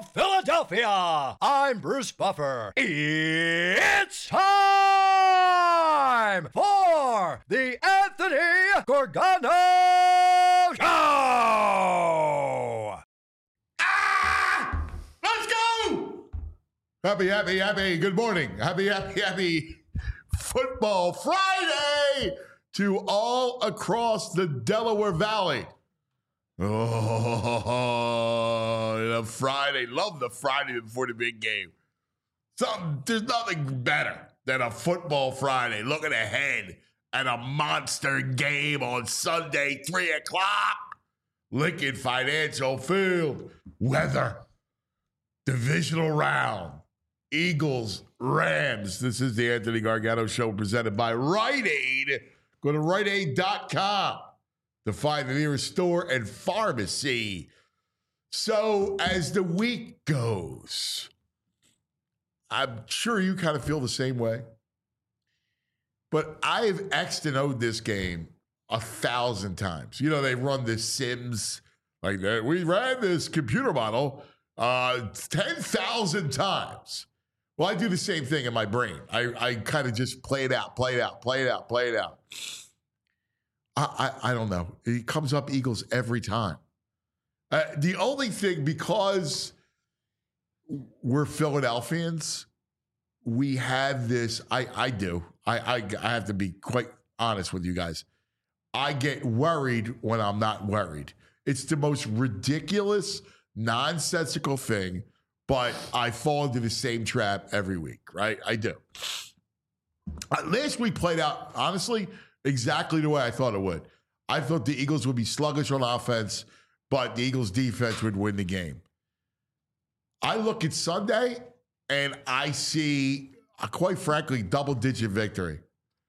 Philadelphia. I'm Bruce Buffer. It's time for the Anthony Gorgano Show. Let's go! Happy, good morning. Happy Football Friday to all across the Delaware Valley. Oh, the Friday. Love the Friday before the big game. There's nothing better than a Football Friday. Looking ahead at a monster game on Sunday, 3 o'clock. Lincoln Financial Field. Weather. Divisional round. Eagles, Rams. This is the Anthony Gargano Show presented by Rite Aid. Go to riteaid.com to find the nearest store and pharmacy. So as the week goes, I'm sure you kind of feel the same way. But I've X'd and O'd this game 1,000 times. You know, they run the Sims. Like, we ran this computer model 10,000 times. Well, I do the same thing in my brain. I kind of just play it out. I don't know. It comes up Eagles every time. The only thing, because we're Philadelphians, we have this. I do. I have to be quite honest with you guys. I get worried when I'm not worried. It's the most ridiculous, nonsensical thing, but I fall into the same trap every week, right? I do. Last week played out, honestly, exactly the way I thought it would. I thought the Eagles would be sluggish on offense, but the Eagles' defense would win the game. I look at Sunday, and I see, quite frankly, double-digit victory.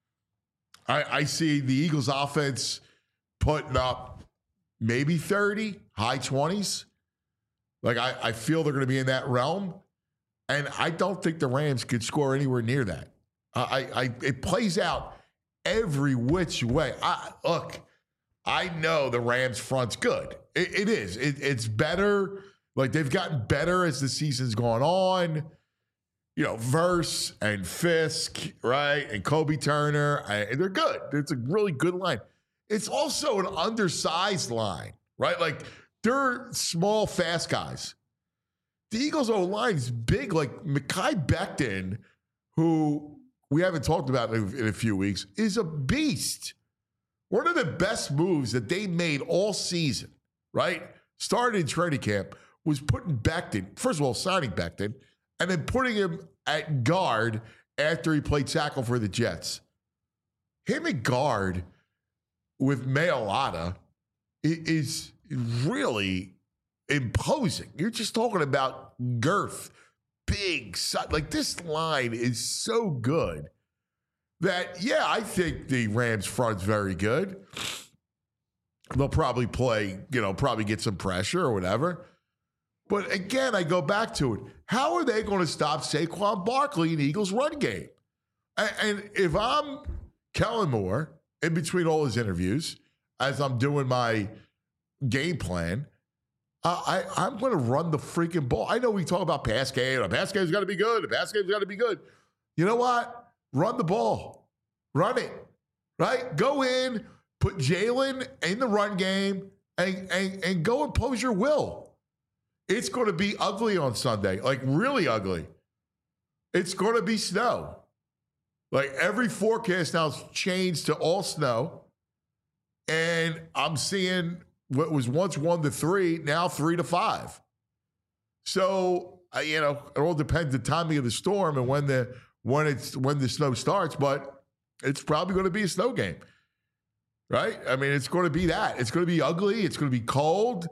I see the Eagles' offense putting up maybe 30, high 20s. Like, I feel they're going to be in that realm. And I don't think the Rams could score anywhere near that. It plays out every which way. Look, I know the Rams front's good. It is. It's better. Like, they've gotten better as the season's gone on. You know, Verse and Fisk, right? And Kobe Turner. And they're good. It's a really good line. It's also an undersized line, right? Like, they're small, fast guys. The Eagles' O-line is big. Like, Mekhi Becton, who we haven't talked about in a few weeks, is a beast. One of the best moves that they made all season, right, started in training camp, was putting Becton, first of all, signing Becton, and then putting him at guard after he played tackle for the Jets. Him at guard with Mailata is really imposing. You're just talking about girth, big, like, this line is so good that, yeah, I think the Rams front's very good. They'll probably play, probably get some pressure or whatever. But again, I go back to it. How are they going to stop Saquon Barkley in the Eagles' run game? And if I'm Kellen Moore, in between all his interviews, as I'm doing my game plan, I'm going to run the freaking ball. I know we talk about pass game. The pass game's got to be good. The pass game's got to be good. You know what? Run the ball. Run it. Right? Go in, put Jalen in the run game, and go impose your will. It's going to be ugly on Sunday, like really ugly. It's going to be snow. Like, every forecast now has changed to all snow. And I'm seeing what was once 1 to 3, now 3 to 5. So, it all depends the timing of the storm and when the snow starts, but it's probably going to be a snow game, right? I mean, it's going to be that. It's going to be ugly. It's going to be cold.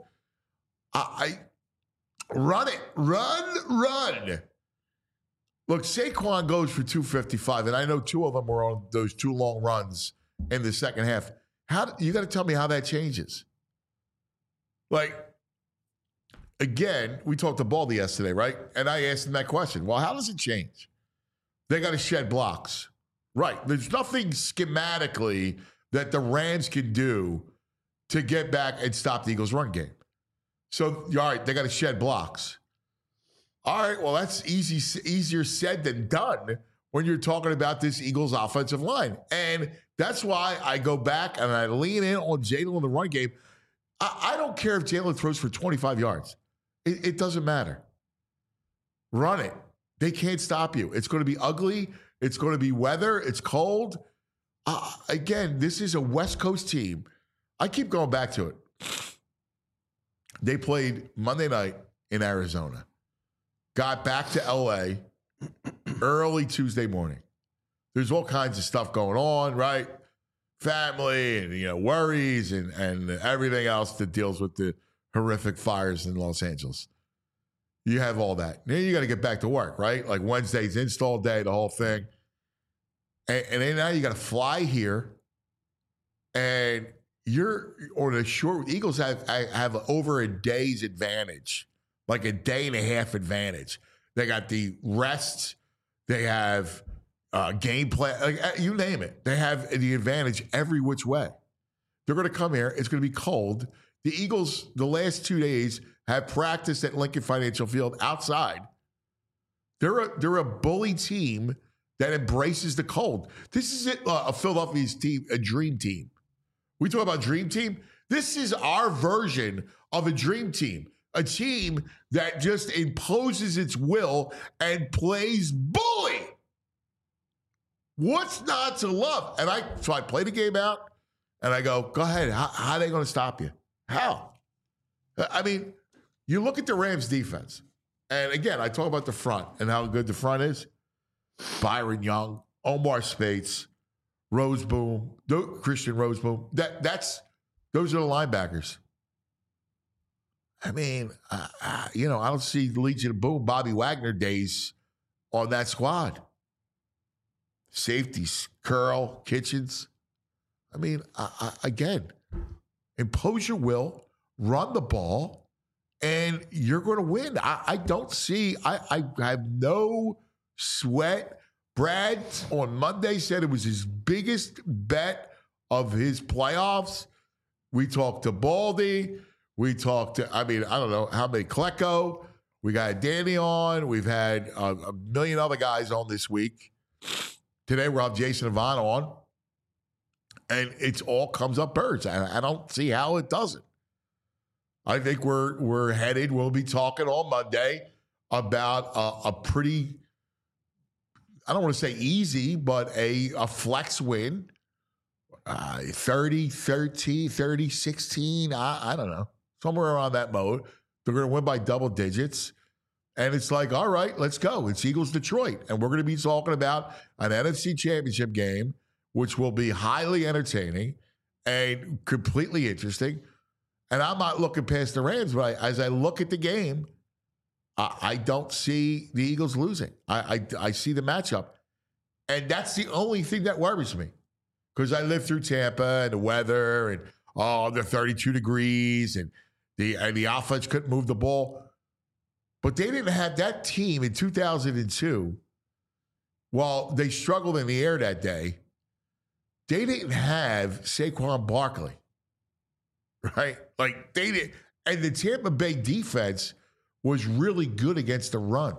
Run it. Run. Look, Saquon goes for 255, and I know 2 of them were on those 2 long runs in the second half. You got to tell me how that changes. Like, again, we talked to Baldy yesterday, right? And I asked him that question. Well, how does it change? They got to shed blocks. Right. There's nothing schematically that the Rams can do to get back and stop the Eagles' run game. So, all right, they got to shed blocks. All right, well, that's easier said than done when you're talking about this Eagles offensive line. And that's why I go back and I lean in on Jalen in the run game. I don't care if Jalen throws for 25 yards. It doesn't matter. Run it. They can't stop you. It's going to be ugly. It's going to be weather. It's cold. Again, this is a West Coast team. I keep going back to it. They played Monday night in Arizona. Got back to LA early Tuesday morning. There's all kinds of stuff going on, right? Family and worries and everything else that deals with the horrific fires in Los Angeles. You have all that. Then you got to get back to work, right? Like Wednesday's install day, the whole thing. And then now you got to fly here, and you're on a short. Eagles have over a day's advantage. Like a day and a half advantage. They got the rest. They have game plan. Like, you name it. They have the advantage every which way. They're going to come here. It's going to be cold. The Eagles, the last 2 days, have practiced at Lincoln Financial Field outside. They're a bully team that embraces the cold. This is it. A Philadelphia's team, a dream team. We talk about dream team. This is our version of a dream team. A team that just imposes its will and plays bully. What's not to love? So I play the game out, and I go ahead. How are they going to stop you? How? I mean, you look at the Rams defense, and again, I talk about the front and how good the front is. Byron Young, Omar Spates, Roseboom, Christian Roseboom. Those are the linebackers. I mean, I don't see Legion of Boom, Bobby Wagner days on that squad. Safeties, Curl, Kitchens. I mean, again, impose your will, run the ball, and you're going to win. I don't see, I have no sweat. Brad on Monday said it was his biggest bet of his playoffs. We talked to Baldy. We talked to, I don't know how many, Klecko. We got Danny on. We've had a million other guys on this week. Today we'll have Jason Avant on. And it all comes up birds. I don't see how it doesn't. I think we're headed. We'll be talking on Monday about a pretty, I don't want to say easy, but a flex win. 30-13, 30-16. I don't know. Somewhere around that mode. They're going to win by double digits. And it's like, all right, let's go. It's Eagles Detroit. And we're going to be talking about an NFC Championship game, which will be highly entertaining and completely interesting. And I'm not looking past the Rams, but as I look at the game, I don't see the Eagles losing. I see the matchup. And that's the only thing that worries me. Because I lived through Tampa and the weather and, the 32 degrees and the offense couldn't move the ball. But they didn't have that team in 2002. While they struggled in the air that day, they didn't have Saquon Barkley, right? Like they did. And the Tampa Bay defense was really good against the run.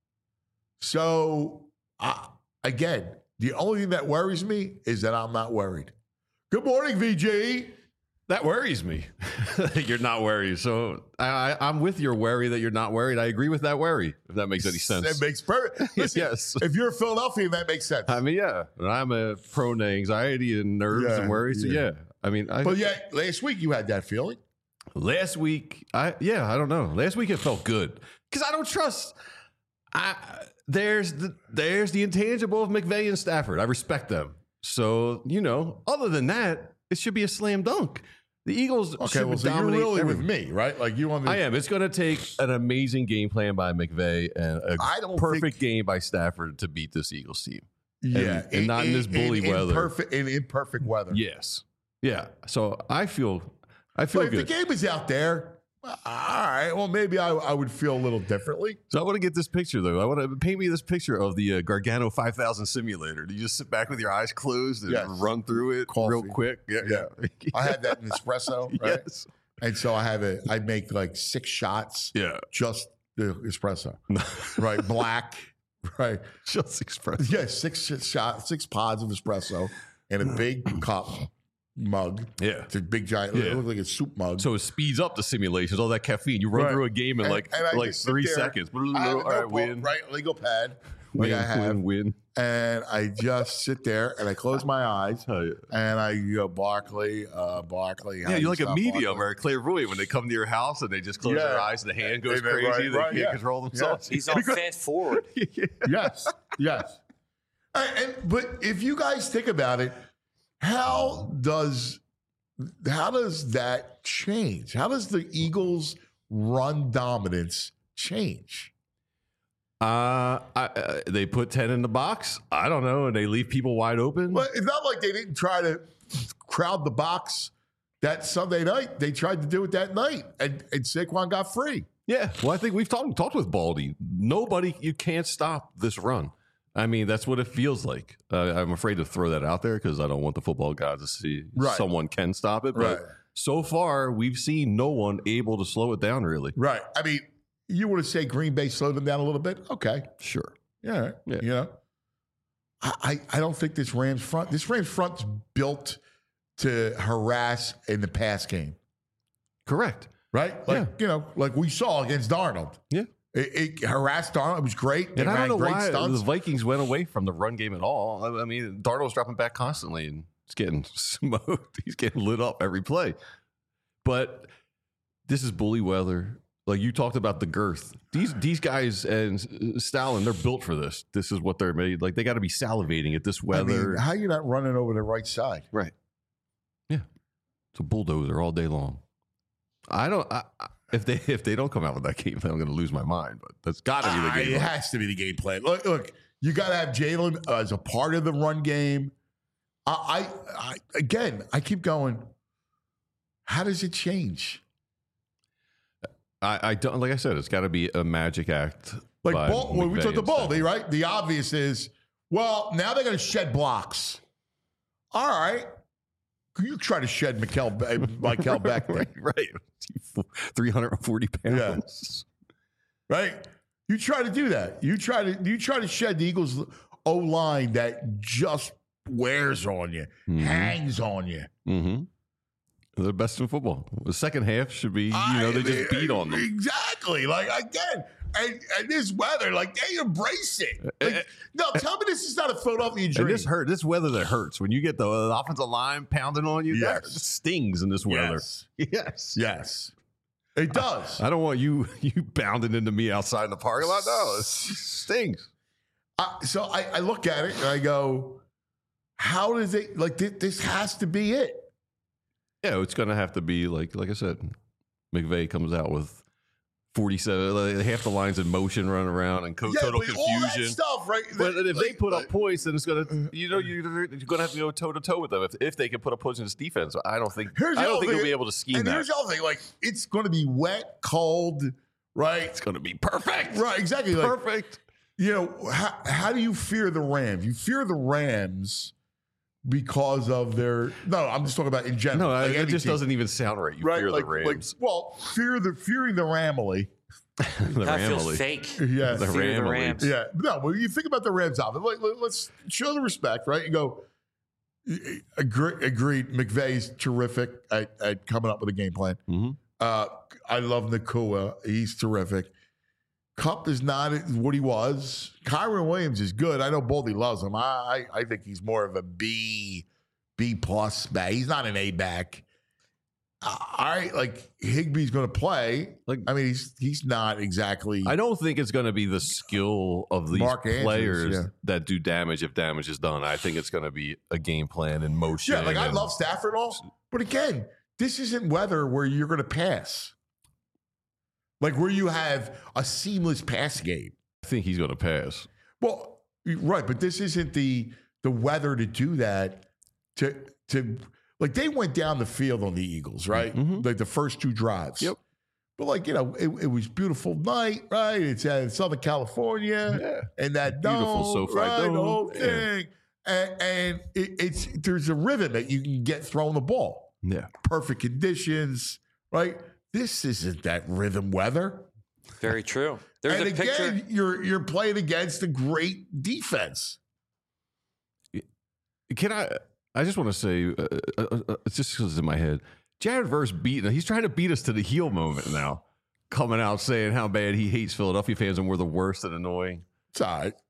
So, again, the only thing that worries me is that I'm not worried. Good morning, VG. That worries me. You're not worried. So I'm with your worry that you're not worried. I agree with that worry, if that makes any sense. That makes perfect. Listen, yes. If you're a Philadelphian, that makes sense. I mean, yeah. I'm a prone to anxiety and nerves and worry. So, yeah. I mean, but yeah, last week you had that feeling. Last week, I don't know. Last week it felt good because I don't trust. There's the intangible of McVay and Stafford. I respect them. So, other than that, it should be a slam dunk. The Eagles should so dominate. You're really everything. with me, right? Like you on the. I am. It's going to take an amazing game plan by McVay and a perfect game by Stafford to beat this Eagles team. Yeah, and not in this bully weather. In imperfect weather. Yes. Yeah. So I feel But good. if the game is out there, all right. Well, maybe I would feel a little differently. So I want to get this picture, though. I want to paint me this picture of the Gargano 5000 simulator. Do you just sit back with your eyes closed and run through it real quick? Yeah. I had that in espresso, right? Yes. And so I make like 6 shots. Yeah. Just the espresso, right? Black, right? Just espresso. Yeah, 6 pods of espresso in a big cup mug. Yeah. It's a big giant. Yeah. It looks like a soup mug. So it speeds up the simulations, all that caffeine. You run Right. through a game in And like I just sit 3 there. seconds. I have All a right, notebook, win. right? Legal pad. Win, Like I have. win. And I just sit there and I close my eyes Oh, yeah. and I go, Barkley. Yeah, you're like a medium or a clairvoyant when they come to your house and they just close their eyes and the hand goes Right, crazy. They can't yeah. control themselves. He's on fast forward. Yes, yes. But if you guys think about it, how does that change? How does the Eagles' run dominance change? They put 10 in the box. I don't know, and they leave people wide open. Well, it's not like they didn't try to crowd the box that Sunday night. They tried to do it that night, and Saquon got free. Yeah, well, I think we've talked with Baldy. You can't stop this run. I mean, that's what it feels like. I'm afraid to throw that out there because I don't want the football gods to see someone can stop it. But so far, we've seen no one able to slow it down, really. Right. I mean, you want to say Green Bay slowed them down a little bit? Okay. Sure. Yeah. Yeah. You know, I don't think this Rams front's built to harass in the pass game. Correct. Right? Like, like we saw against Darnold. Yeah. It harassed Darnold. It was great. And I don't know great why stunts. the Vikings went away from the run game at all. I mean, Darnold's dropping back constantly and it's getting smoked. He's getting lit up every play. But this is bully weather. Like you talked about the girth. These guys and Stalin, they're built for this. This is what they're made. Like they got to be salivating at this weather. I mean, how you not running over the right side? Right. Yeah. It's a bulldozer all day long. If they don't come out with that game plan, I'm going to lose my mind. But that's got to be the game It plan. has to be the game plan. Look, you got to have Jalen as a part of the run game. I keep going. How does it change? I don't, like I said, it's got to be a magic act. Like by when we McVay took the and ball, Stafford. right? The obvious is, well, now they're going to shed blocks. All right. You try to shed Mikel Beck. right. 340 pounds. Right? You try to do that. You try to shed the Eagles O-line that just wears on you, hangs on you. Mm-hmm. They're the best in football. The second half should be, they just beat on them. Exactly. Like, again, and this weather, like, they embrace it. Like, no, tell me this is not a Philadelphia dream. And this weather that hurts. When you get the offensive line pounding on you, that stings in this weather. Yes. It does. I don't want you bounding into me outside in the parking lot. No, it stings. So I look at it and I go, how does it, like, this has to be it. Yeah, it's going to have to be, like I said, McVay comes out with 47, like, half the lines in motion running around and total confusion. All that stuff, right? But if they put up points, then it's going to, you're going to have to go toe to toe with them if they can put up points in this defense. I don't think they'll be able to scheme and that. here's the other thing, like, it's going to be wet, cold, right? It's going to be perfect. Right, exactly. Like, Perfect. How do you fear the Rams? You fear the Rams because of their. No, I'm just talking about in general. No, like it just team. doesn't even sound right. You Right, fear like, the Rams. fearing the Ramily. The That feels Ramily. fake. Yeah, The Fear the Ramily. Rams. yeah. No, when you think about the Rams offense, let's show the respect, right? You go. Agreed. McVay's terrific at coming up with a game plan. Mm-hmm. I love Nakua. He's terrific. Kupp is not what he was. Kyron Williams is good. I know Baldy loves him. I think he's more of a B plus back. He's not an A back. Like Higbee's going to play. Like, I mean, he's not exactly. I don't think it's going to be the skill of these Mark Andrews, players yeah. that do damage if damage is done. I think it's going to be a game plan in motion. Yeah, like I love Stafford all, but again, this isn't weather where you're going to pass. Like where you have a seamless pass game. I think he's going to pass. Well, right, but this isn't the weather to do that. To like they went down the field on the Eagles, right? Mm-hmm. Like the first two drives. Yep. But like it was beautiful night, right? It's in Southern California, Yeah. and that Beautiful dome, SoFi right? dome. The whole Yeah. thing, and it's there's a rhythm that you can get throwing the ball. Yeah. Perfect conditions, right? This isn't that rhythm weather. Very true. There's and a picture. again, you're playing against a great defense. Can I just want to say, it's just because it's in my head. Jared Verse he's trying to beat us to the heel moment now. Coming out saying how bad he hates Philadelphia fans and we're the worst and annoying. It's all right.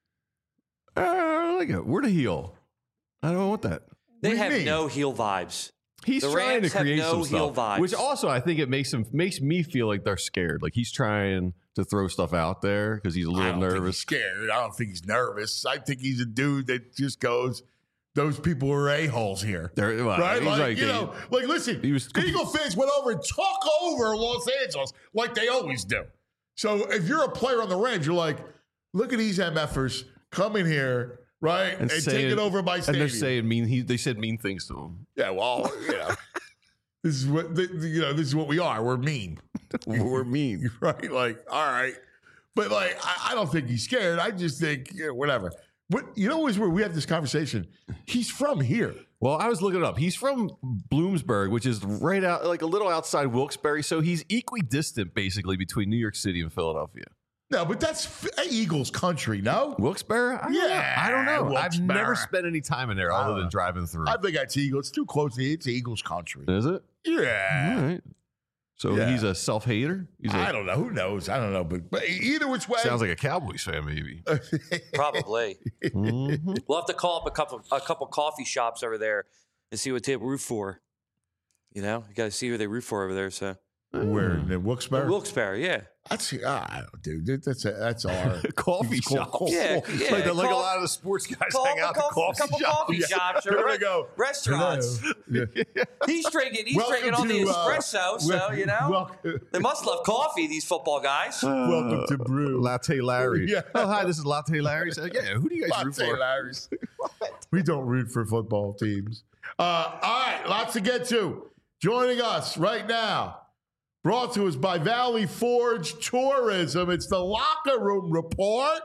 I like it. We're the heel. I don't want that. They What do you have mean? no heel vibes. He's The trying Rams to have create no some heel stuff, vibes. which also I think it makes me feel like they're scared. Like he's trying to throw stuff out there because he's a I little don't think he's nervous. scared. I don't think he's nervous. I think he's a dude that just goes, those people are a-holes here. Well, Right? he's Like, you know, like, listen, he was- Eagle fans went over and took over Los Angeles like they always do. So if you're a player on the Rams, you're like, look at these MFers coming here, right, and taking over my and stadium. they're saying they said mean things to him. Yeah, well, this is what this is what we are. We're mean. We're mean. Right? Like, all right. But like, I don't think he's scared. I just think, whatever. But you know what's where we have this conversation? He's from here. Well, I was looking it up. He's from Bloomsburg, which is right out, like a little outside Wilkes-Barre. So he's equidistant, basically, between New York City and Philadelphia. No, but that's Eagles country, no? Wilkes-Barre? I don't know. I've Wilkes-Barre. never spent any time in there other than driving through. I think that's Eagles. It's too close. It's Eagles country. Is it? Yeah. All right. So Yeah. he's a self-hater? I don't know. Who knows? I don't know. But either which way. Sounds like a Cowboys fan, maybe. Probably. Mhm. We'll have to call up a couple coffee shops over there and see what they root for. You know, you got to see who they root for over there. So Where? In Wilkes-Barre? Wilkes-Barre, yeah. That's, I don't, dude. That's our Coffee shop. Yeah, yeah. Like, a Call- lot of the sports guys Call hang up out at the coffee couple shop. coffee shops or They're gonna go, restaurants. Yeah. He's drinking Welcome on the to, espresso, so you know they must love coffee. These football guys. Welcome to Brew. Latte Larry. Yeah. Oh, hi, this is Latte Larry. So, yeah, who do you guys root Latte for? Larry's. We don't root for football teams. All right, lots to get to. Joining us right now, brought to us by Valley Forge Tourism. It's the Locker Room Report.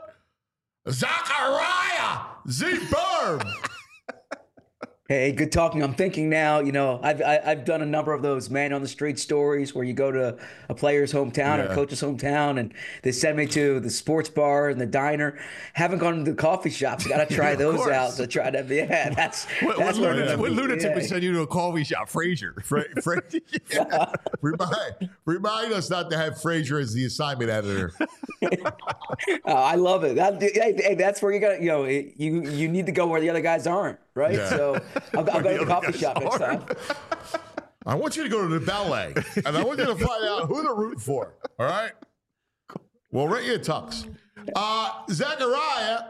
Zachariah Z-Berm. Hey, good talking. I'm thinking now, you know, I've done a number of those man on the street stories where you go to a player's hometown or a coach's hometown and they send me to the sports bar and the diner. Haven't gone to the coffee shops. Got to try those course. out to try to, that's What where I'm lunatic, gonna what be. lunatic would Yeah. send you to a coffee shop? Frazier. Remind us not to have Frazier as the assignment editor. I love it. Hey, that's where you got to, you know, you need to go where the other guys aren't, right? Yeah. So I'll go to the coffee shop next time. I want you to go to the ballet, and I want you to find out who to root for. All right? Well, right here, Tux. Zachariah,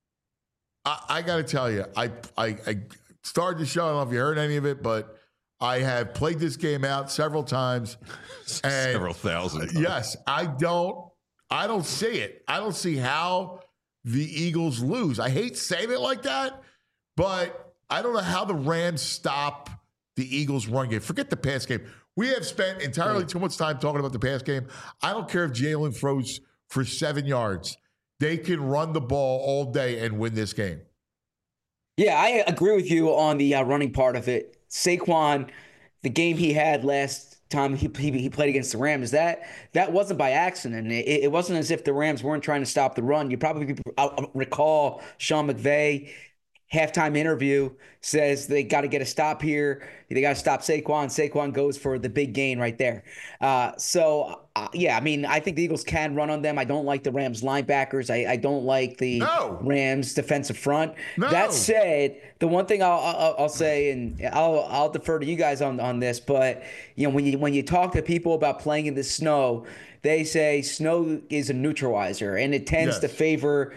I got to tell you, I started the show. I don't know if you heard any of it, but I have played this game out several times. And Several thousand times. yes, I don't see it. I don't see how the Eagles lose. I hate saying it like that, but I don't know how the Rams stop the Eagles' run game. Forget the pass game. We have spent entirely too much time talking about the pass game. I don't care if Jalen throws for 7 yards. They can run the ball all day and win this game. Yeah, I agree with you on the running part of it. Saquon, the game he had last time he played against the Rams, that wasn't by accident. It wasn't as if the Rams weren't trying to stop the run. You probably recall Sean McVay halftime interview says they got to get a stop here. They got to stop Saquon. Saquon goes for the big gain right there. Yeah, I mean, I think the Eagles can run on them. I don't like the Rams linebackers. I don't like the Rams defensive front. No. That said, the one thing I'll say, and I'll defer to you guys on this, but you know, when you talk to people about playing in the snow, they say snow is a neutralizer, and it tends to favor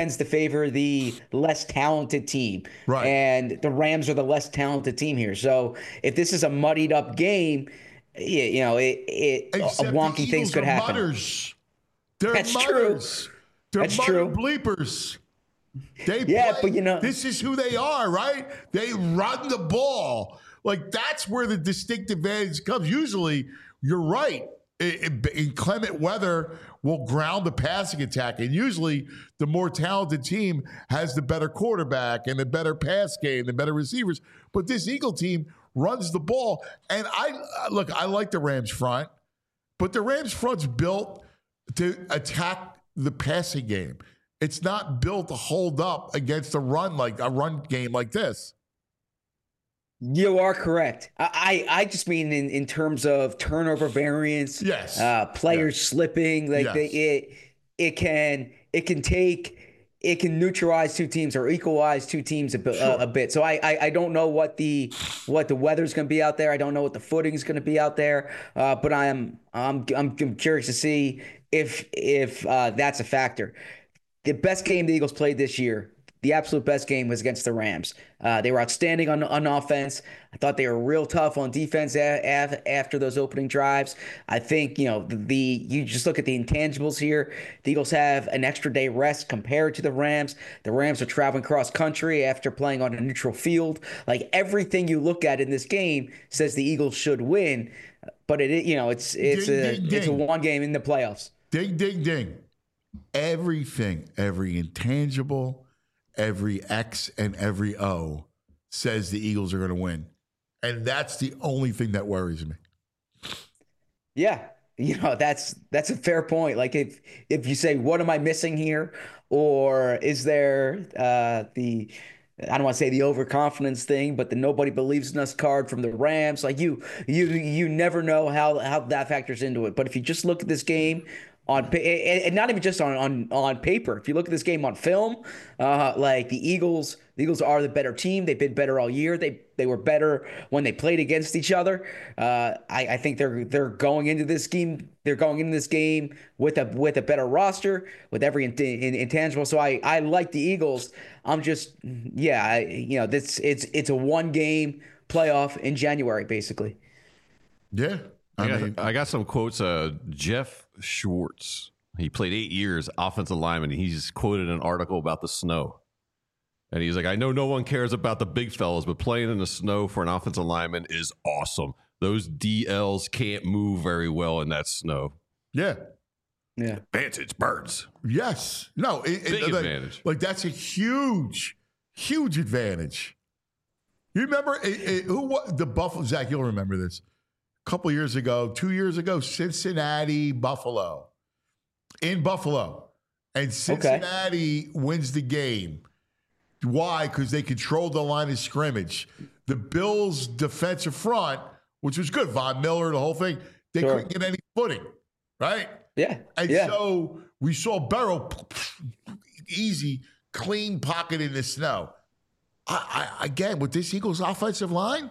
the less talented team. Right. And the Rams are the less talented team here. So if this is a muddied up game, you know, Except wonky the things Eagles could are happen. Mutters. They're That's mutters. true. They're That's mutter true. bleepers. They Yeah, play. but you know- this is who they are, right? They run the ball. Like, that's where the distinct advantage comes. Usually, you're right. Inclement weather will ground the passing attack. And usually, the more talented team has the better quarterback and the better pass game, the better receivers. But this Eagle team runs the ball. And I like the Rams front, but the Rams front's built to attack the passing game. It's not built to hold up against a run game like this. You are correct. I just mean in terms of turnover variance. Yes. Players slipping. Like Yes. it can neutralize two teams or equalize two teams a bit. So I don't know what the weather's going to be out there. I don't know what the footing is going to be out there. But I'm curious to see if that's a factor. The best game the Eagles played this year, the absolute best game, was against the Rams. They were outstanding on offense. I thought they were real tough on defense after those opening drives. I think, you just look at the intangibles here. The Eagles have an extra day rest compared to the Rams. The Rams are traveling cross country after playing on a neutral field. Like, everything you look at in this game says the Eagles should win, but it's a one game in the playoffs. Ding, ding, ding. Everything, every intangible, every X and every O says the Eagles are going to win. And that's the only thing that worries me. Yeah. That's a fair point. Like, if you say, what am I missing here? Or is there I don't want to say the overconfidence thing, but the nobody believes in us card from the Rams. Like, you never know how that factors into it. But if you just look at this game and not even just on paper, if you look at this game on film, like the Eagles are the better team. They've been better all year. They were better when they played against each other. I think they're going into this game. They're going into this game with a better roster, with every intangible. So I like the Eagles. I'm just it's a one game playoff in January, basically. Yeah. I got some quotes. Jeff Schwartz, he played 8 years offensive lineman. He's quoted an article about the snow. And he's like, I know no one cares about the big fellas, but playing in the snow for an offensive lineman is awesome. Those DLs can't move very well in that snow. Yeah. Yeah. Advantage, birds. Yes. No. Big advantage. Like, that's a huge, huge advantage. You remember the Buffalo? Zach, you'll remember this. Couple years ago, 2 years ago, Cincinnati, Buffalo. In Buffalo. And Cincinnati wins the game. Why? Because they controlled the line of scrimmage. The Bills' defensive front, which was good, Von Miller, the whole thing, they couldn't get any footing, right? Yeah. And so we saw Burrow, easy, clean pocket in the snow. Again, with this Eagles offensive line,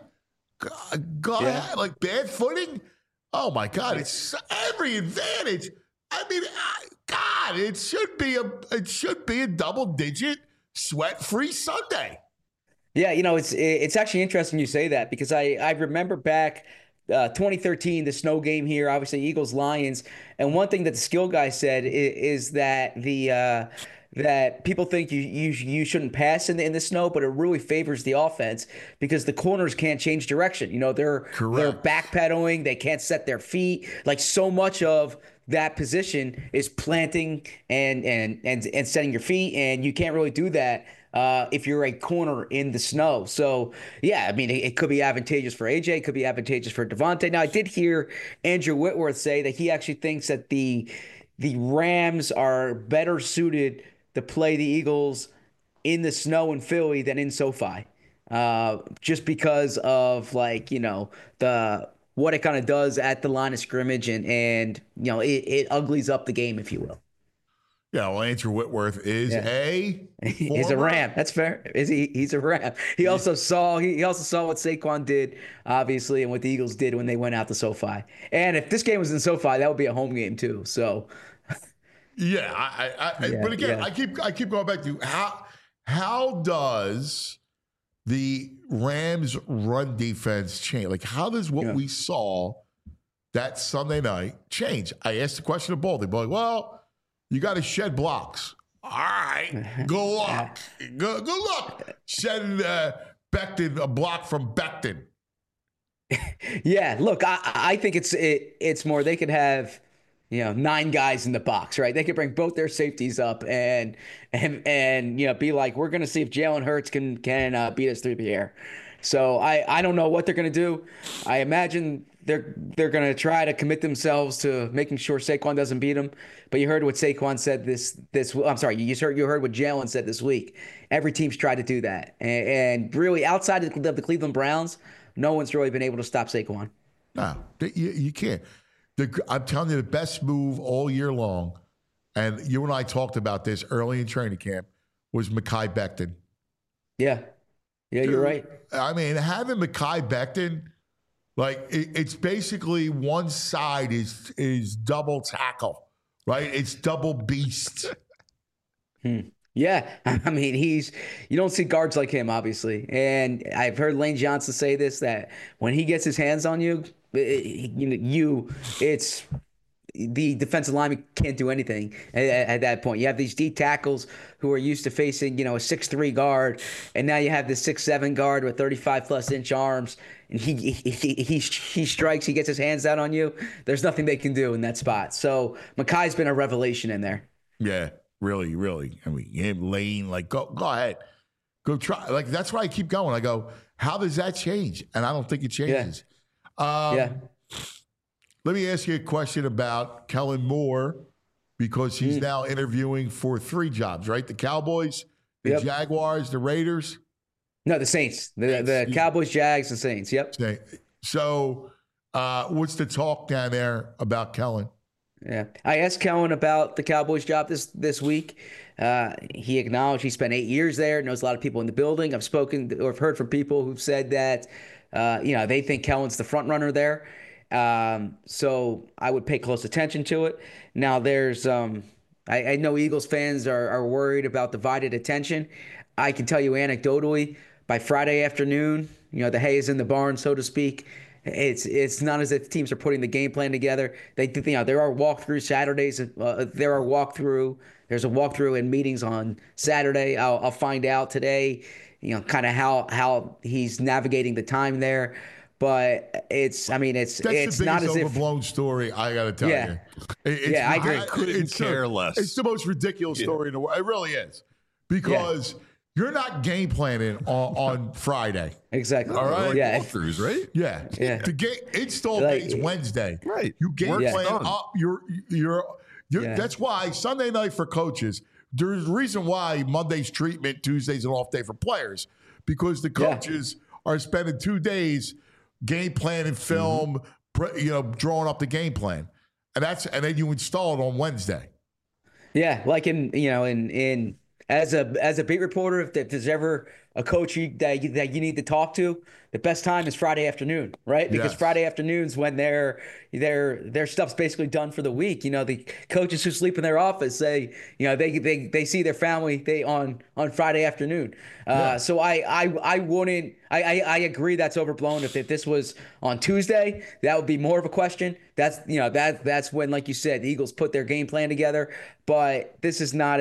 God, like bad footing. Oh my God! It's every advantage. I mean, God, it should be a double-digit sweat-free Sunday. Yeah, it's actually interesting you say that, because I remember back 2013, the snow game here, obviously Eagles Lions, and one thing that the skill guy said is that that people think you shouldn't pass in the snow, but it really favors the offense because the corners can't change direction. They're backpedaling, they can't set their feet. Like, so much of that position is planting and setting your feet, and you can't really do that if you're a corner in the snow. So, yeah, I mean, it could be advantageous for AJ, it could be advantageous for Devontae. Now, I did hear Andrew Whitworth say that he actually thinks that the Rams are better suited to play the Eagles in the snow in Philly than in SoFi, just because of what it kind of does at the line of scrimmage, and it uglies up the game, if you will. Yeah, well, Andrew Whitworth is he's a Ram. That's fair. He's a Ram. He also saw what Saquon did, obviously, and what the Eagles did when they went out to SoFi. And if this game was in SoFi, that would be a home game too. So. Yeah, but again, I keep going back to how does the Rams run defense change? Like, how does what we saw that Sunday night change? I asked the question of both. They're like, well, you got to shed blocks. All right, good luck. Good luck. Shed Becton, a block from Becton. Yeah, look, I think it's more they could have 9 guys in the box, right? They could bring both their safeties up and be like, we're going to see if Jalen Hurts can beat us through the air. So I don't know what they're going to do. I imagine they're going to try to commit themselves to making sure Saquon doesn't beat them. But you heard what Saquon said I'm sorry, you heard what Jalen said this week. Every team's tried to do that, and really outside of the Cleveland Browns, no one's really been able to stop Saquon. No, you can't. I'm telling you, the best move all year long, and you and I talked about this early in training camp, was Mekhi Becton. Yeah, Dude, you're right. I mean, having Mekhi Becton, like it's basically one side is double tackle, right? It's double beast. Yeah, I mean, you don't see guards like him, obviously. And I've heard Lane Johnson say this, that when he gets his hands on you, it's the defensive lineman can't do anything at that point. You have these D tackles who are used to facing, a 6'3" guard, and now you have this 6'7" guard with 35+ inch arms, and he strikes, he gets his hands out on you. There's nothing they can do in that spot. So Mekhi's been a revelation in there. Yeah, really, really. I mean, him, Lane, like go ahead, go try. Like that's why I keep going. I go, how does that change? And I don't think it changes. Yeah. Let me ask you a question about Kellen Moore, because he's now interviewing for 3 jobs, right? The Cowboys, the Jaguars, the Raiders. No, the Saints. The Cowboys, Jags, and Saints. Yep. So what's the talk down there about Kellen? Yeah. I asked Kellen about the Cowboys job this week. He acknowledged he spent 8 years there, knows a lot of people in the building. I've spoken or heard from people who've said that, they think Kellen's the front runner there. So I would pay close attention to it. Now there's, I know Eagles fans are worried about divided attention. I can tell you anecdotally, by Friday afternoon, the hay is in the barn, so to speak. It's not as if teams are putting the game plan together. There are walkthrough Saturdays. There's a walkthrough and meetings on Saturday. I'll find out today, kind of how he's navigating the time there. But it's not as if overblown story. I got to tell you. I agree. Couldn't care less. It's the most ridiculous story in the world. It really is, because you're not game planning on Friday. Exactly. All right. Yeah. Walkthroughs, right? Yeah. The game install day is Wednesday. Right. You game plan up. That's why Sunday night for coaches. There's a reason why Monday's treatment, Tuesday's an off day for players, because the coaches are spending 2 days game planning film, drawing up the game plan, and then you install it on Wednesday. Yeah, like in as a beat reporter, if there's ever a coach that you need to talk to, the best time is Friday afternoon, right? Because Friday afternoons when their stuff's basically done for the week. The coaches who sleep in their office say, they see their family on Friday afternoon. So I wouldn't. I agree that's overblown. If this was on Tuesday, that would be more of a question. That's when, like you said, the Eagles put their game plan together. But this is not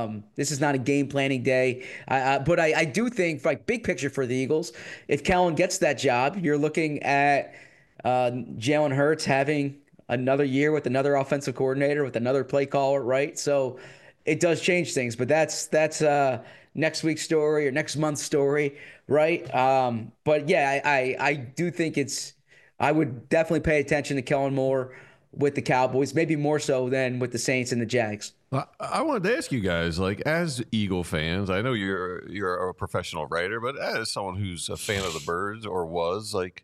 a game planning day. But I do think, like, big picture for the Eagles, if Kellen gets that job, you're looking at Jalen Hurts having another year with another offensive coordinator, with another play caller, right? So it does change things. But that's next week's story or next month's story, right? But yeah, I do think I would definitely pay attention to Kellen Moore with the Cowboys, maybe more so than with the Saints and the Jags. I wanted to ask you guys, like, as Eagle fans, I know you're a professional writer, but as someone who's a fan of the Birds or was, like,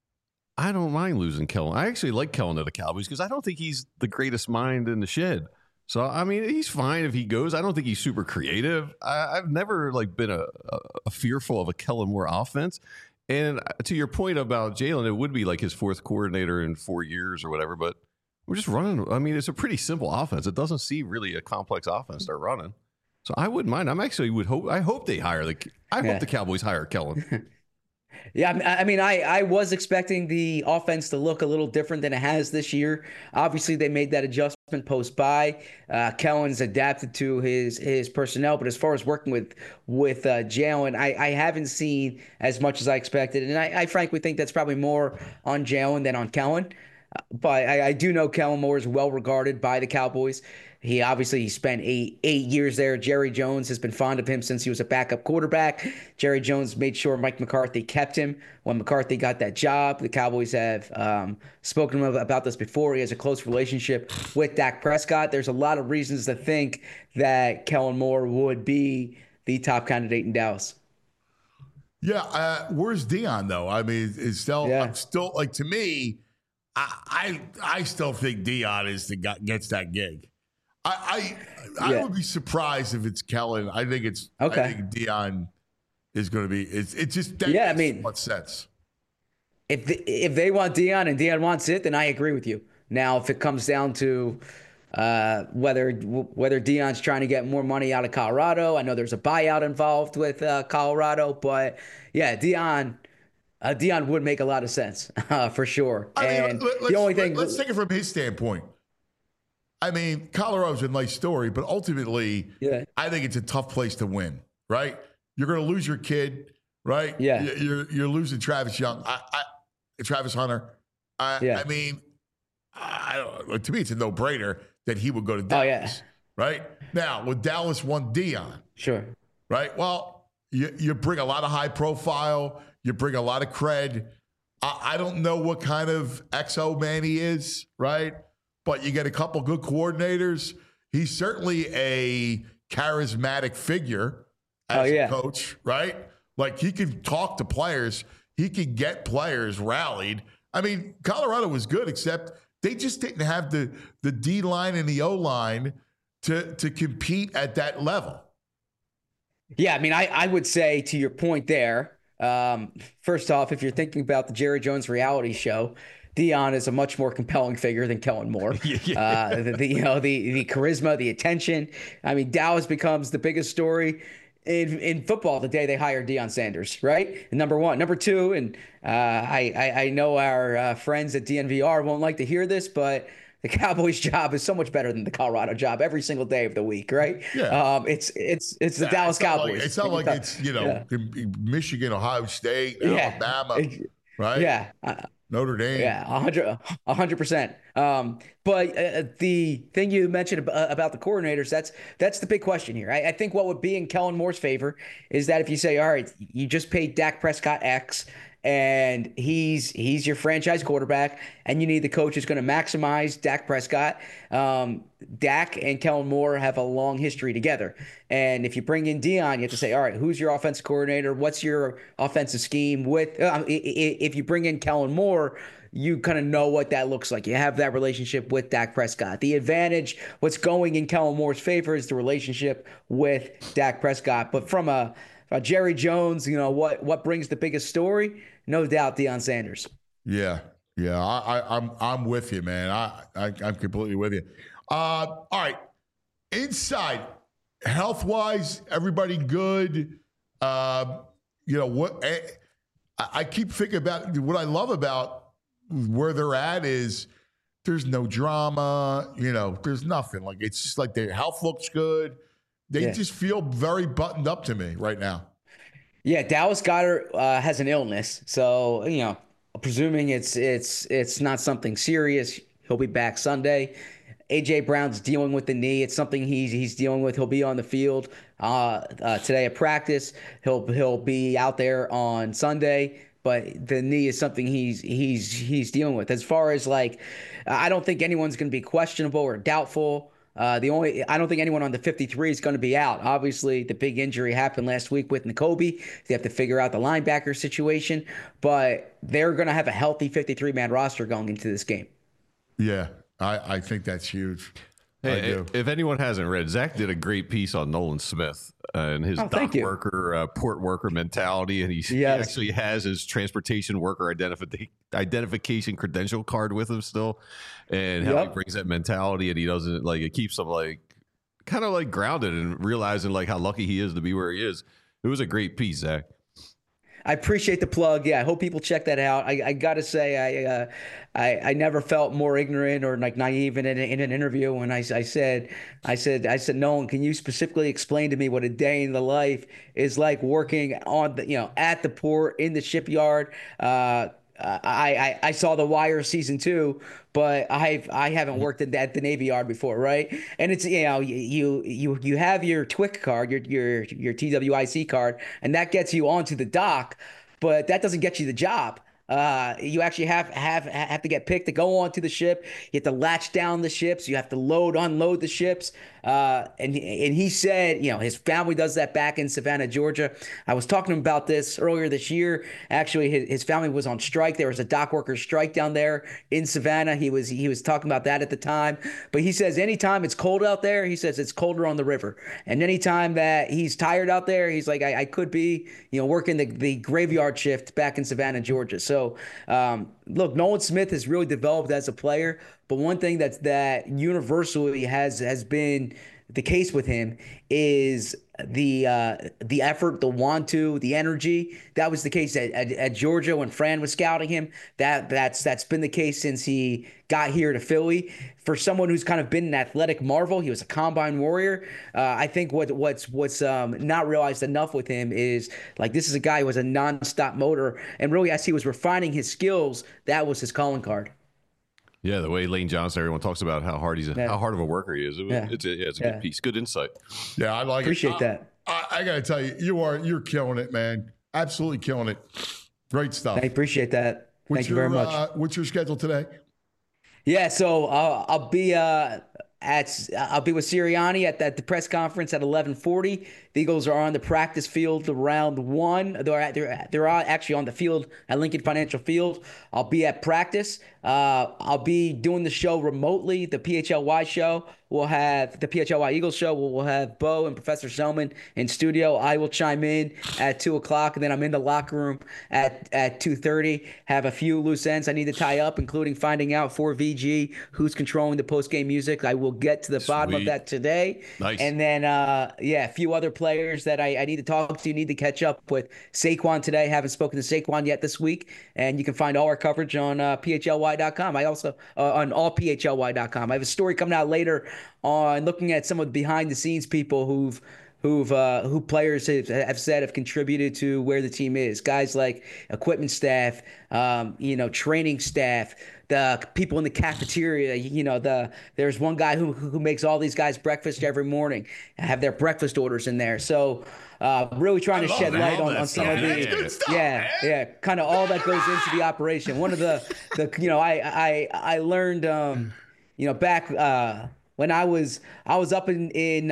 I don't mind losing Kellen. I actually like Kellen to the Cowboys because I don't think he's the greatest mind in the shed. So, I mean, he's fine if he goes. I don't think he's super creative. I've never, like, been a fearful of a Kellen Moore offense. And to your point about Jalen, it would be like his 4th coordinator in 4 years or whatever, but we're just running. I mean, it's a pretty simple offense. It doesn't seem really a complex offense they're running. So I wouldn't mind. I hope they hire hope the Cowboys hire Kellen. Yeah, I mean, I was expecting the offense to look a little different than it has this year. Obviously, they made that adjustment post-bye. Kellen's adapted to his personnel, but as far as working with Jalen, I haven't seen as much as I expected, and I frankly think that's probably more on Jalen than on Kellen. But I do know Kellen Moore is well regarded by the Cowboys. He spent eight years there. Jerry Jones has been fond of him since he was a backup quarterback. Jerry Jones made sure Mike McCarthy kept him when McCarthy got that job. The Cowboys have spoken to him about this before. He has a close relationship with Dak Prescott. There's a lot of reasons to think that Kellen Moore would be the top candidate in Dallas. Yeah, where's Dion though? I mean, I'm still like, to me, I still think Dion is the guy gets that gig. I would be surprised if it's Kellen. I think it's okay. I think Dion is going to be. It's just that makes so much sense. If they want Dion and Dion wants it, then I agree with you. Now, if it comes down to whether Dion's trying to get more money out of Colorado, I know there's a buyout involved with Colorado, but yeah, Dion would make a lot of sense for sure. Let's take it from his standpoint. I mean, Colorado's a nice story, but ultimately, I think it's a tough place to win. Right? You're going to lose your kid, right? Yeah. You're losing Travis Young, Travis Hunter. I mean, to me, it's a no-brainer that he would go to Dallas. Oh, yeah. Right? Now, with Dallas won Dion. Sure. Right? Well, you bring a lot of high profile. You bring a lot of cred. I don't know what kind of XO man he is, right? But you get a couple good coordinators. He's certainly a charismatic figure as a coach, right? Like, he can talk to players. He can get players rallied. I mean, Colorado was good, except they just didn't have the D line and the O line to compete at that level. Yeah, I mean, I would say, to your point there, first off, if you're thinking about the Jerry Jones reality show, Dion is a much more compelling figure than Kellen Moore. The charisma, the attention. I mean, Dallas becomes the biggest story in football the day they hire Deion Sanders, right? Number one. Number two, and I know our friends at DNVR won't like to hear this, but the Cowboys job is so much better than the Colorado job every single day of the week, right? Yeah. It's the Dallas Cowboys. It's not like it's Michigan, Ohio State, Alabama, right? Yeah. Notre Dame. Yeah, 100%. But the thing you mentioned about the coordinators, that's the big question here. I think what would be in Kellen Moore's favor is that if you say, all right, you just paid Dak Prescott X, and he's your franchise quarterback, and you need the coach who's going to maximize Dak Prescott. Dak and Kellen Moore have a long history together. And if you bring in Dion, you have to say, all right, who's your offensive coordinator? What's your offensive scheme? If you bring in Kellen Moore, you kind of know what that looks like. You have that relationship with Dak Prescott. The advantage, what's going in Kellen Moore's favor, is the relationship with Dak Prescott. But from a Jerry Jones, what brings the biggest story? No doubt, Deion Sanders. Yeah. I'm with you, man. I'm completely with you. All right, inside, health wise, everybody good. What I keep thinking about. What I love about where they're at is there's no drama. There's nothing. Like, it's just like their health looks good. They just feel very buttoned up to me right now. Yeah, Dallas Goedert has an illness, so presuming it's not something serious, he'll be back Sunday. AJ Brown's dealing with the knee; it's something he's dealing with. He'll be on the field today at practice. He'll be out there on Sunday, but the knee is something he's dealing with. As far as I don't think anyone's going to be questionable or doubtful. I don't think anyone on the 53 is going to be out. Obviously, the big injury happened last week with Nakobe. They have to figure out the linebacker situation, but they're going to have a healthy 53-man roster going into this game. Yeah, I think that's huge. Hey, if anyone hasn't read, Zach did a great piece on Nolan Smith and his dock worker, port worker mentality, and he actually has his transportation worker identification credential card with him still, and how he brings that mentality, and he doesn't it keeps him kind of grounded and realizing how lucky he is to be where he is. It was a great piece, Zach. I appreciate the plug. Yeah, I hope people check that out. I got to say, I never felt more ignorant or naive in an interview when I said, Nolan, can you specifically explain to me what a day in the life is like working on at the port, in the shipyard? I saw The Wire season 2, but I haven't worked at the Navy Yard before, right? And it's you have your TWIC card, your TWIC card, and that gets you onto the dock, but that doesn't get you the job. You actually have to get picked to go onto the ship. You have to latch down the ships. You have to unload the ships. And he said, his family does that back in Savannah, Georgia. I was talking to him about this earlier this year. Actually, his family was on strike. There was a dock workers strike down there in Savannah. He was talking about that at the time. But he says anytime it's cold out there, he says it's colder on the river. And anytime that he's tired out there, he's like, I could be, working the graveyard shift back in Savannah, Georgia. So, look, Nolan Smith has really developed as a player, but one thing that universally has been the case with him is the effort, the want to, the energy. That was the case at Georgia when Fran was scouting him. That's been the case since he got here to Philly. For someone who's kind of been an athletic marvel, he was a combine warrior. I think what's not realized enough with him is like this is a guy who has a nonstop motor, and really as he was refining his skills, that was his calling card. Yeah, the way Lane Johnson, everyone talks about how hard how hard of a worker he is. It's a good piece, good insight. Yeah, I like Appreciate that. I got to tell you, you're killing it, man. Absolutely killing it. Great stuff. I appreciate that. Thank you very much. What's your schedule today? Yeah, so I'll be with Sirianni at the press conference at 11:40. The Eagles are on the practice field around 1. They're actually on the field at Lincoln Financial Field. I'll be at practice. I'll be doing the show remotely. The PHLY show. We'll have the PHLY Eagles show. We'll have Bo and Professor Selman in studio. I will chime in at 2:00, and then I'm in the locker room at 2:30. Have a few loose ends I need to tie up, including finding out for VG who's controlling the post-game music. I will get to the bottom of that today. Nice. And then, a few other players that I need to talk to, need to catch up with. Saquon today. Haven't spoken to Saquon yet this week. And you can find all our coverage on PHLY.com. I also, on allPHLY.com. I have a story coming out later on looking at some of the behind-the-scenes people who players have said have contributed to where the team is. Guys like equipment staff, training staff, the people in the cafeteria. There's one guy who makes all these guys breakfast every morning, have their breakfast orders in there. So really trying to shed light on some of the kind of all that goes into the operation. One of the I learned back when I was up in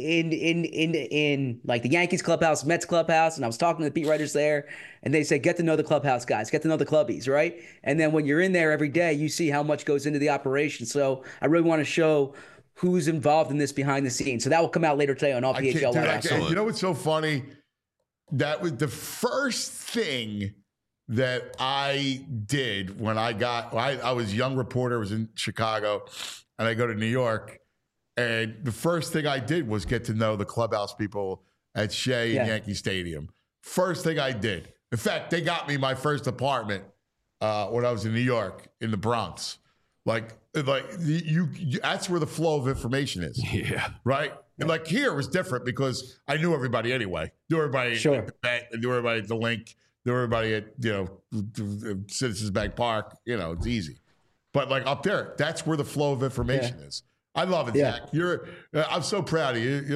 like the Yankees clubhouse, Mets clubhouse, and I was talking to the beat writers there, and they said, get to know the clubhouse guys, get to know the clubbies, right? And then when you're in there every day, you see how much goes into the operation. So I really want to show who's involved in this behind the scenes. So that will come out later today on all PHL. You know what's so funny? That was the first thing that I did when I was a young reporter, was in Chicago, and I go to New York. And the first thing I did was get to know the clubhouse people at Shea and Yankee Stadium. First thing I did. In fact, they got me my first apartment when I was in New York, in the Bronx. Like you that's where the flow of information is. Yeah. Right? And like here it was different because I knew everybody anyway. Knew everybody at the Bet, knew everybody at the Link, knew everybody at Citizens Bank Park. It's easy. But like up there, that's where the flow of information is. I love it, Zach. I'm so proud of you.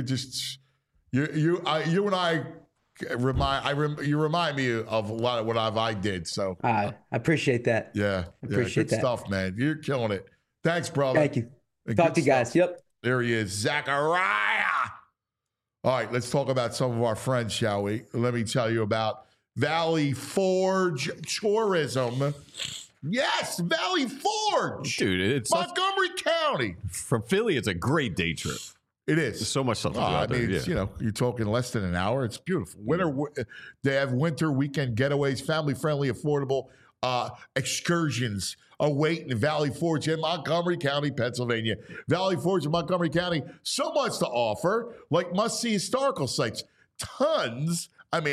You and I remind me of a lot of what I did. So I appreciate that. Yeah, appreciate good stuff, man. You're killing it. Thanks, brother. Thank you. Talk to you guys. Yep. There he is, Zachariah. All right, let's talk about some of our friends, shall we? Let me tell you about Valley Forge Tourism. Yes, Valley Forge. Dude, it's Montgomery County. From Philly, it's a great day trip. It is. There's so much stuff to do out there. It's, you're talking less than an hour. It's beautiful. They have winter weekend getaways, family-friendly, affordable excursions await in Valley Forge in Montgomery County, Pennsylvania. Valley Forge in Montgomery County, so much to offer, like must-see historical sites. Tons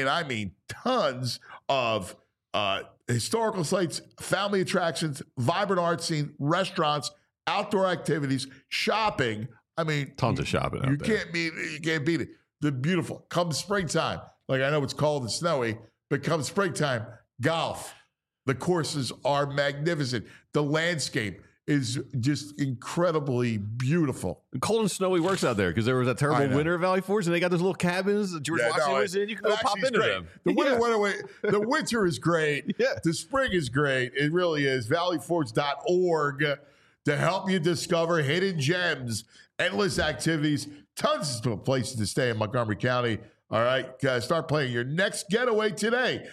of historical sites, family attractions, vibrant art scene, restaurants, outdoor activities, shopping. Tons of shopping out there. You can't beat it. They're beautiful. Come springtime, like I know it's cold and snowy, but come springtime, golf, The courses are magnificent. The landscape is just incredibly beautiful. Cold and snowy works out there because there was that terrible winter at Valley Forge, and they got those little cabins that George Washington was in. You can go pop into them. The winter is great. Yeah. The spring is great. It really is. ValleyForge.org to help you discover hidden gems, endless activities, tons of places to stay in Montgomery County. All right, start planning your next getaway today.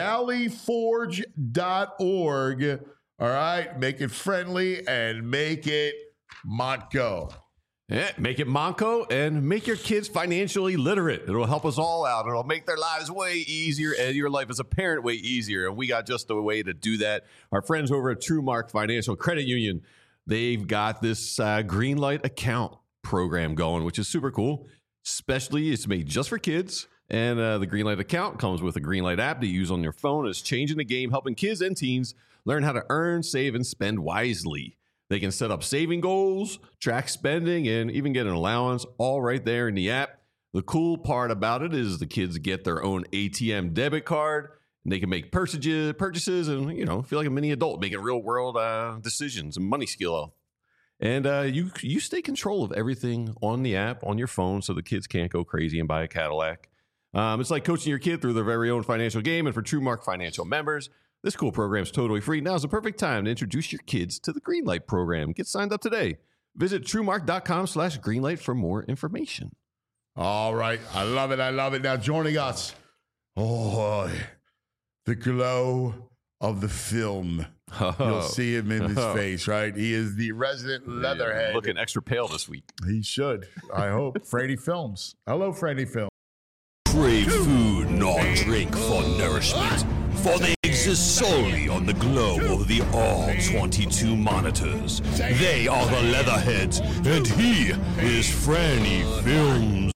ValleyForge.org. All right, make it friendly and make it Montco. Yeah, make it Monco and make your kids financially literate. It'll help us all out. It'll make their lives way easier and your life as a parent way easier. And we got just a way to do that. Our friends over at TrueMark Financial Credit Union, they've got this Greenlight account program going, which is super cool. Especially, it's made just for kids. And the Greenlight account comes with a Greenlight app to use on your phone. It's changing the game, helping kids and teens learn how to earn, save, and spend wisely. They can set up saving goals, track spending, and even get an allowance all right there in the app. The cool part about it is the kids get their own ATM debit card, and they can make purchases and, feel like a mini adult, making real world decisions and money skill. And you stay control of everything on the app, on your phone, so the kids can't go crazy and buy a Cadillac. It's like coaching your kid through their very own financial game. And for TrueMark Financial members, this cool program is totally free. Now's the perfect time to introduce your kids to the Greenlight program. Get signed up today. Visit TrueMark.com/Greenlight for more information. All right. I love it. I love it. Now joining us, the glow of the film. You'll see him in his face, right? He is the resident leatherhead. Looking extra pale this week. He should, I hope. Frady Films. Hello, Frady Films. Crave food, not drink for nourishment, for they exist solely on the glow of the all-22 monitors. They are the Leatherheads, and he is Franny Films.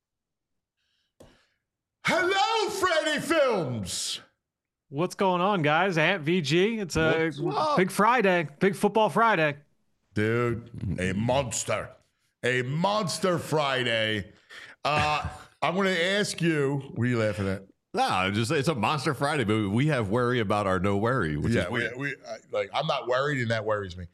Hello, Franny Films. What's going on, guys? Ant VG. It's a big Friday, big football Friday. Dude, a monster Friday. I'm going to ask you, what are you laughing at? No, it's a monster Friday, but we have worry about our no worry, which is weird. I'm not worried, and that worries me.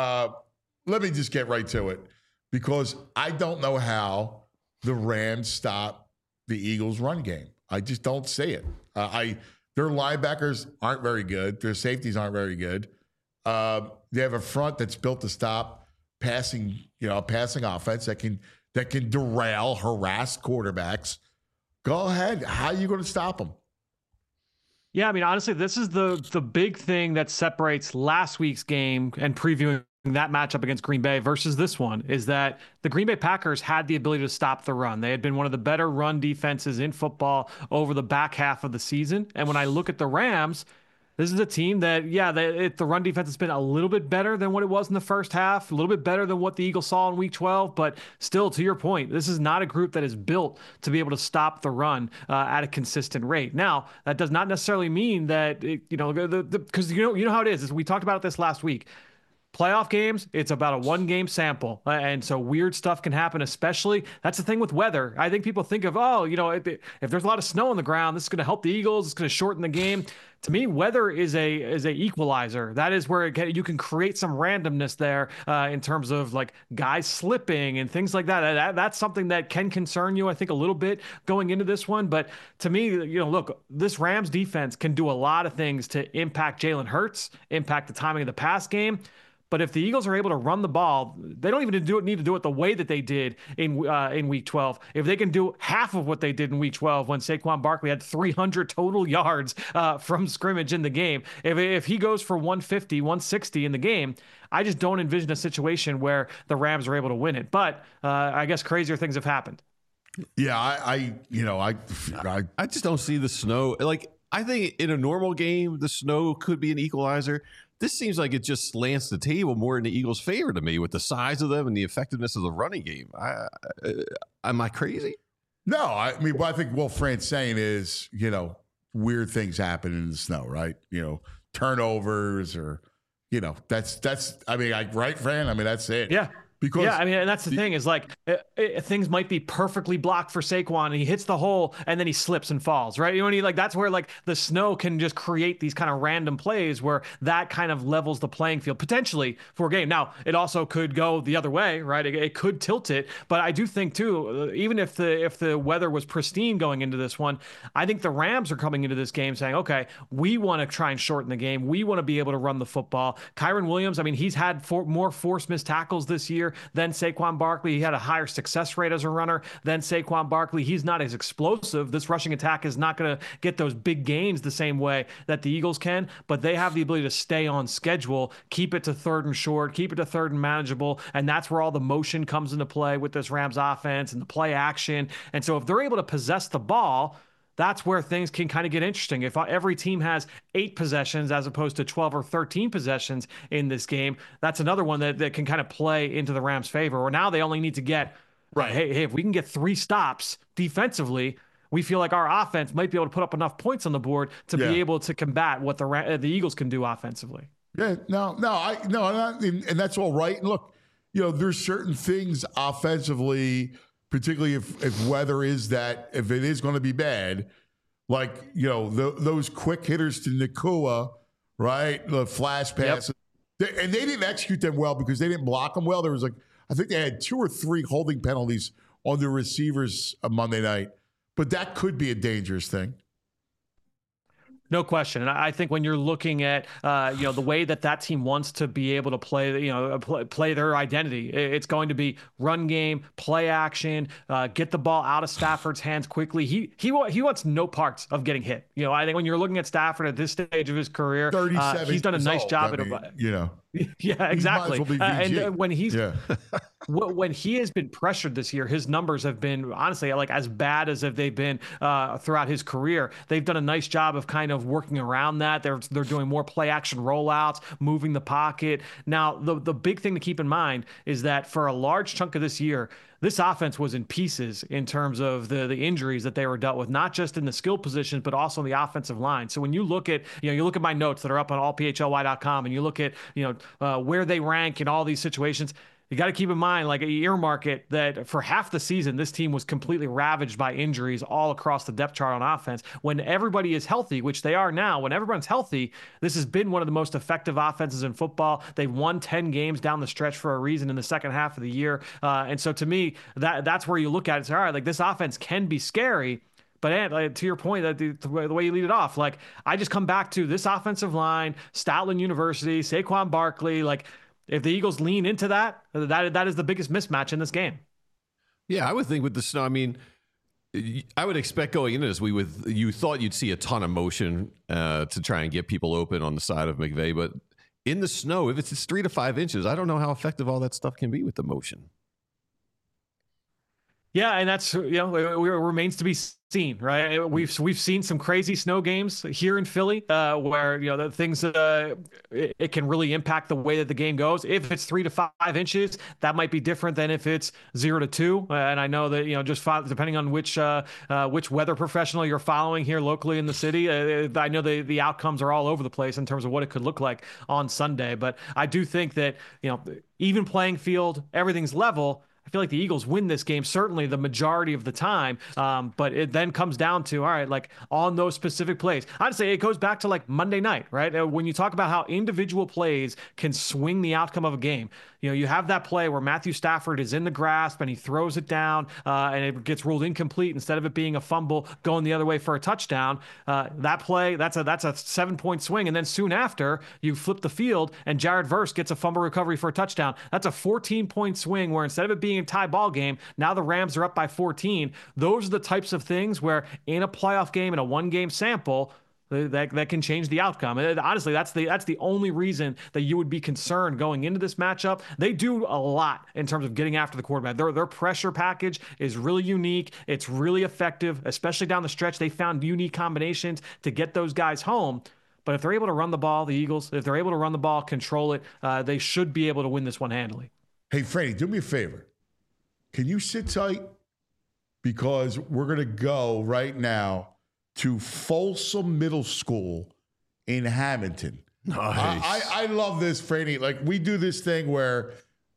Let me just get right to it, because I don't know how the Rams stop the Eagles' run game. I just don't see it. Their linebackers aren't very good. Their safeties aren't very good. They have a front that's built to stop passing offense that can derail, harass quarterbacks. Go ahead. How are you going to stop them? Yeah, I mean, honestly, this is the big thing that separates last week's game and previewing that matchup against Green Bay versus this one, is that the Green Bay Packers had the ability to stop the run. They had been one of the better run defenses in football over the back half of the season. And when I look at the Rams, this is a team that, the run defense has been a little bit better than what it was in the first half, a little bit better than what the Eagles saw in Week 12. But still, to your point, this is not a group that is built to be able to stop the run at a consistent rate. Now, that does not necessarily mean that, because you know how it is. We talked about this last week. Playoff games, it's about a one-game sample. And so weird stuff can happen, especially. That's the thing with weather. I think people think of, if there's a lot of snow on the ground, this is going to help the Eagles. It's going to shorten the game. To me, weather is a equalizer. That is where you can create some randomness there in terms of like guys slipping and things like that. That's something that can concern you, I think, a little bit going into this one. But to me, look, this Rams defense can do a lot of things to impact Jalen Hurts, impact the timing of the pass game. But if the Eagles are able to run the ball, they don't even need to do it the way that they did in Week 12. If they can do half of what they did in Week 12 when Saquon Barkley had 300 total yards from scrimmage in the game, if he goes for 150, 160 in the game, I just don't envision a situation where the Rams are able to win it. But I guess crazier things have happened. Yeah, I just don't see the snow. Like, I think in a normal game, the snow could be an equalizer. This seems like it just slants the table more in the Eagles' favor to me with the size of them and the effectiveness of the running game. Am I crazy? No, I mean, what I think Will Fran's saying is, weird things happen in the snow, right? Turnovers or, right, Fran? I mean, that's it. Yeah. Because yeah, I mean, and that's the thing is like things might be perfectly blocked for Saquon, and he hits the hole, and then he slips and falls, right? You know what I mean? Like that's where like the snow can just create these kind of random plays where that kind of levels the playing field potentially for a game. Now, it also could go the other way, right? It could tilt it, but I do think too, even if the weather was pristine going into this one, I think the Rams are coming into this game saying, okay, we want to try and shorten the game. We want to be able to run the football. Kyren Williams, I mean, he's had more forced missed tackles this year than Saquon Barkley. He had a higher success rate as a runner than Saquon Barkley. He's not as explosive. This rushing attack is not going to get those big gains the same way that the Eagles can, but they have the ability to stay on schedule, keep it to 3rd and short, keep it to 3rd and manageable, and that's where all the motion comes into play with this Rams offense and the play action. And so if they're able to possess the ball, that's where things can kind of get interesting. If every team has 8 possessions as opposed to 12 or 13 possessions in this game, that's another one that can kind of play into the Rams' favor. Or now they only need to get, right, hey, if we can get 3 stops defensively, we feel like our offense might be able to put up enough points on the board to be able to combat what the Eagles can do offensively. Yeah, and that's all right. And look, there's certain things offensively, particularly if weather is that, if it is going to be bad, like, those quick hitters to Nacua, right? The flash passes. Yep. And they didn't execute them well because they didn't block them well. There was I think they had 2 or 3 holding penalties on the receivers on Monday night. But that could be a dangerous thing. No question. And I think when you're looking at, the way that team wants to be able to play, play their identity, it's going to be run game, play action, get the ball out of Stafford's hands quickly. He wants no parts of getting hit. I think when you're looking at Stafford at this stage of his career, he's done a nice job Yeah, exactly. And when when he has been pressured this year, his numbers have been honestly like as bad as if they've been throughout his career. They've done a nice job of kind of working around that. They're doing more play action rollouts, moving the pocket. Now, the big thing to keep in mind is that for a large chunk of this year, this offense was in pieces in terms of the injuries that they were dealt with, not just in the skill positions, but also in the offensive line. So when you look at, you look at my notes that are up on allphly.com and you look at, where they rank in all these situations, you got to keep in mind, like, earmark it, that for half the season, this team was completely ravaged by injuries all across the depth chart on offense. When everybody is healthy, which they are now, when everyone's healthy, this has been one of the most effective offenses in football. They've won 10 games down the stretch for a reason in the second half of the year. And so to me, that's where you look at it and say, all right, like, this offense can be scary. But Ant, to your point, that the way you lead it off, like, I just come back to this offensive line, Stoutland University, Saquon Barkley, like, if the Eagles lean into that is the biggest mismatch in this game. Yeah, I would think with the snow, I mean, I would expect going into this, you thought you'd see a ton of motion to try and get people open on the side of McVay, but in the snow, if it's 3 to 5 inches, I don't know how effective all that stuff can be with the motion. Yeah, and that's, it remains to be seen, right? We've seen some crazy snow games here in Philly where, the things, it can really impact the way that the game goes. If it's 3 to 5 inches, that might be different than if it's 0 to 2. And I know that, just depending on which weather professional you're following here locally in the city, I know the outcomes are all over the place in terms of what it could look like on Sunday. But I do think that, even playing field, everything's level. I feel like the Eagles win this game, certainly the majority of the time. But it then comes down to, all right, like, on those specific plays. I'd say it goes back to like Monday night, right? When you talk about how individual plays can swing the outcome of a game. You have that play where Matthew Stafford is in the grasp and he throws it down and it gets ruled incomplete instead of it being a fumble going the other way for a touchdown. That play, that's a 7-point swing. And then soon after, you flip the field and Jared Verse gets a fumble recovery for a touchdown. That's a 14-point swing where instead of it being a tie ball game, now the Rams are up by 14. Those are the types of things where in a playoff game, in a one-game sample, that can change the outcome. And honestly, that's the only reason that you would be concerned going into this matchup. They do a lot in terms of getting after the quarterback. Their pressure package is really unique. It's really effective, especially down the stretch. They found unique combinations to get those guys home. But if they're able to run the ball, the Eagles, if they're able to run the ball, control it, they should be able to win this one handily. Hey, Freddie, do me a favor. Can you sit tight? Because we're going to go right now to Folsom Middle School in Hamilton. Nice. I love this, Franny. Like, we do this thing where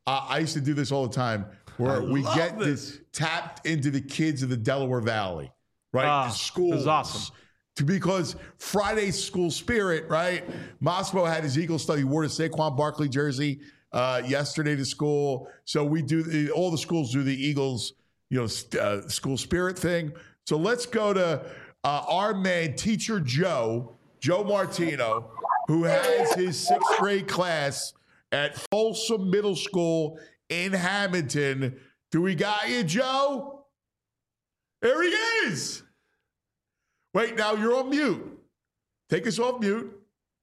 I used to do this all the time, where we get this tapped into the kids of the Delaware Valley, right? The schools. This is awesome. Because Friday's school spirit, right? Moscow had his Eagle stuff. He wore the Saquon Barkley jersey yesterday to school. So we do, all the schools do the Eagles, school spirit thing. So let's go to our man, Teacher Joe Martino, who has his 6th grade class at Folsom Middle School in Hamilton. Do we got you, Joe? There he is. Wait, now you're on mute. Take us off mute.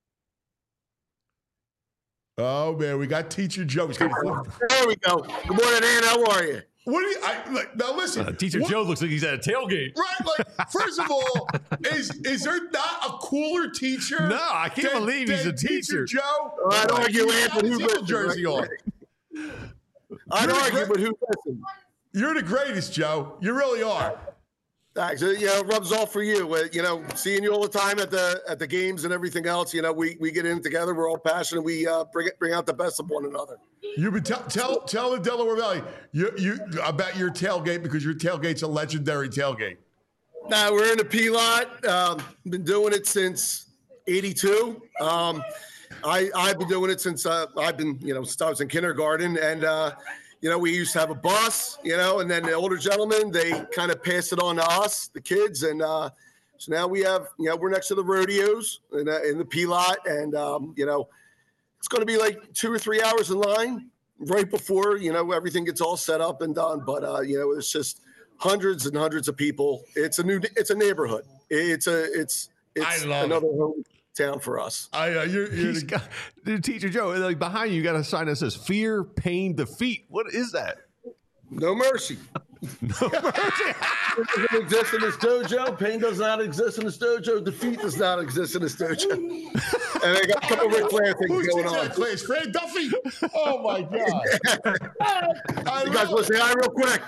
Oh, man, we got Teacher Joe. There we go. Good morning, Ann. How are you? What do you, now listen. Teacher Joe looks like he's at a tailgate. Right, first of all, is there not a cooler teacher? No, I can't believe he's a Teacher teacher. Joe? I'd argue, Ann, but who listens? Jersey on. I'd argue, but who listens? You're the greatest, Joe. You really are. Thanks. It rubs off for you. Seeing you all the time at the games and everything else. We get in together. We're all passionate. We bring out the best of one another. You been tell the Delaware Valley you about your tailgate, because your tailgate's a legendary tailgate. Now we're in the P lot. Been doing it since '82. I've been doing it since since I was in kindergarten, and we used to have a bus, and then the older gentlemen, they kind of passed it on to us, the kids. And so now we have, we're next to the rodeos in the P lot. And, it's going to be like 2 or 3 hours in line right before, everything gets all set up and done. But, it's just hundreds and hundreds of people. It's a neighborhood. It's another hometown for us. Dude, Teacher Joe, like behind you got a sign that says "Fear, Pain, Defeat." What is that? No mercy. No mercy. It doesn't exist in this dojo. Pain does not exist in this dojo. Defeat does not exist in this dojo. And I got a couple of Ric Flair things going on. Class? Fred Duffy. Oh my God. You guys want to say hi real quick?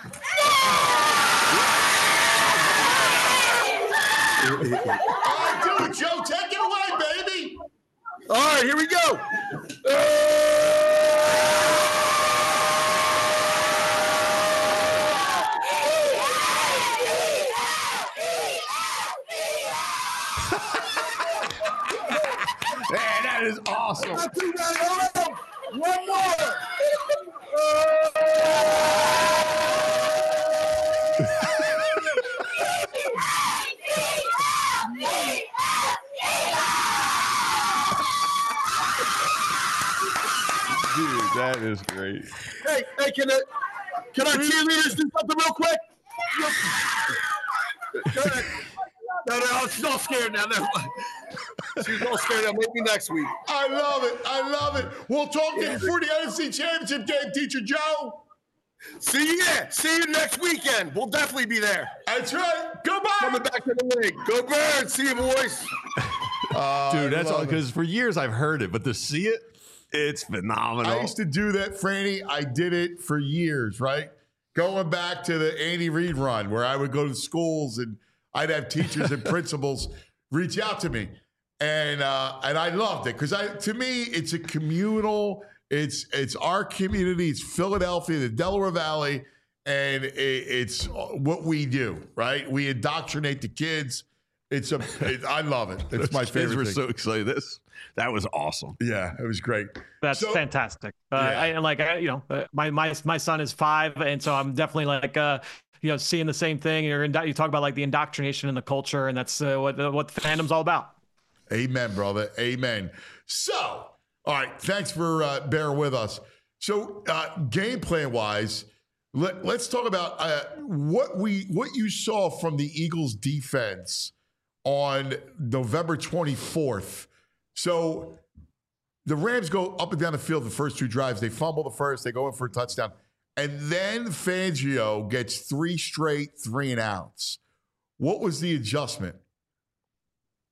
All right, do it, Joe. Take it away, baby. All right, here we go. Man, that is awesome. One more. Dude, that is great. Hey, can our cheerleaders do something real quick? Go ahead. No, she's all scared now. She's all scared now. Maybe next week. I love it. We'll talk to you for the NFC Championship game, Teacher Joe. See you next weekend. We'll definitely be there. That's right. Goodbye. Coming back to the league. Go Birds. See you, boys. Dude, that's all, because for years I've heard it, but to see it, it's phenomenal. I used to do that, Franny. I did it for years, right? Going back to the Andy Reid run, where I would go to schools and I'd have teachers and principals reach out to me, and I loved it because to me it's a communal. It's our community. It's Philadelphia, the Delaware Valley, and it's what we do. Right? We indoctrinate the kids. I love it. It's my favorite. We're thing. so excited. That was awesome. Yeah, it was great. That's fantastic. My son is 5, and so I'm definitely seeing the same thing. You talk about like the indoctrination in the culture, and that's what the fandom's all about. Amen, brother. Amen. So, all right, thanks for bearing with us. So, game plan wise, let's talk about what you saw from the Eagles defense on November 24th. So the Rams go up and down the field the first 2 drives. They fumble the first. They go in for a touchdown. And then Fangio gets 3 straight 3-and-outs. What was the adjustment?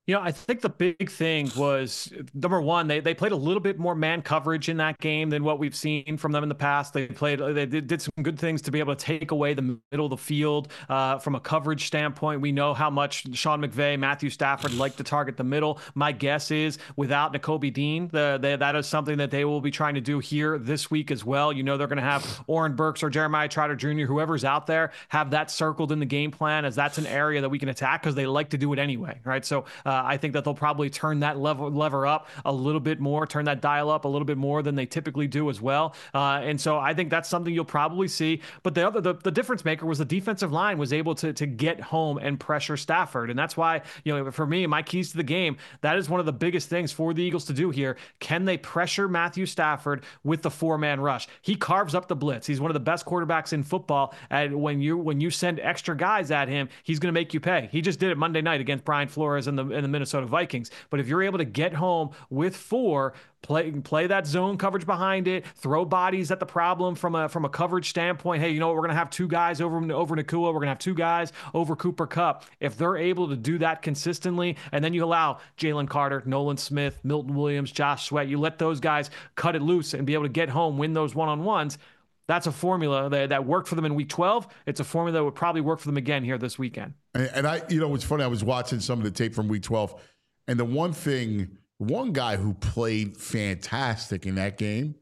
I think the big thing was, number one, they played a little bit more man coverage in that game than what we've seen from them in the past. They did some good things to be able to take away the middle of the field from a coverage standpoint. We know how much Sean McVay, Matthew Stafford like to target the middle. My guess is without Nakobe Dean, that is something that they will be trying to do here this week as well. They're going to have Oren Burks or Jeremiah Trotter Jr., whoever's out there, have that circled in the game plan, as that's an area that we can attack because they like to do it anyway, right? So I think that they'll probably turn that lever up a little bit more, turn that dial up a little bit more than they typically do as well. And so I think that's something you'll probably see. But the difference maker was the defensive line was able to get home and pressure Stafford. And that's why, for me, my keys to the game, that is one of the biggest things for the Eagles to do here. Can they pressure Matthew Stafford with the 4-man rush? He carves up the blitz. He's one of the best quarterbacks in football. And when you send extra guys at him, he's going to make you pay. He just did it Monday night against Brian Flores and the Minnesota Vikings. But if you're able to get home with 4, play that zone coverage behind it, throw bodies at the problem from a coverage standpoint. Hey, we're going to have 2 guys over Nacua. We're going to have 2 guys over Cooper Kupp. If they're able to do that consistently, and then you allow Jalen Carter, Nolan Smith, Milton Williams, Josh Sweat, you let those guys cut it loose and be able to get home, win those one-on-ones. That's a formula that worked for them in week 12. It's a formula that would probably work for them again here this weekend. And it's funny. I was watching some of the tape from week 12, and the one guy who played fantastic in that game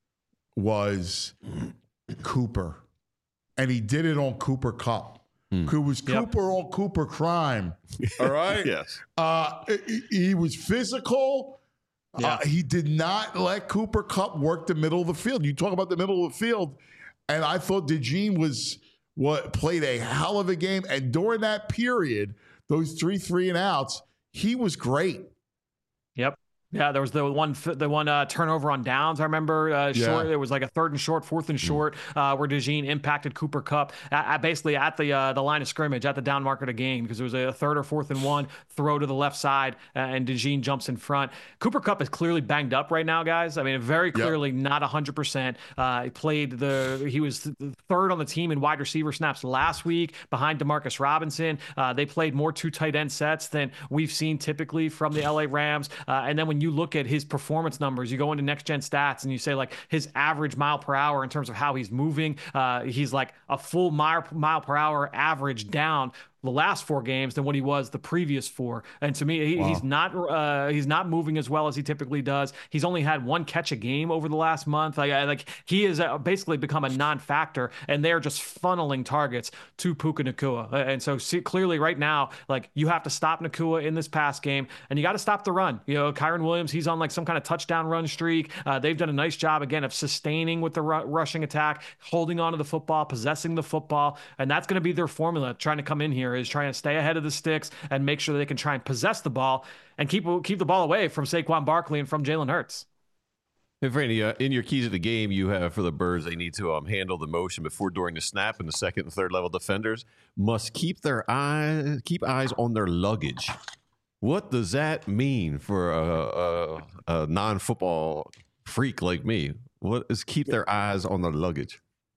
was Cooper, and he did it on Cooper Kupp. It was Cooper on Cooper crime. All right. Yes. He was physical. Yeah. He did not let Cooper Kupp work the middle of the field. You talk about the middle of the field, and I thought DeJean played a hell of a game. And during that period, those 3 and outs, he was great. Yep. Yeah, there was the one turnover on downs. I remember short. It was like a 3rd and short, 4th and short, where DeJean impacted Cooper Kupp basically at the line of scrimmage at the down marker to gain, because it was a 3rd or 4th and 1 throw to the left side, and DeJean jumps in front. Cooper Kupp is clearly banged up right now, guys. I mean, very clearly not 100%. He was 3rd on the team in wide receiver snaps last week, behind Demarcus Robinson. They played more 2 tight end sets than we've seen typically from the LA Rams. And then when you look at his performance numbers, you go into next gen stats and you say, like, his average mile per hour in terms of how he's moving, he's like a full mile per hour average down the last 4 games than what he was the previous 4. And to me, he's not moving as well as he typically does. He's only had 1 catch a game over the last month. He has basically become a non-factor, and they're just funneling targets to Puka Nacua. And so clearly right now, like, you have to stop Nacua in this pass game, and you got to stop the run. Kyron Williams, he's on like some kind of touchdown run streak. They've done a nice job again of sustaining with the rushing attack, holding onto the football, possessing the football, and that's going to be their formula trying to come in here, is trying to stay ahead of the sticks and make sure they can try and possess the ball and keep the ball away from Saquon Barkley and from Jalen Hurts. Hey, Franny, in your keys of the game, you have for the Birds, they need to handle the motion before, during the snap, and the 2nd and 3rd level defenders must keep eyes on their luggage. What does that mean for a non-football freak like me? What is keep their eyes on their luggage?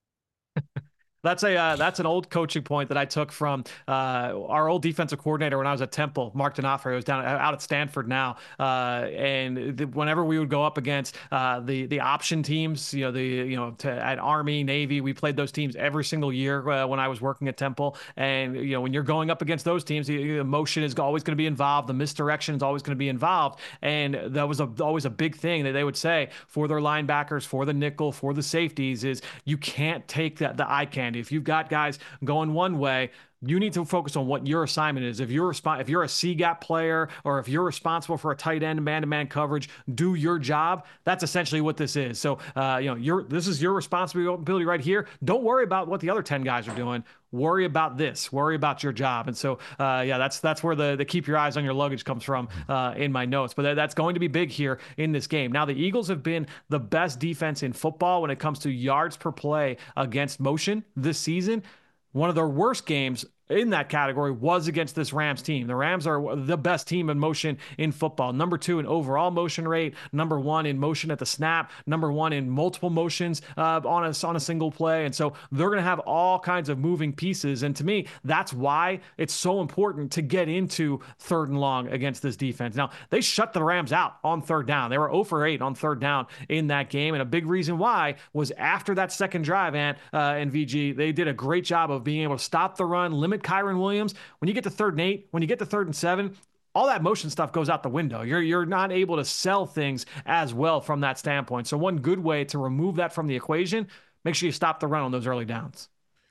That's an old coaching point that I took from our old defensive coordinator when I was at Temple, Mark D'Onofrio, who's out at Stanford now. Whenever we would go up against the option teams, at Army, Navy, we played those teams every single year when I was working at Temple. And when you're going up against those teams, the motion is always going to be involved. The misdirection is always going to be involved. And that was always a big thing that they would say for their linebackers, for the nickel, for the safeties, is you can't take the eye candy. If you've got guys going one way, you need to focus on what your assignment is. If you're a C-gap player, or if you're responsible for a tight end man-to-man coverage, do your job. That's essentially what this is. So, this is your responsibility right here. Don't worry about what the other 10 guys are doing. Worry about this. Worry about your job. And so, that's where the keep your eyes on your luggage comes from in my notes. But that's going to be big here in this game. Now, the Eagles have been the best defense in football when it comes to yards per play against motion this season. One of their worst games in that category was against this Rams team. The Rams are the best team in motion in football. Number 2 in overall motion rate, number 1 in motion at the snap, number 1 in multiple motions on a single play. And so they're going to have all kinds of moving pieces. And to me, that's why it's so important to get into 3rd and long against this defense. Now, they shut the Rams out on 3rd down. They were 0 for 8 on 3rd down in that game. And a big reason why was after that second drive, and VG, they did a great job of being able to stop the run, limit Kyren Williams. When you get to 3rd and 8, when you get to 3rd and 7, all that motion stuff goes out the window. You're not able to sell things as well from that standpoint. So one good way to remove that from the equation, make sure you stop the run on those early downs.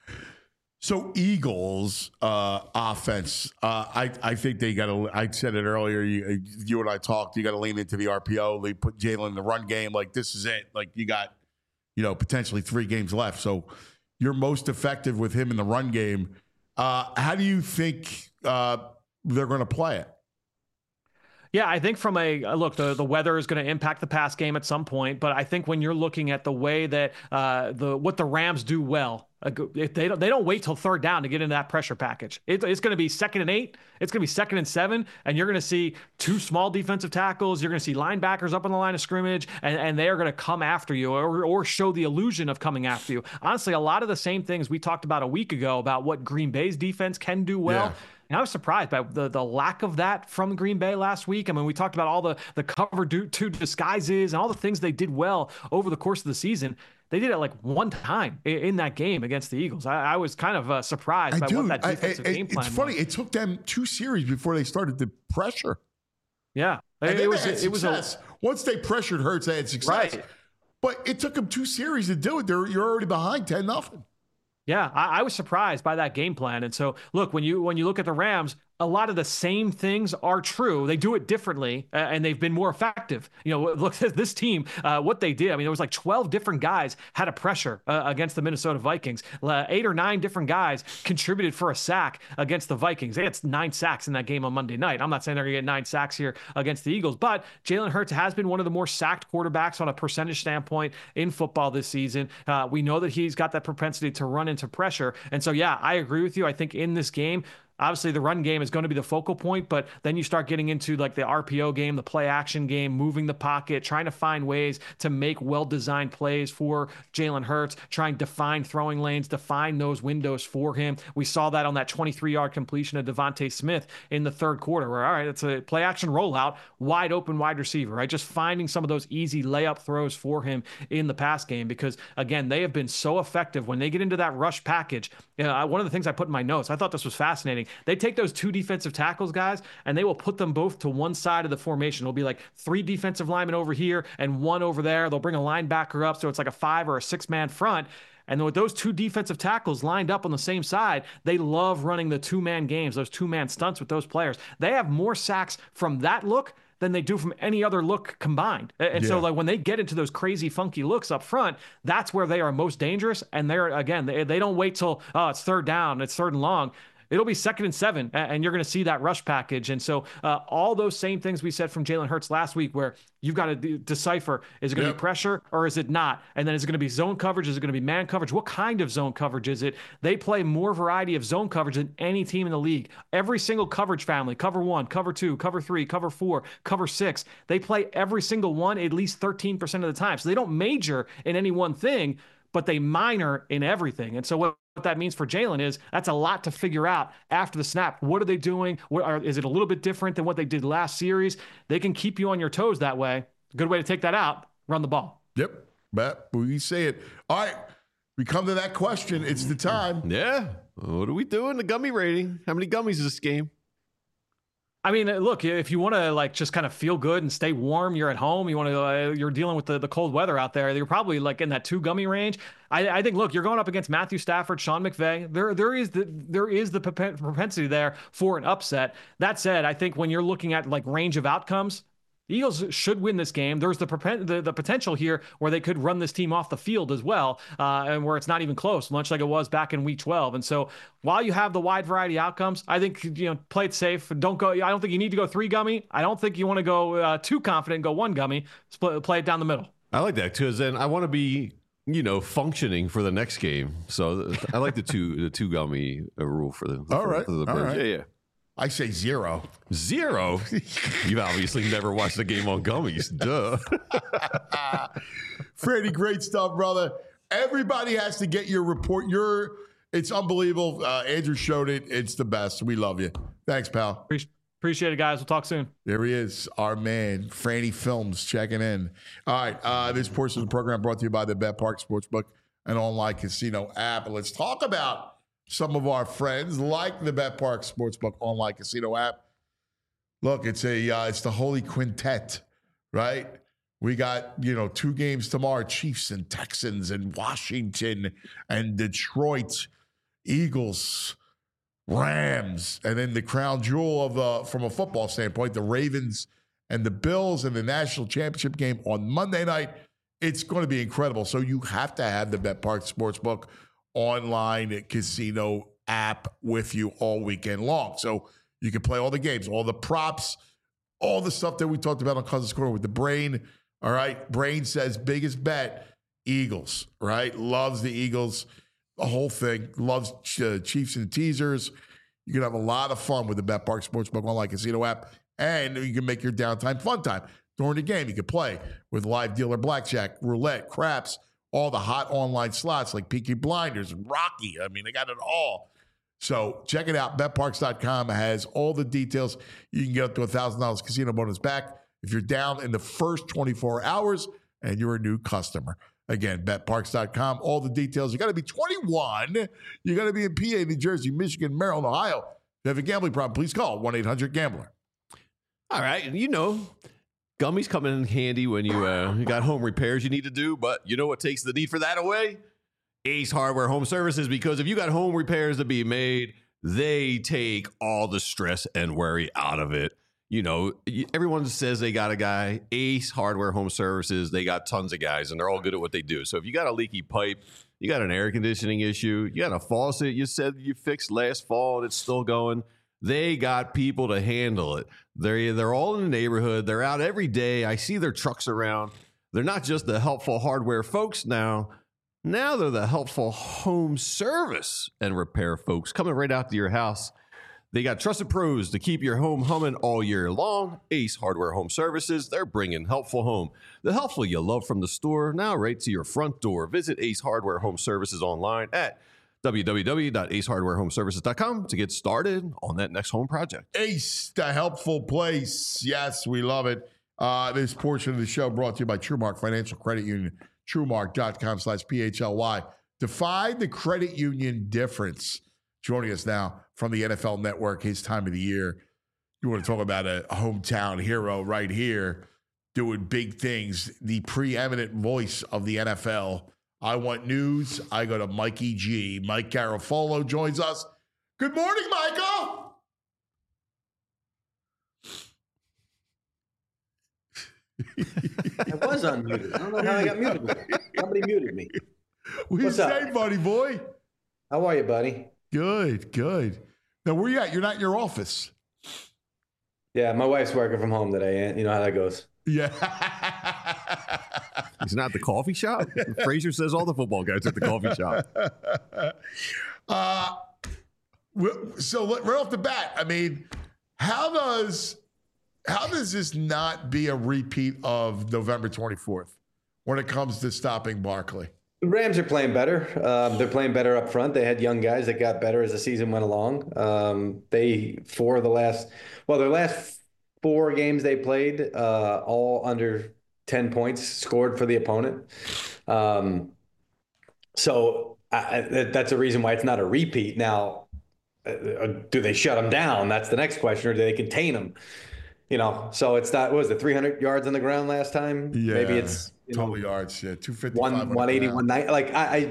So Eagles offense, I think they got to. I said it earlier. You and I talked. You got to lean into the RPO. They put Jalen in the run game. Like this is it. Like you got, potentially 3 games left. So you're most effective with him in the run game. How do you think they're going to play it? Yeah, I think from a look, the weather is going to impact the pass game at some point. But I think when you're looking at the way that what the Rams do well, if they don't wait till 3rd down to get into that pressure package. It's going to be 2nd and 8. It's going to be 2nd and 7, and you're going to see 2 small defensive tackles. You're going to see linebackers up on the line of scrimmage, and they are going to come after you or show the illusion of coming after you. Honestly, a lot of the same things we talked about a week ago about what Green Bay's defense can do well. Yeah. And I was surprised by the lack of that from Green Bay last week. I mean, we talked about all the cover 2 disguises and all the things they did well over the course of the season. They did it like one time in that game against the Eagles. I was kind of surprised by what that defensive game plan was. It's funny. It took them 2 series before they started the pressure. Yeah. It was once they pressured Hurts, they had success. Right. But it took them 2 series to do it. You're already behind 10-0. Yeah, I was surprised by that game plan. And so, look, when you look at the Rams, a lot of the same things are true. They do it differently, and they've been more effective. Look at this team, what they did. I mean, there was like 12 different guys had a pressure against the Minnesota Vikings. 8 or 9 different guys contributed for a sack against the Vikings. They had 9 sacks in that game on Monday night. I'm not saying they're going to get 9 sacks here against the Eagles, but Jalen Hurts has been one of the more sacked quarterbacks on a percentage standpoint in football this season. We know that he's got that propensity to run into pressure. And so, yeah, I agree with you. I think in this game, obviously, the run game is going to be the focal point, but then you start getting into like the RPO game, the play action game, moving the pocket, trying to find ways to make well-designed plays for Jalen Hurts, trying to find throwing lanes, define those windows for him. We saw that on that 23-yard completion of Devontae Smith in the 3rd quarter where, all right, it's a play action rollout, wide open wide receiver, right? Just finding some of those easy layup throws for him in the pass game because, again, they have been so effective when they get into that rush package. One of the things I put in my notes, I thought this was fascinating. They take those 2 defensive tackles, guys, and they will put them both to one side of the formation. It'll be like 3 defensive linemen over here and 1 over there. They'll bring a linebacker up, so it's like a 5 or a 6-man front. And with those 2 defensive tackles lined up on the same side, they love running the 2-man games, those 2-man stunts with those players. They have more sacks from that look than they do from any other look combined. And so like when they get into those crazy funky looks up front, that's where they are most dangerous. And they don't wait till, it's 3rd down, it's 3rd and long. It'll be 2nd and 7, and you're going to see that rush package. And so all those same things we said from Jalen Hurts last week where you've got to decipher, is it going to be pressure or is it not? And then is it going to be zone coverage? Is it going to be man coverage? What kind of zone coverage is it? They play more variety of zone coverage than any team in the league. Every single coverage family, cover 1, cover 2, cover 3, cover 4, cover 6, they play every single one at least 13% of the time. So they don't major in any one thing, but they minor in everything. And so what that means for Jalen is that's a lot to figure out after the snap. What are they doing? Is it a little bit different than what they did last series? They can keep you on your toes that way. Good way to take that out, run the ball. Yep. But we say it. All right. We come to that question. It's the time. Yeah. What are we doing? The gummy rating. How many gummies is this game? I mean, look, if you want to like just kind of feel good and stay warm, you're at home, you want to, you're dealing with the cold weather out there, you're probably like in that 2 gummy range. I think, look, you're going up against Matthew Stafford, Sean McVay. There is the propensity there for an upset. That said, I think when you're looking at like range of outcomes, the Eagles should win this game. There's the potential here where they could run this team off the field as well, and where it's not even close, much like it was back in Week 12. And so while you have the wide variety of outcomes, I think, play it safe. Don't go. I don't think you need to go 3 gummy. I don't think you want to go too confident and go 1 gummy. Play it down the middle. I like that because then I want to be functioning for the next game. So I like the two gummy rule for the All right. for the All Birds. right. Yeah. I say 0. 0? You've obviously never watched the game on gummies. Duh. Freddie, great stuff, brother. Everybody has to get your report. It's unbelievable. Andrew showed it. It's the best. We love you. Thanks, pal. Appreciate it, guys. We'll talk soon. There he is, our man, Franny Films, checking in. All right, this portion of the program brought to you by the Bet Park Sportsbook, an online casino app. Let's talk about some of our friends like the Bet Park Sportsbook online casino app. Look, it's the Holy Quintet, right? We got 2 games tomorrow: Chiefs and Texans, and Washington and Detroit, Eagles, Rams, and then the crown jewel of from a football standpoint, the Ravens and the Bills, and the national championship game on Monday night. It's going to be incredible. So you have to have the Bet Park Sportsbook online casino app with you all weekend long. So you can play all the games, all the props, all the stuff that we talked about on Cousins Corner with the Brain. All right. Brain says biggest bet, Eagles, right? Loves the Eagles, the whole thing. Loves Chiefs and teasers. You can have a lot of fun with the Bet Park Sportsbook online casino app, and you can make your downtime fun time. During the game, you can play with live dealer blackjack, roulette, craps, all the hot online slots like Peaky Blinders, Rocky. I mean, they got it all. So check it out. BetParks.com has all the details. You can get up to $1,000 casino bonus back if you're down in the first 24 hours and you're a new customer. Again, BetParks.com, all the details. You got to be 21. You got to be in PA, New Jersey, Michigan, Maryland, Ohio. If you have a gambling problem, please call 1-800-GAMBLER. All right. Gummies come in handy when you got home repairs you need to do, but you know what takes the need for that away? Ace Hardware Home Services, because if you got home repairs to be made, they take all the stress and worry out of it. Everyone says they got a guy. Ace Hardware Home Services, they got tons of guys, and they're all good at what they do. So if you got a leaky pipe, you got an air conditioning issue, you got a faucet you said you fixed last fall and it's still going, they got people to handle it. They're all in the neighborhood. They're out every day. I see their trucks around. They're not just the helpful hardware folks now. Now they're the helpful home service and repair folks coming right out to your house. They got trusted pros to keep your home humming all year long. Ace Hardware Home Services, they're bringing helpful home. The helpful you love from the store, now right to your front door. Visit Ace Hardware Home Services online at www.acehardwarehomeservices.com to get started on that next home project. Ace, the helpful place. Yes, we love it. This portion of the show brought to you by TrueMark Financial Credit Union. TrueMark.com/PHLY. Define the credit union difference. Joining us now from the NFL Network, his time of the year. You want to talk about a hometown hero right here doing big things. The preeminent voice of the NFL. I want news. I go to Mikey G. Mike Garafolo joins us. Good morning, Michael. I was unmuted. I don't know how I got muted. Somebody muted me. What you say, buddy boy? How are you, buddy? Good, good. Now, where you at? You're not in your office. Yeah, my wife's working from home today. You know how that goes. Yeah. He's not at the coffee shop? Frazier says all the football guys are at the coffee shop. So right off the bat, I mean, how does this not be a repeat of November 24th when it comes to stopping Barkley? The Rams are playing better. They're playing better up front. They had young guys that got better as the season went along. Their last 4 games they played, all under 10 points scored for the opponent. So that's a reason why it's not a repeat. Now, do they shut them down? That's the next question. Or do they contain them? So it's not, what was it, 300 yards on the ground last time? Yeah. Maybe it's total yards. Yeah. 255. 180, 190. Like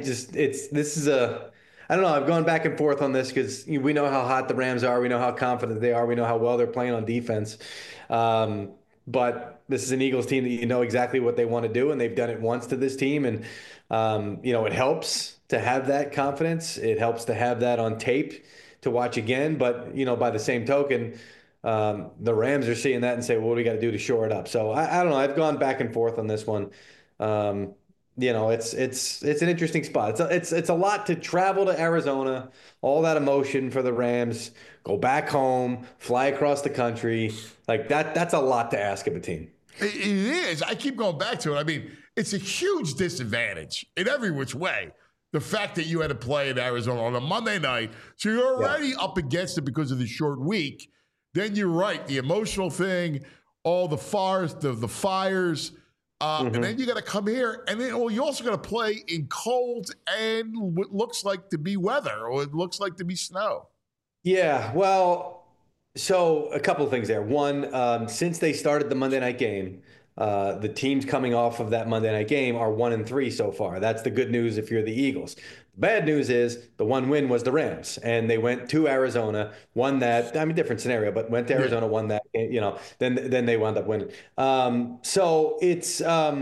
I don't know. I've gone back and forth on this because we know how hot the Rams are. We know how confident they are. We know how well they're playing on defense. But this is an Eagles team that you know exactly what they want to do, and they've done it once to this team. And, it helps to have that confidence. It helps to have that on tape to watch again. But, by the same token, the Rams are seeing that and say, well, what do we got to do to shore it up? So I don't know. I've gone back and forth on this one. it's an interesting spot. It's a lot to travel to Arizona, all that emotion for the Rams, go back home, fly across the country. Like that's a lot to ask of a team. It is. I keep going back to it. I mean, it's a huge disadvantage in every which way. The fact that you had to play in Arizona on a Monday night, so you're already up against it because of the short week. Then you're right, the emotional thing, all the fires, the fires, and then you got to come here, and then you also got to play in cold and what looks like to be weather, or it looks like to be snow. Yeah, well, so a couple of things there. One, since they started the Monday night game, the teams coming off of that Monday night game are 1-3 so far. That's the good news if you're the Eagles. The bad news is the one win was the Rams, and they went to Arizona, won that. I mean, different scenario, but went to Arizona, won that. Then they wound up winning. So it's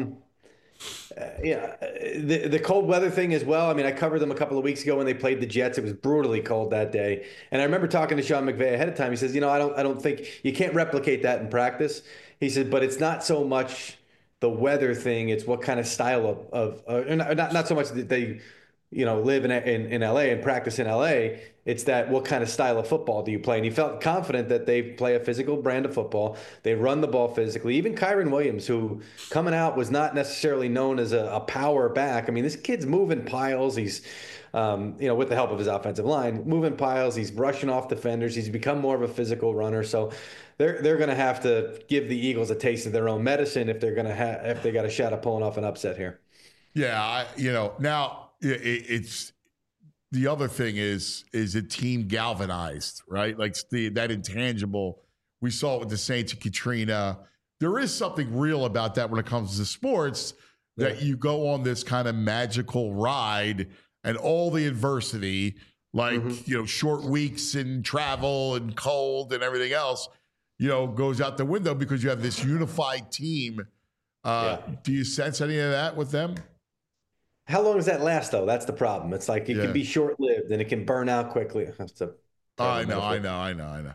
the cold weather thing as well. I mean, I covered them a couple of weeks ago when they played the Jets. It was brutally cold that day, and I remember talking to Sean McVay ahead of time. He says, I don't think you can't replicate that in practice. He said, but it's not so much the weather thing; it's what kind of style of not so much that they live in LA and practice in LA. It's that what kind of style of football do you play? And he felt confident that they play a physical brand of football. They run the ball physically. Even Kyren Williams, who coming out was not necessarily known as a power back. I mean, this kid's moving piles. He's, with the help of his offensive line, moving piles. He's rushing off defenders. He's become more of a physical runner. So they're going to have to give the Eagles a taste of their own medicine if they got a shot at pulling off an upset here. Yeah, now it's the other thing is a team galvanized, right? Like that intangible. We saw it with the Saints and Katrina. There is something real about that when it comes to sports, that you go on this kind of magical ride and all the adversity, like, short weeks and travel and cold and everything else, goes out the window because you have this unified team. Do you sense any of that with them? How long does that last, though? That's the problem. It's like it can be short-lived and it can burn out quickly. I know.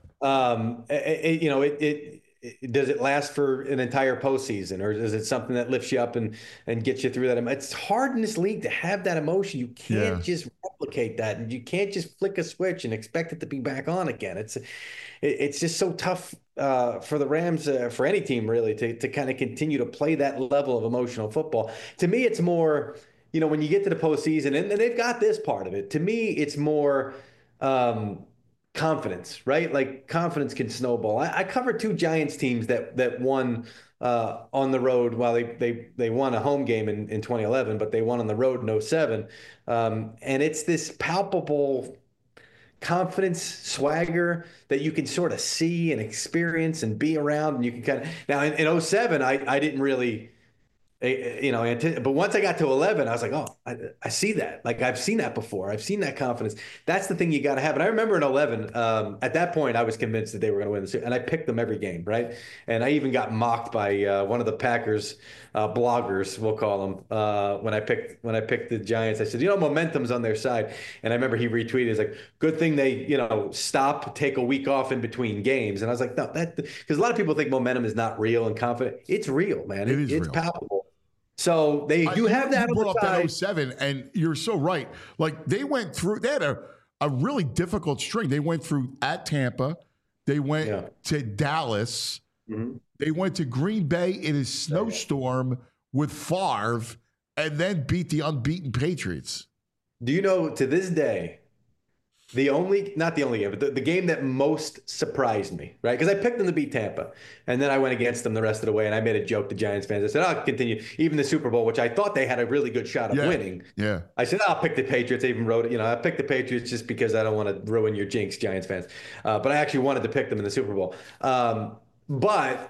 Does it last for an entire postseason, or is it something that lifts you up and gets you through that? It's hard in this league to have that emotion. You can't just replicate that, and you can't just flick a switch and expect it to be back on again. It's just so tough for the Rams, for any team really, to kind of continue to play that level of emotional football. To me, it's more, when you get to the postseason, and they've got this part of it. To me, it's more confidence, right? Like confidence can snowball. I covered two Giants teams that won on the road. While they won a home game in 2011, but they won on the road in 2007. And it's this palpable confidence, swagger that you can sort of see and experience and be around. And you can kind of, now in 2007, I didn't really, but once I got to 11, I was like, oh, I see that. Like, I've seen that before. I've seen that confidence. That's the thing you got to have. And I remember in 11, at that point, I was convinced that they were going to win the series, and I picked them every game, right? And I even got mocked by one of the Packers bloggers, we'll call them, when I picked the Giants. I said, momentum's on their side. And I remember he retweeted, it's like, good thing they, take a week off in between games. And I was like, no, because a lot of people think momentum is not real and confident. It's real, man. It's real. Palpable. So they do have that. You brought up that 07, and you're so right. Like, they had a really difficult string. They went through at Tampa. They went to Dallas. Mm-hmm. They went to Green Bay in a snowstorm with Favre, and then beat the unbeaten Patriots. Do you know, to this day, not the only game, but the game that most surprised me, right? Because I picked them to beat Tampa, and then I went against them the rest of the way, and I made a joke to Giants fans. I said, I'll continue. Even the Super Bowl, which I thought they had a really good shot of winning. Yeah. I said, I'll pick the Patriots. I even wrote it. I picked the Patriots just because I don't want to ruin your jinx, Giants fans. But I actually wanted to pick them in the Super Bowl. But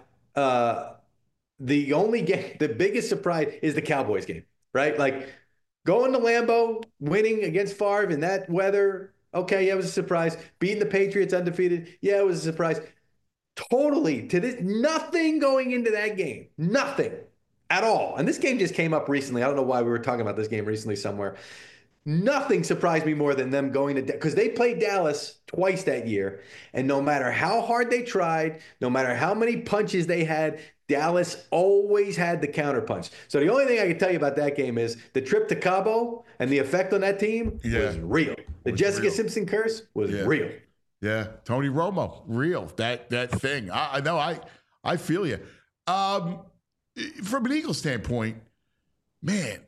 the only game, the biggest surprise is the Cowboys game, right? Like, going to Lambeau, winning against Favre in that weather. Okay, yeah, it was a surprise. Beating the Patriots undefeated, yeah, it was a surprise. Totally, nothing going into that game. Nothing at all. And this game just came up recently. I don't know why we were talking about this game recently somewhere. Nothing surprised me more than them going to because they played Dallas twice that year, and no matter how hard they tried, no matter how many punches they had, Dallas always had the counterpunch. So the only thing I can tell you about that game is the trip to Cabo and the effect on that team was real. The Jessica Simpson curse was real. Yeah, Tony Romo, real. That thing. I know. I feel you. From an Eagles standpoint, man,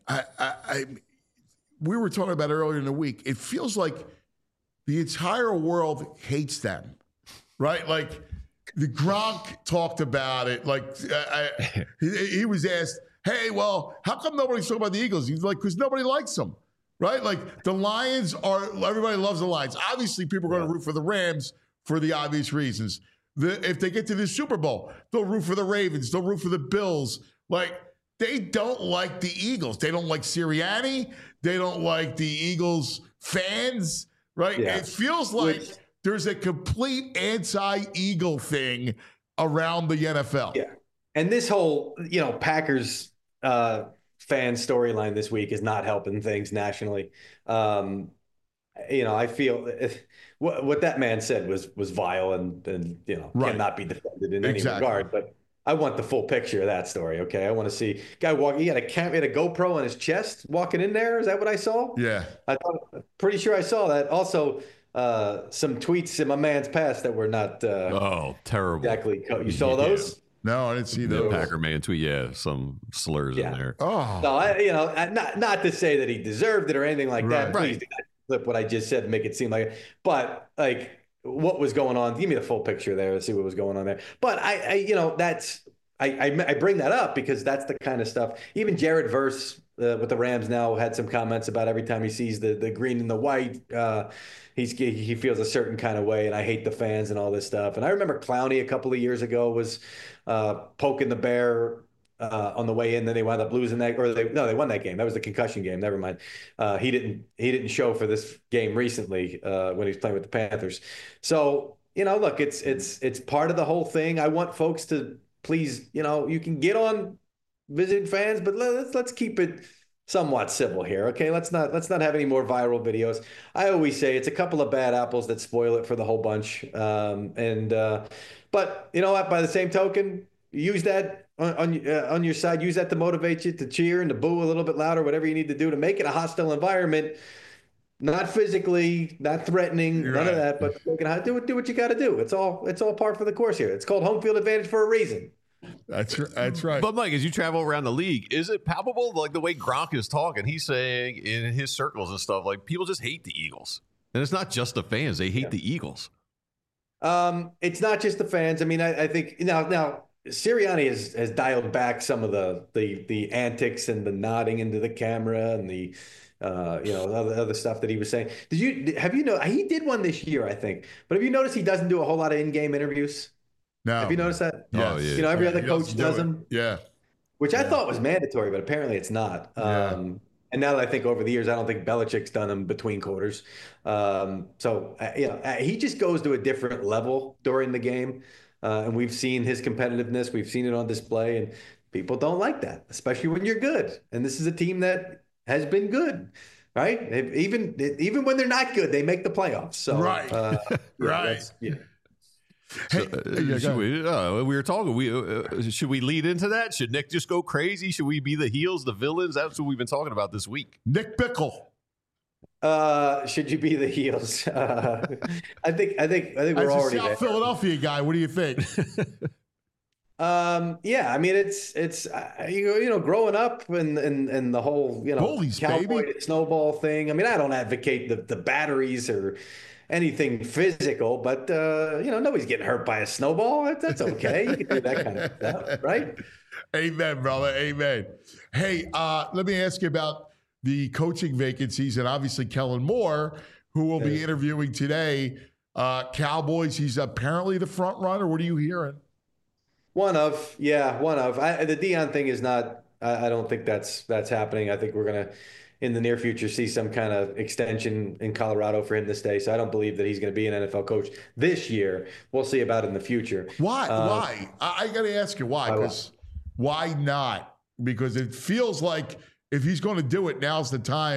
we were talking about earlier in the week. It feels like the entire world hates them, right? Like the Gronk talked about it. Like he was asked, "Hey, well, how come nobody's talking about the Eagles?" He's like, "Because nobody likes them." Right? Like the Lions everybody loves the Lions. Obviously, people are going to root for the Rams for the obvious reasons. If they get to the Super Bowl, they'll root for the Ravens. They'll root for the Bills. Like, they don't like the Eagles. They don't like Sirianni. They don't like the Eagles fans, right? Yeah. It feels like there's a complete anti-Eagle thing around the NFL. Yeah. And this whole, Packers fan storyline this week is not helping things nationally. I feel what that man said was vile and cannot be defended in any regard. But I want the full picture of that story. Okay, I want to see guy walking. He had a GoPro on his chest walking in there. Is that what I saw? Yeah, pretty sure I saw that. Also, some tweets in my man's past that were not. Terrible. Exactly. You saw those? No, I didn't see those. The Packer man tweet, some slurs in there. Oh, no, not to say that he deserved it or anything like that. Please do not flip what I just said and make it seem like it. But like, what was going on? Give me the full picture there to see what was going on there. But I bring that up because that's the kind of stuff. Even Jared Verse with the Rams now had some comments about every time he sees the green and the white, he feels a certain kind of way, and I hate the fans and all this stuff. And I remember Clowney a couple of years ago was poking the bear on the way in. Then they wound up losing that, or they won that game. That was the concussion game. Never mind. He didn't show for this game recently when he was playing with the Panthers. So look, it's part of the whole thing. I want folks to please, you can get on visiting fans, but let's keep it somewhat civil here. Okay, let's not have any more viral videos. I always say it's a couple of bad apples that spoil it for the whole bunch. But you know what? By the same token, use that on your side. Use that to motivate you to cheer and to boo a little bit louder, whatever you need to do to make it a hostile environment. Not physically, not threatening, none of that, but do what you got to do. It's all par for the course here. It's called home field advantage for a reason. That's right. But Mike, as you travel around the league, is it palpable, like the way Gronk is talking? He's saying in his circles and stuff, like people just hate the Eagles, and it's not just the fans; they hate the Eagles. It's not just the fans. I mean, I think now Sirianni has dialed back some of the antics and the nodding into the camera and the other stuff that he was saying. Have you know he did one this year, I think, but have you noticed he doesn't do a whole lot of in-game interviews? No. Have you noticed that? Yes. Oh, yeah. Every other coach does them. Yeah. Which I thought was mandatory, but apparently it's not. And now that I think over the years, I don't think Belichick's done them between quarters. He just goes to a different level during the game. And we've seen his competitiveness. We've seen it on display, and people don't like that, especially when you're good. And this is a team that has been good, right? Even when they're not good, they make the playoffs. So, right. Right. Hey, we were talking. Should we lead into that? Should Nick just go crazy? Should we be the heels, the villains? That's what we've been talking about this week. Nick Bickle. Should you be the heels? I think we're already there. South Philadelphia guy. What do you think? Yeah, I mean it's growing up and the whole Bullies, cowboy baby. snowball thing. I mean, I don't advocate the batteries or anything physical, but nobody's getting hurt by a snowball. That's okay. You can do that kind of stuff, right? Amen, brother. Amen. Hey, let me ask you about the coaching vacancies, and obviously Kellen Moore, who will be interviewing today. Cowboys, he's apparently the front runner. What are you hearing? One of. The Deion thing is not. I don't think that's happening. I think we're gonna, in the near future, see some kind of extension in Colorado for him to stay. So I don't believe that he's going to be an NFL coach this year. We'll see about it in the future. Why? Why? I got to ask you why. Because why not? Because it feels like if he's going to do it, now's the time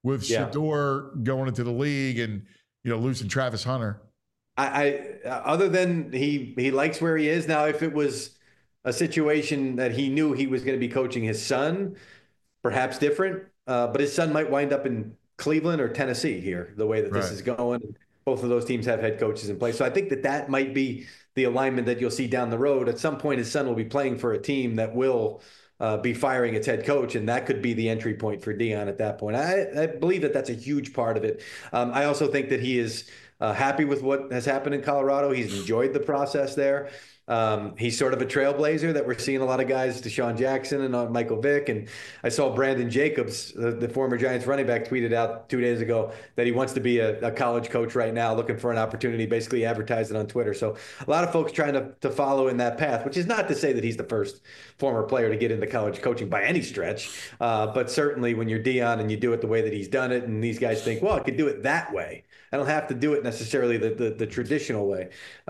with Shedeur going into the league and, losing Travis Hunter. I other than he likes where he is now. If it was a situation that he knew he was going to be coaching his son, perhaps different. But his son might wind up in Cleveland or Tennessee here, the way that this is going. Both of those teams have head coaches in place. So I think that might be the alignment that you'll see down the road. At some point, his son will be playing for a team that will be firing its head coach, and that could be the entry point for Deion at that point. I believe that that's a huge part of it. I also think that he is happy with what has happened in Colorado. He's enjoyed the process there. He's sort of a trailblazer that we're seeing a lot of guys, Deshaun Jackson and Michael Vick. And I saw Brandon Jacobs, the former Giants running back, tweeted out 2 days ago that he wants to be a college coach right now, looking for an opportunity, basically advertised it on Twitter. So a lot of folks trying to follow in that path, which is not to say that he's the first former player to get into college coaching by any stretch. But certainly when you're Deion and you do it the way that he's done it, and these guys think, well, I could do it that way. I don't have to do it necessarily the traditional way.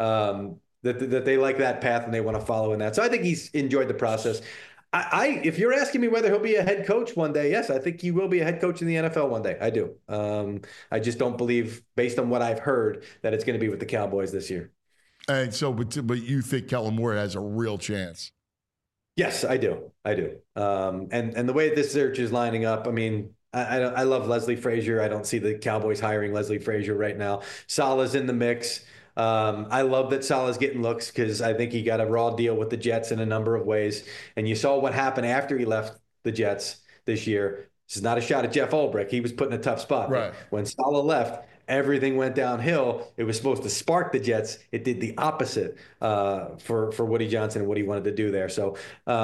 That they like that path and they want to follow in that. So I think he's enjoyed the process. If you're asking me whether he'll be a head coach one day, yes, I think he will be a head coach in the NFL one day. I do. I just don't believe, based on what I've heard, that it's going to be with the Cowboys this year. And so, but you think Kellen Moore has a real chance? Yes, I do. And the way this search is lining up, I mean, I love Leslie Frazier. I don't see the Cowboys hiring Leslie Frazier right now. Saleh's in the mix. I love that Saleh's getting looks because I think he got a raw deal with the Jets in a number of ways. And you saw what happened after he left the Jets this year. This is not a shot at Jeff Ulbrich. He was put in a tough spot. Right. When Saleh left, everything went downhill. It was supposed to spark the Jets. It did the opposite for Woody Johnson and what he wanted to do there. So,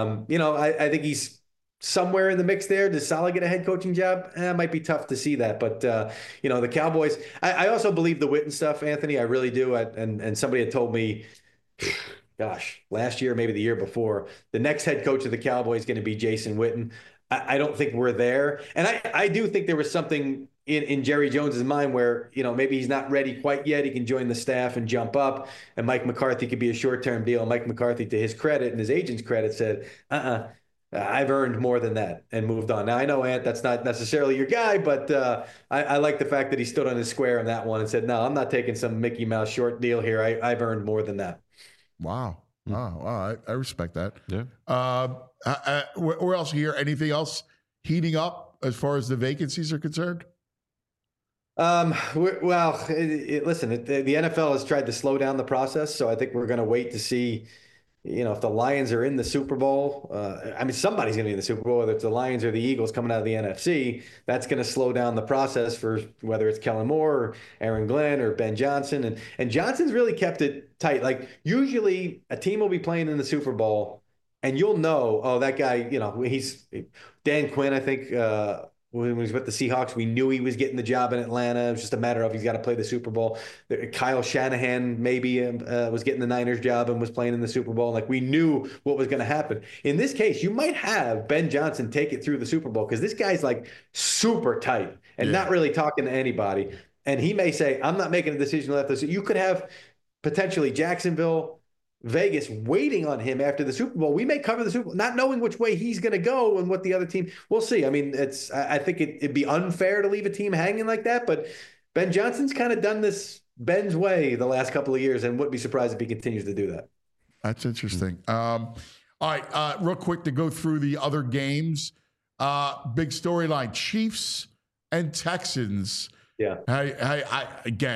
I think he's somewhere in the mix there. Does Saleh get a head coaching job? It might be tough to see that. But, the Cowboys, I also believe the Witten stuff, Anthony. I really do. And somebody had told me, gosh, last year, maybe the year before, the next head coach of the Cowboys is going to be Jason Witten. I don't think we're there. And I do think there was something in Jerry Jones's mind where, maybe he's not ready quite yet. He can join the staff and jump up. And Mike McCarthy could be a short-term deal. And Mike McCarthy, to his credit and his agent's credit, said, I've earned more than that and moved on. Now, I know, Ant, that's not necessarily your guy, but I like the fact that he stood on his square on that one and said, no, I'm not taking some Mickey Mouse short deal here. I've earned more than that. Wow. Wow. I respect that. Yeah. Where else here? Anything else heating up as far as the vacancies are concerned? Listen, the NFL has tried to slow down the process, so I think we're going to wait to see if the Lions are in the Super Bowl. Somebody's going to be in the Super Bowl, whether it's the Lions or the Eagles coming out of the NFC. That's going to slow down the process for whether it's Kellen Moore or Aaron Glenn or Ben Johnson. And Johnson's really kept it tight. Like, usually a team will be playing in the Super Bowl and you'll know, oh, that guy, he's Dan Quinn, I think, when he was with the Seahawks, we knew he was getting the job in Atlanta. It was just a matter of he's got to play the Super Bowl. Kyle Shanahan maybe was getting the Niners job and was playing in the Super Bowl. Like, we knew what was going to happen. In this case, you might have Ben Johnson take it through the Super Bowl because this guy's like super tight and not really talking to anybody. And he may say, I'm not making a decision left. You could have potentially Jacksonville, Vegas waiting on him after the Super Bowl. We may cover the Super Bowl, not knowing which way he's going to go and what the other team. We'll see. I mean, I think it'd be unfair to leave a team hanging like that. But Ben Johnson's kind of done this Ben's way the last couple of years, and wouldn't be surprised if he continues to do that. That's interesting. All right, real quick to go through the other games. Big storyline: Chiefs and Texans. Yeah. I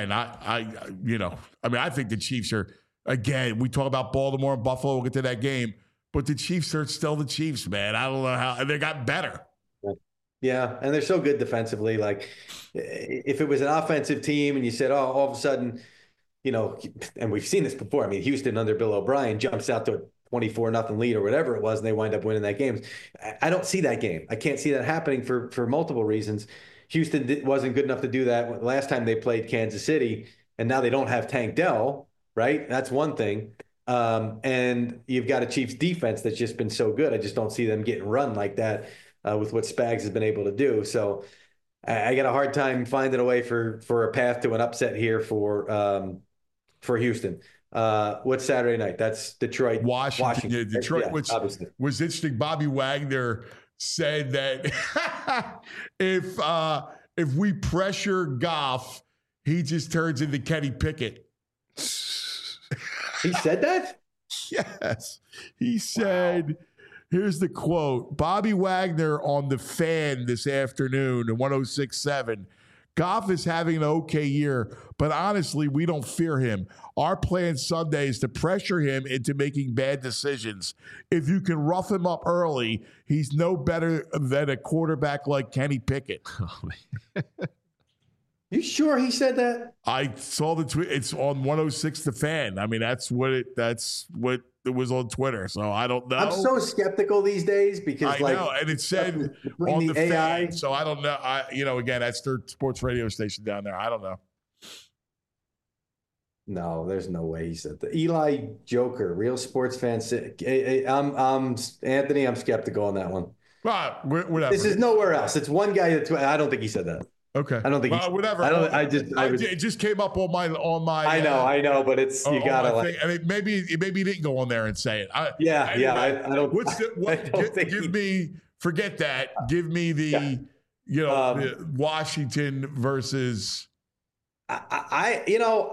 think the Chiefs are. Again, we talk about Baltimore and Buffalo. We'll get to that game. But the Chiefs are still the Chiefs, man. I don't know how. They got better. Yeah, and they're so good defensively. Like, if it was an offensive team and you said, oh, all of a sudden, and we've seen this before. I mean, Houston under Bill O'Brien jumps out to a 24-0 lead or whatever it was, and they wind up winning that game. I don't see that game. I can't see that happening for multiple reasons. Houston wasn't good enough to do that last time they played Kansas City, and now they don't have Tank Dell. Right? That's one thing. And you've got a Chiefs defense that's just been so good. I just don't see them getting run like that with what Spags has been able to do. So I got a hard time finding a way for a path to an upset here for Houston. What's Saturday night? That's Detroit. Washington. Yeah, Detroit, yeah, which obviously was interesting. Bobby Wagner said that if we pressure Goff, he just turns into Kenny Pickett. He said that? Yes. He said, here's the quote. Bobby Wagner on The Fan this afternoon at 106.7. Goff is having an okay year, but honestly, we don't fear him. Our plan Sunday is to pressure him into making bad decisions. If you can rough him up early, he's no better than a quarterback like Kenny Pickett. You sure he said that? I saw the tweet. It's on 106 The Fan. I mean, that's what it was on Twitter. So I don't know. I'm so skeptical these days because I know, and it said on the AI. Fan. So I don't know. Again, that's their sports radio station down there. I don't know. No, there's no way he said that. Eli Joker, real sports fan. I'm Anthony. I'm skeptical on that one. Well, whatever. This is nowhere else. It's one guy that I don't think he said that. Okay. I don't think whatever. It just came up on my. I know, but it's you gotta like. I mean, maybe he didn't go on there and say it. I don't. Forget that. Give me the, the Washington versus. I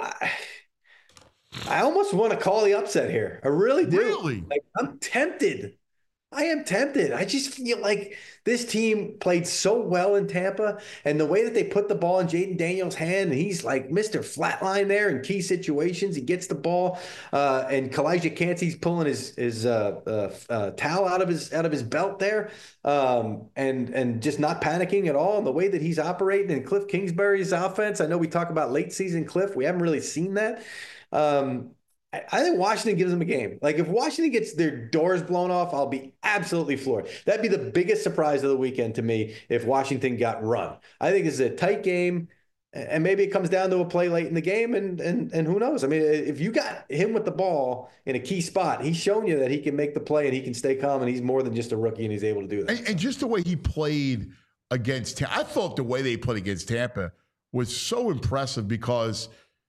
almost want to call the upset here. I really do. Really? Like, I'm tempted. I am tempted. I just feel like this team played so well in Tampa, and the way that they put the ball in Jaden Daniels' hand, and he's like Mr. Flatline there in key situations. He gets the ball, and Kalijah Cansey's pulling his towel out of his belt there, and just not panicking at all. And the way that he's operating in Cliff Kingsbury's offense, I know we talk about late season Cliff. We haven't really seen that. I think Washington gives them a game. Like, if Washington gets their doors blown off, I'll be absolutely floored. That'd be the biggest surprise of the weekend to me if Washington got run. I think it's a tight game, and maybe it comes down to a play late in the game, and who knows? I mean, if you got him with the ball in a key spot, he's shown you that he can make the play and he can stay calm, and he's more than just a rookie, and he's able to do that. And just the way he played against Tampa, I thought the way they played against Tampa was so impressive because,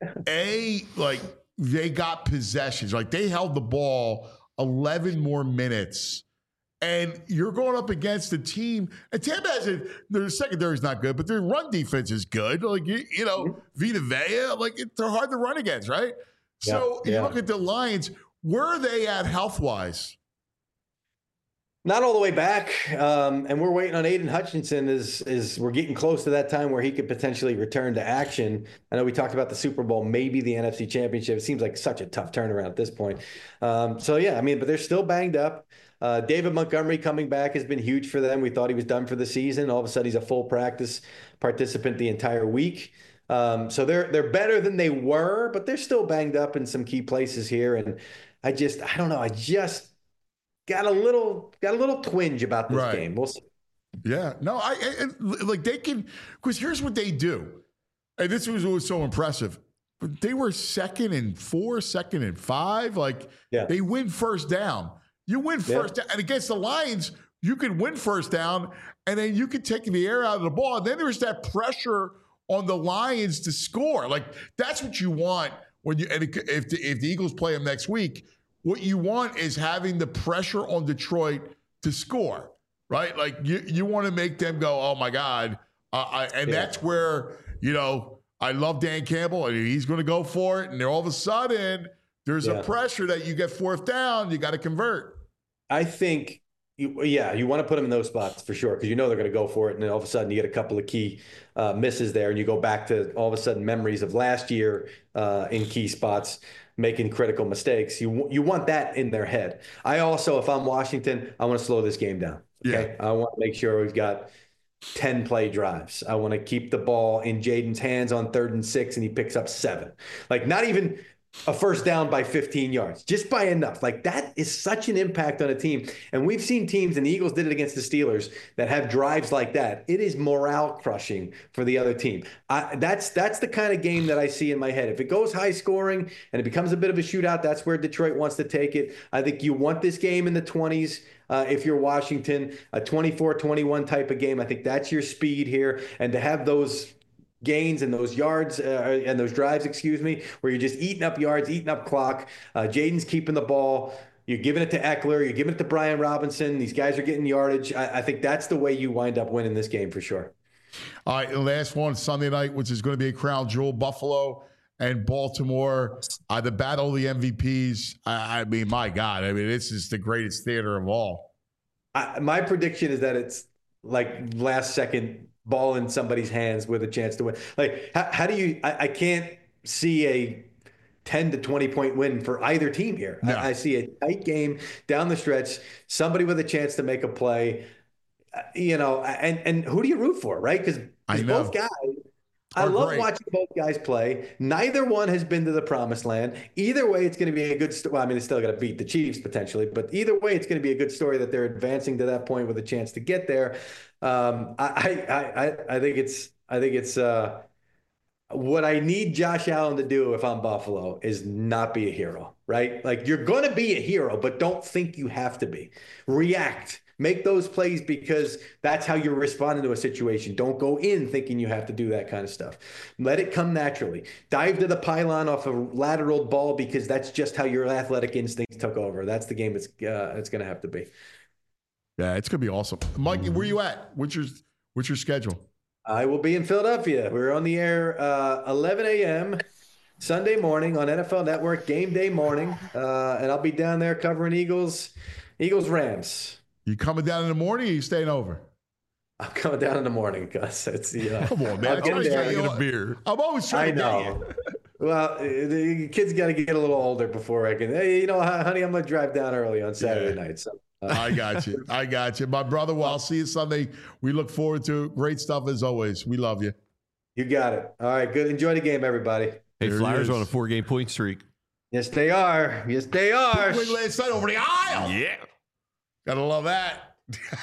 they got possessions. Like, they held the ball 11 more minutes. And you're going up against a team. And Tampa has their secondary is not good, but their run defense is good. Like, Vita Vea, they're hard to run against, right? Yeah, so you look at the Lions, where are they at health-wise? Not all the way back, and we're waiting on Aiden Hutchinson as we're getting close to that time where he could potentially return to action. I know we talked about the Super Bowl, maybe the NFC Championship. It seems like such a tough turnaround at this point. But they're still banged up. David Montgomery coming back has been huge for them. We thought he was done for the season. All of a sudden, he's a full practice participant the entire week. So they're better than they were, but they're still banged up in some key places here. And I don't know. I just got a little twinge about this game. We'll see. Yeah, no, they can, because here's what they do, and this was so impressive. They were 2nd and 4, 2nd and 5. They win first down. You win first down, and against the Lions, you can win first down, and then you can take the air out of the ball. And then there's that pressure on the Lions to score. That's what you want when you. And if the Eagles play them next week. What you want is having the pressure on Detroit to score, right? Like, you want to make them go, oh, my God. That's where, I love Dan Campbell, and he's going to go for it. And all of a sudden, there's a pressure that you get fourth down, you got to convert. I think, you want to put them in those spots for sure, because they're going to go for it. And then all of a sudden, you get a couple of key misses there, and you go back to all of a sudden memories of last year in key spots, making critical mistakes. You want that in their head. I also, if I'm Washington, I want to slow this game down. Okay. Yeah. I want to make sure we've got 10 play drives. I want to keep the ball in Jaden's hands on 3rd and 6, and he picks up 7. Not even a first down by 15 yards, just by enough. That is such an impact on a team. And we've seen teams, and the Eagles did it against the Steelers, that have drives like that. It is morale crushing for the other team. That's the kind of game that I see in my head. If it goes high scoring and it becomes a bit of a shootout, that's where Detroit wants to take it. I think you want this game in the 20s. If you're Washington, a 24-21 type of game, I think that's your speed here. And to have those gains and those yards and those drives, where you're just eating up yards, eating up clock. Jaden's keeping the ball. You're giving it to Eckler. You're giving it to Brian Robinson. These guys are getting yardage. I think that's the way you wind up winning this game for sure. All right, the last one, Sunday night, which is going to be a crown jewel, Buffalo and Baltimore. The battle of the MVPs. I mean, my God. I mean, this is the greatest theater of all. My prediction is that it's like last second ball in somebody's hands with a chance to win. Like, how do you? I can't see a 10 to 20 point win for either team here. No. I see a tight game down the stretch, somebody with a chance to make a play, and who do you root for, right? Because both guys, I love watching both guys play. Neither one has been to the promised land. Either way, it's going to be a good story. Well, I mean, it's still got to beat the Chiefs potentially, but either way, it's going to be a good story that they're advancing to that point with a chance to get there. I think it's what I need Josh Allen to do if I'm Buffalo is not be a hero, right? Like, you're going to be a hero, but don't think you have to be. React. Make those plays because that's how you're responding to a situation. Don't go in thinking you have to do that kind of stuff. Let it come naturally. Dive to the pylon off a lateral ball because that's just how your athletic instincts took over. That's the game it's going to have to be. Yeah, it's going to be awesome. Mikey, where you at? What's your schedule? I will be in Philadelphia. We're on the air 11 a.m. Sunday morning on NFL Network, game day morning. And I'll be down there covering Eagles-Rams. You coming down in the morning or you staying over? I'm coming down in the morning, Gus. It's Come on, man. I'm always trying to get a beer. I'm always trying to get you. Well, the kids got to get a little older before I can. Hey, honey, I'm going to drive down early on Saturday night. So. I got you. My brother, well, I'll see you Sunday. We look forward to great stuff as always. We love you. You got it. All right, good. Enjoy the game, everybody. Hey, Flyers on a 4-game point streak. Yes, they are. Yes, they are. Win last night over the aisle. Yeah. Gotta love that.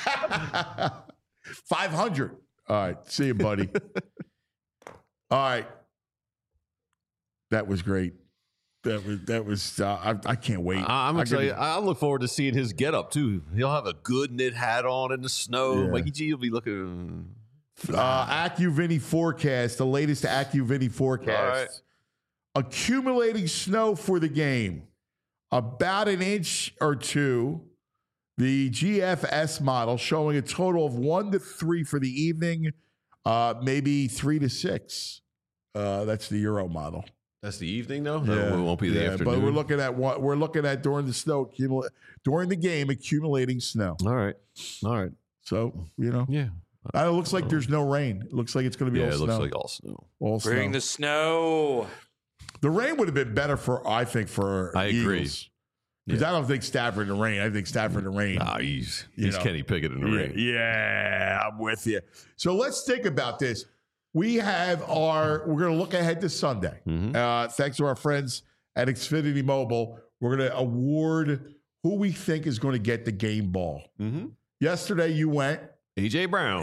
500. All right. See you, buddy. All right. That was great. That was. I can't wait. I'm excited. I look forward to seeing his getup too. He'll have a good knit hat on in the snow. Yeah. Mikey G will be looking. AccuVinny forecast. The latest AccuVinny forecast. All right. Accumulating snow for the game, about an inch or two. The GFS model showing a total of 1 to 3 for the evening, maybe 3 to 6. That's the Euro model. That's the evening, though. Yeah. It won't be the afternoon. But we're looking at during the snow during the game accumulating snow. All right. So yeah. It looks like there's no rain. It looks like it's going to be all snow. It looks like all snow. Bring the snow. The rain would have been better for Eagles. Agree. Because I don't think Stafford in the rain. I think Stafford in the rain. He's Kenny Pickett in the rain. Yeah, I'm with you. So let's think about this. We're going to look ahead to Sunday. Mm-hmm. Thanks to our friends at Xfinity Mobile. We're going to award who we think is going to get the game ball. Mm-hmm. Yesterday you went A.J. Brown.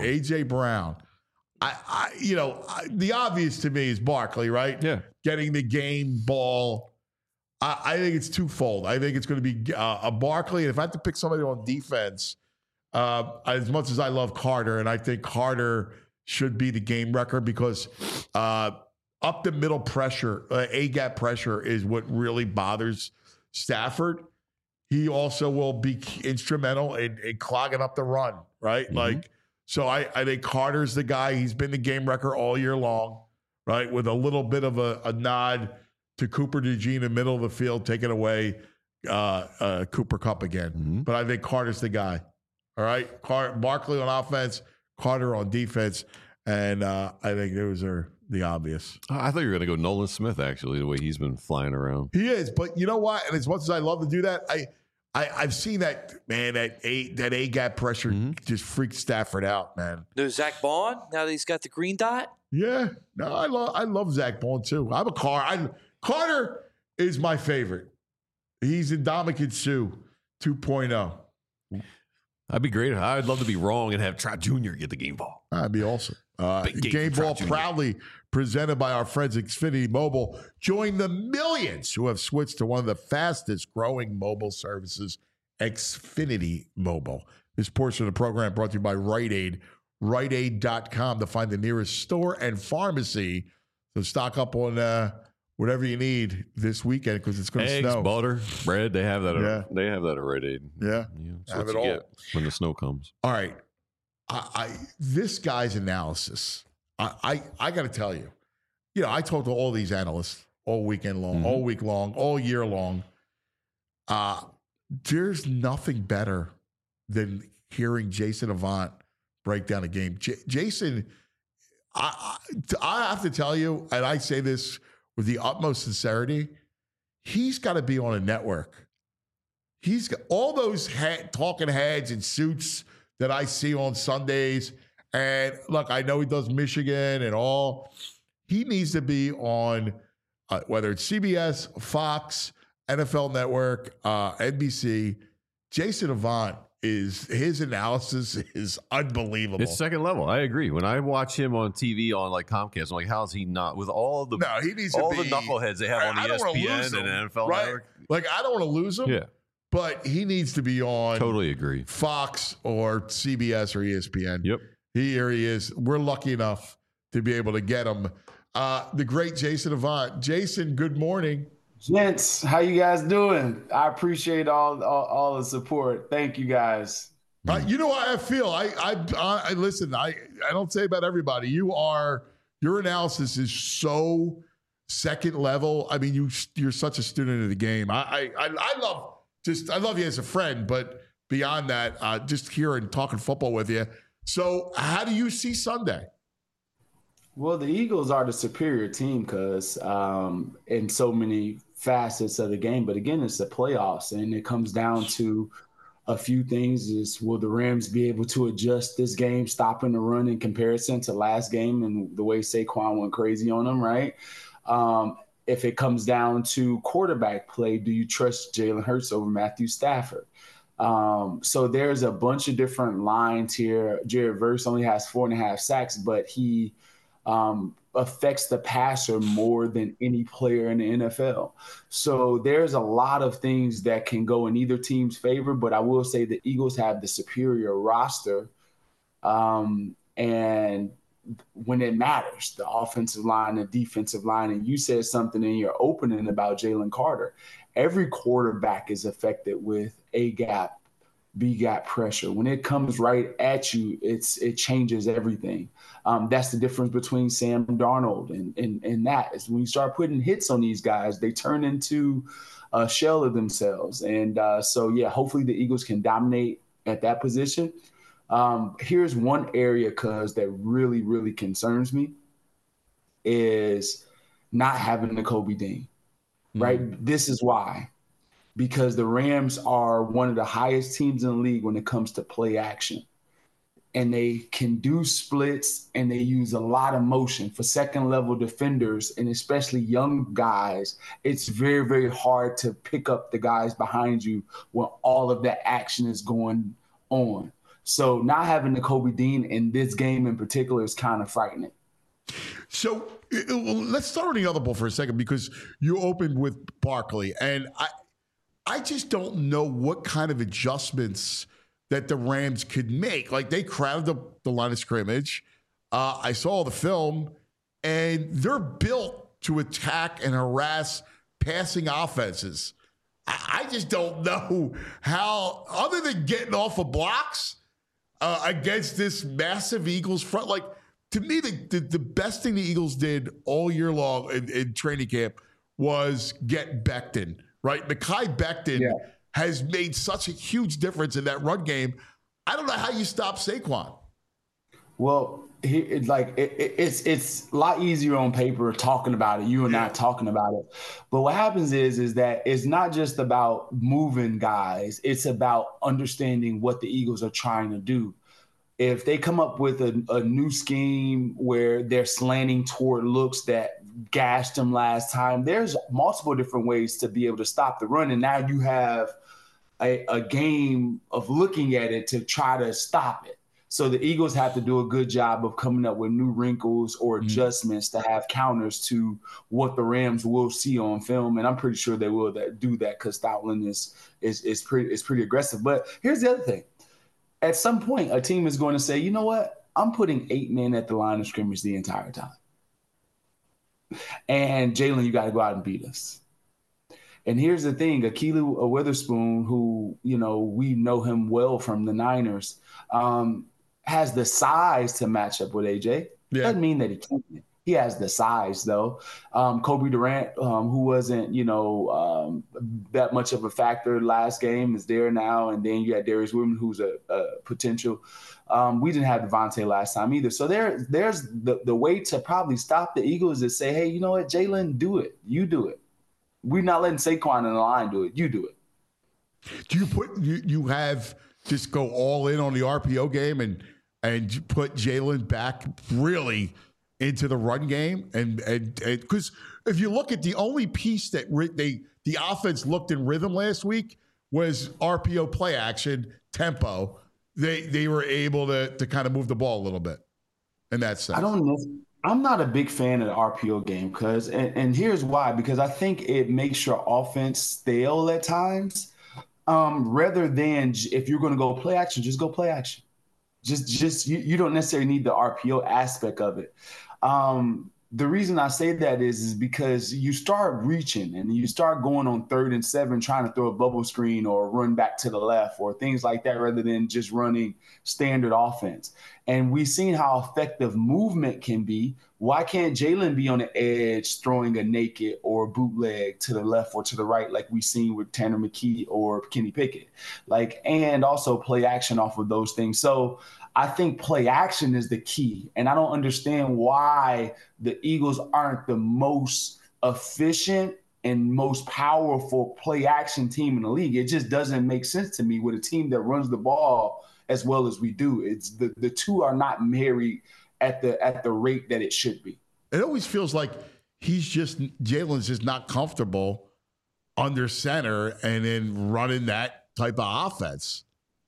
The obvious to me is Barkley, right? Yeah. Getting the game ball. I think it's twofold. I think it's going to be a Barkley. And if I have to pick somebody on defense, as much as I love Carter, and I think Carter should be the game wrecker because up the middle pressure, A-gap pressure is what really bothers Stafford. He also will be instrumental in clogging up the run, right? Mm-hmm. So I think Carter's the guy. He's been the game wrecker all year long, right? With a little bit of a nod to Cooper DeJean in the middle of the field, taking away Cooper Kupp again. Mm-hmm. But I think Carter's the guy. All right? Barkley on offense, Carter on defense. And I think those are the obvious. I thought you were going to go Nolan Smith, actually, the way he's been flying around. He is. But you know what? And as much as I love to do that, I've seen that, man, that A-gap pressure just freaks Stafford out, man. No Zach Bond, now that he's got the green dot? Yeah. No, I love Zach Bond, too. I'm a Carter is my favorite. He's Ndamukong Suh 2.0. That'd be great. I'd love to be wrong and have Trout Jr. get the game ball. That'd be awesome. Game ball proudly presented by our friends at Xfinity Mobile. Join the millions who have switched to one of the fastest growing mobile services, Xfinity Mobile. This portion of the program brought to you by Rite Aid. RiteAid.com to find the nearest store and pharmacy. So stock up on whatever you need this weekend because it's going to snow. Eggs, butter, bread. They have that. They have that at Rite Aid. Yeah. That's what you get when the snow comes. All right. This guy's analysis, I got to tell you, I talk to all these analysts all weekend long, all week long, all year long. There's nothing better than hearing Jason Avant break down a game. Jason, I have to tell you, and I say this with the utmost sincerity, he's got to be on a network. He's got all those talking heads in suits that I see on Sundays. And look, I know he does Michigan and all. He needs to be on whether it's CBS, Fox, NFL Network, NBC. Jason Avant his analysis is unbelievable. It's second level. I agree. When I watch him on TV on like Comcast, I'm like, how is he not with all the he needs all to the be, knuckleheads they have on ESPN and NFL Network? Like, I don't want to lose him. Yeah. But he needs to be on totally agree. Fox or CBS or ESPN. Yep. Here he is. We're lucky enough to be able to get him. The great Jason Avant. Jason, good morning. Gents, how you guys doing? I appreciate all the support. Thank you guys. You know how I feel. I listen. I don't say about everybody. Your analysis is so second level. I mean, you're such a student of the game. I love you as a friend, but beyond that, just hearing talking football with you. So, how do you see Sunday? Well, the Eagles are the superior team because in so many facets of the game. But again, it's the playoffs, and it comes down to a few things. Is will the Rams be able to adjust this game, stopping the run in comparison to last game and the way Saquon went crazy on them, right? If it comes down to quarterback play, do you trust Jalen Hurts over Matthew Stafford? So there's a bunch of different lines here. Jared Verse only has 4.5 sacks, but he affects the passer more than any player in the NFL. So there's a lot of things that can go in either team's favor, but I will say the Eagles have the superior roster. And when it matters, the offensive line, the defensive line, and you said something in your opening about Jalen Carter. Every quarterback is affected with A-gap, B-gap pressure. When it comes right at you, it changes everything. That's the difference between Sam Darnold and that is when you start putting hits on these guys, they turn into a shell of themselves. And hopefully the Eagles can dominate at that position. Here's one area, that really, really concerns me is not having Nakobe Dean, right? This is why. Because the Rams are one of the highest teams in the league when it comes to play action. And they can do splits, and they use a lot of motion for second-level defenders, and especially young guys. It's very, very hard to pick up the guys behind you when all of that action is going on. So not having Nakobe Dean in this game in particular is kind of frightening. So let's start on the other ball for a second, because you opened with Barkley, and I just don't know what kind of adjustments that the Rams could make. Like, they crowded the line of scrimmage. I saw the film, and they're built to attack and harass passing offenses. I just don't know how, other than getting off of blocks against this massive Eagles front. Like, to me, the best thing the Eagles did all year long in training camp was get Becton. Right, Mekhi Becton has made such a huge difference in that run game. I don't know how you stop Saquon. Well, it's a lot easier on paper talking about it. You and I talking about it, but what happens is that it's not just about moving guys. It's about understanding what the Eagles are trying to do. If they come up with a new scheme where they're slanting toward looks that gashed them last time, there's multiple different ways to be able to stop the run. And now you have a game of looking at it to try to stop it. So the Eagles have to do a good job of coming up with new wrinkles or adjustments to have counters to what the Rams will see on film. And I'm pretty sure they will do that because Stoutland is pretty aggressive. But here's the other thing. At some point, a team is going to say, you know what? I'm putting 8 men at the line of scrimmage the entire time. And Jalen, you got to go out and beat us. And here's the thing, Akilu Witherspoon, who, we know him well from the Niners, has the size to match up with AJ. Yeah. Doesn't mean that he can't. He has the size, though. Kobe Durant, who wasn't, that much of a factor last game, is there now. And then you had Darius Woodman, who's a potential. We didn't have Devontae last time either. So there's the way to probably stop the Eagles is say, hey, you know what, Jalen, do it. You do it. We're not letting Saquon in the line do it. You do it. Do you have just go all in on the RPO game and put Jalen back really into the run game? And because if you look at the only piece that the offense looked in rhythm last week was RPO play action tempo. They were able to kind of move the ball a little bit in that sense. I don't know. I'm not a big fan of the RPO game and here's why, because I think it makes your offense stale at times. Rather than if you're going to go play action, just go play action. Just you don't necessarily need the RPO aspect of it. The reason I say that is because you start reaching and you start going on 3rd and 7, trying to throw a bubble screen or run back to the left or things like that, rather than just running standard offense. And we've seen how effective movement can be. Why can't Jalen be on the edge throwing a naked or bootleg to the left or to the right, like we've seen with Tanner McKee or Kenny Pickett? And also play action off of those things. So I think play action is the key. And I don't understand why the Eagles aren't the most efficient and most powerful play action team in the league. It just doesn't make sense to me with a team that runs the ball as well as we do. It's the two are not married at the rate that it should be. It always feels like Jalen's just not comfortable under center and then running that type of offense.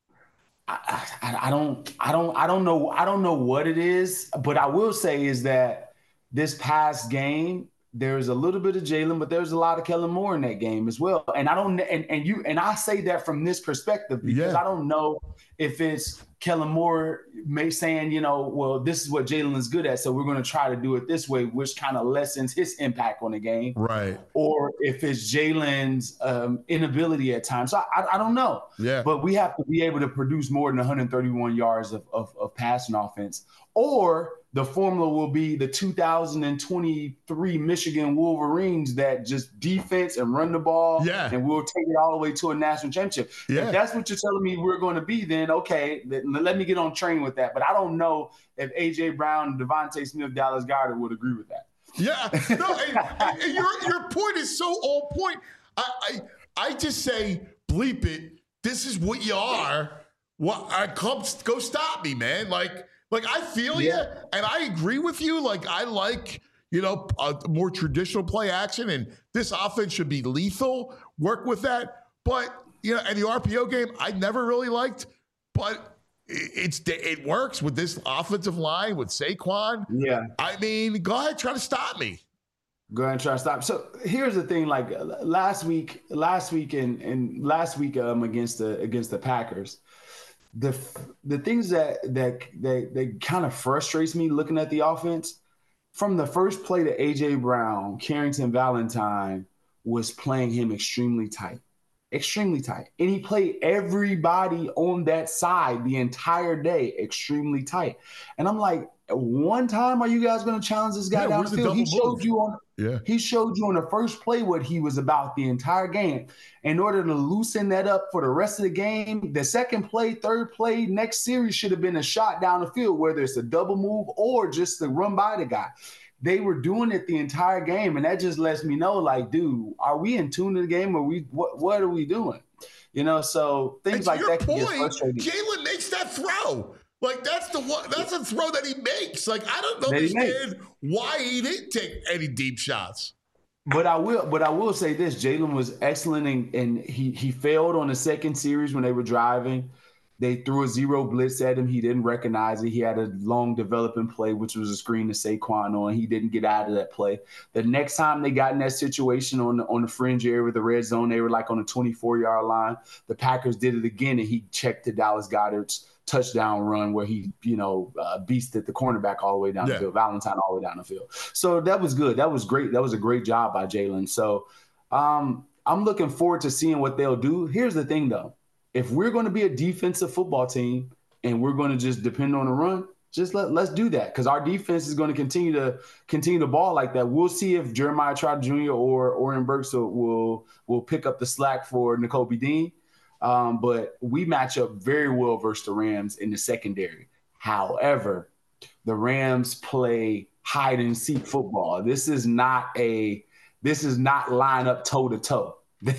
I don't know what it is, but I will say is that this past game, there's a little bit of Jalen, but there's a lot of Kellen Moore in that game as well. And I say that from this perspective because I don't know if it's Kellen Moore saying, well, this is what Jalen is good at, so we're going to try to do it this way, which kind of lessens his impact on the game. Right. Or if it's Jalen's inability at times. So I don't know. Yeah. But we have to be able to produce more than 131 yards of passing offense. Or the formula will be the 2023 Michigan Wolverines that just defense and run the ball. Yeah. And we'll take it all the way to a national championship. Yeah. If that's what you're telling me we're going to be, then okay, let me get on train with that. But I don't know if A.J. Brown and Devontae Smith, Dallas Goedert would agree with that. Yeah. No, and your point is so on point. I just say, bleep it. This is what you are. Go stop me, man. Like I feel you, and I agree with you. Like I like, a more traditional play action, and this offense should be lethal. Work with that, but and the RPO game I never really liked, but it works with this offensive line with Saquon. Yeah, I mean, go ahead, try to stop me. Go ahead and try to stop. So here's the thing: like last week against the Packers. The things that kind of frustrates me looking at the offense, from the first play to A.J. Brown, Carrington Valentine was playing him extremely tight. And he played everybody on that side the entire day extremely tight. And I'm like, one time are you guys going to challenge this guy down the field? He showed you on the first play what he was about the entire game. In order to loosen that up for the rest of the game, the second play, third play, next series should have been a shot down the field, whether it's a double move or just to run by the guy. They were doing it the entire game, and that just lets me know, like, dude, are we in tune to the game, or what are we doing? So things like that can get frustrating. Jalen makes that throw. Like that's a throw that he makes. Like I don't understand why he didn't take any deep shots. But I will say this: Jalen was excellent, and he failed on the second series when they were driving. They threw a zero blitz at him. He didn't recognize it. He had a long developing play, which was a screen to Saquon on. He didn't get out of that play. The next time they got in that situation on the fringe area with the red zone, they were like on the 24-yard line. The Packers did it again, and he checked to Dallas Goedert's touchdown run where he, beasted the cornerback all the way down the field, Valentine all the way down the field. So that was good. That was great. That was a great job by Jalen. So I'm looking forward to seeing what they'll do. Here's the thing, though. If we're going to be a defensive football team, and we're going to just depend on the run, just let's do that, because our defense is going to continue to ball like that. We'll see if Jeremiah Trotter Jr. or Oren Burks will pick up the slack for Nakobe Dean. But we match up very well versus the Rams in the secondary. However, the Rams play hide and seek football. This is not line up toe to toe.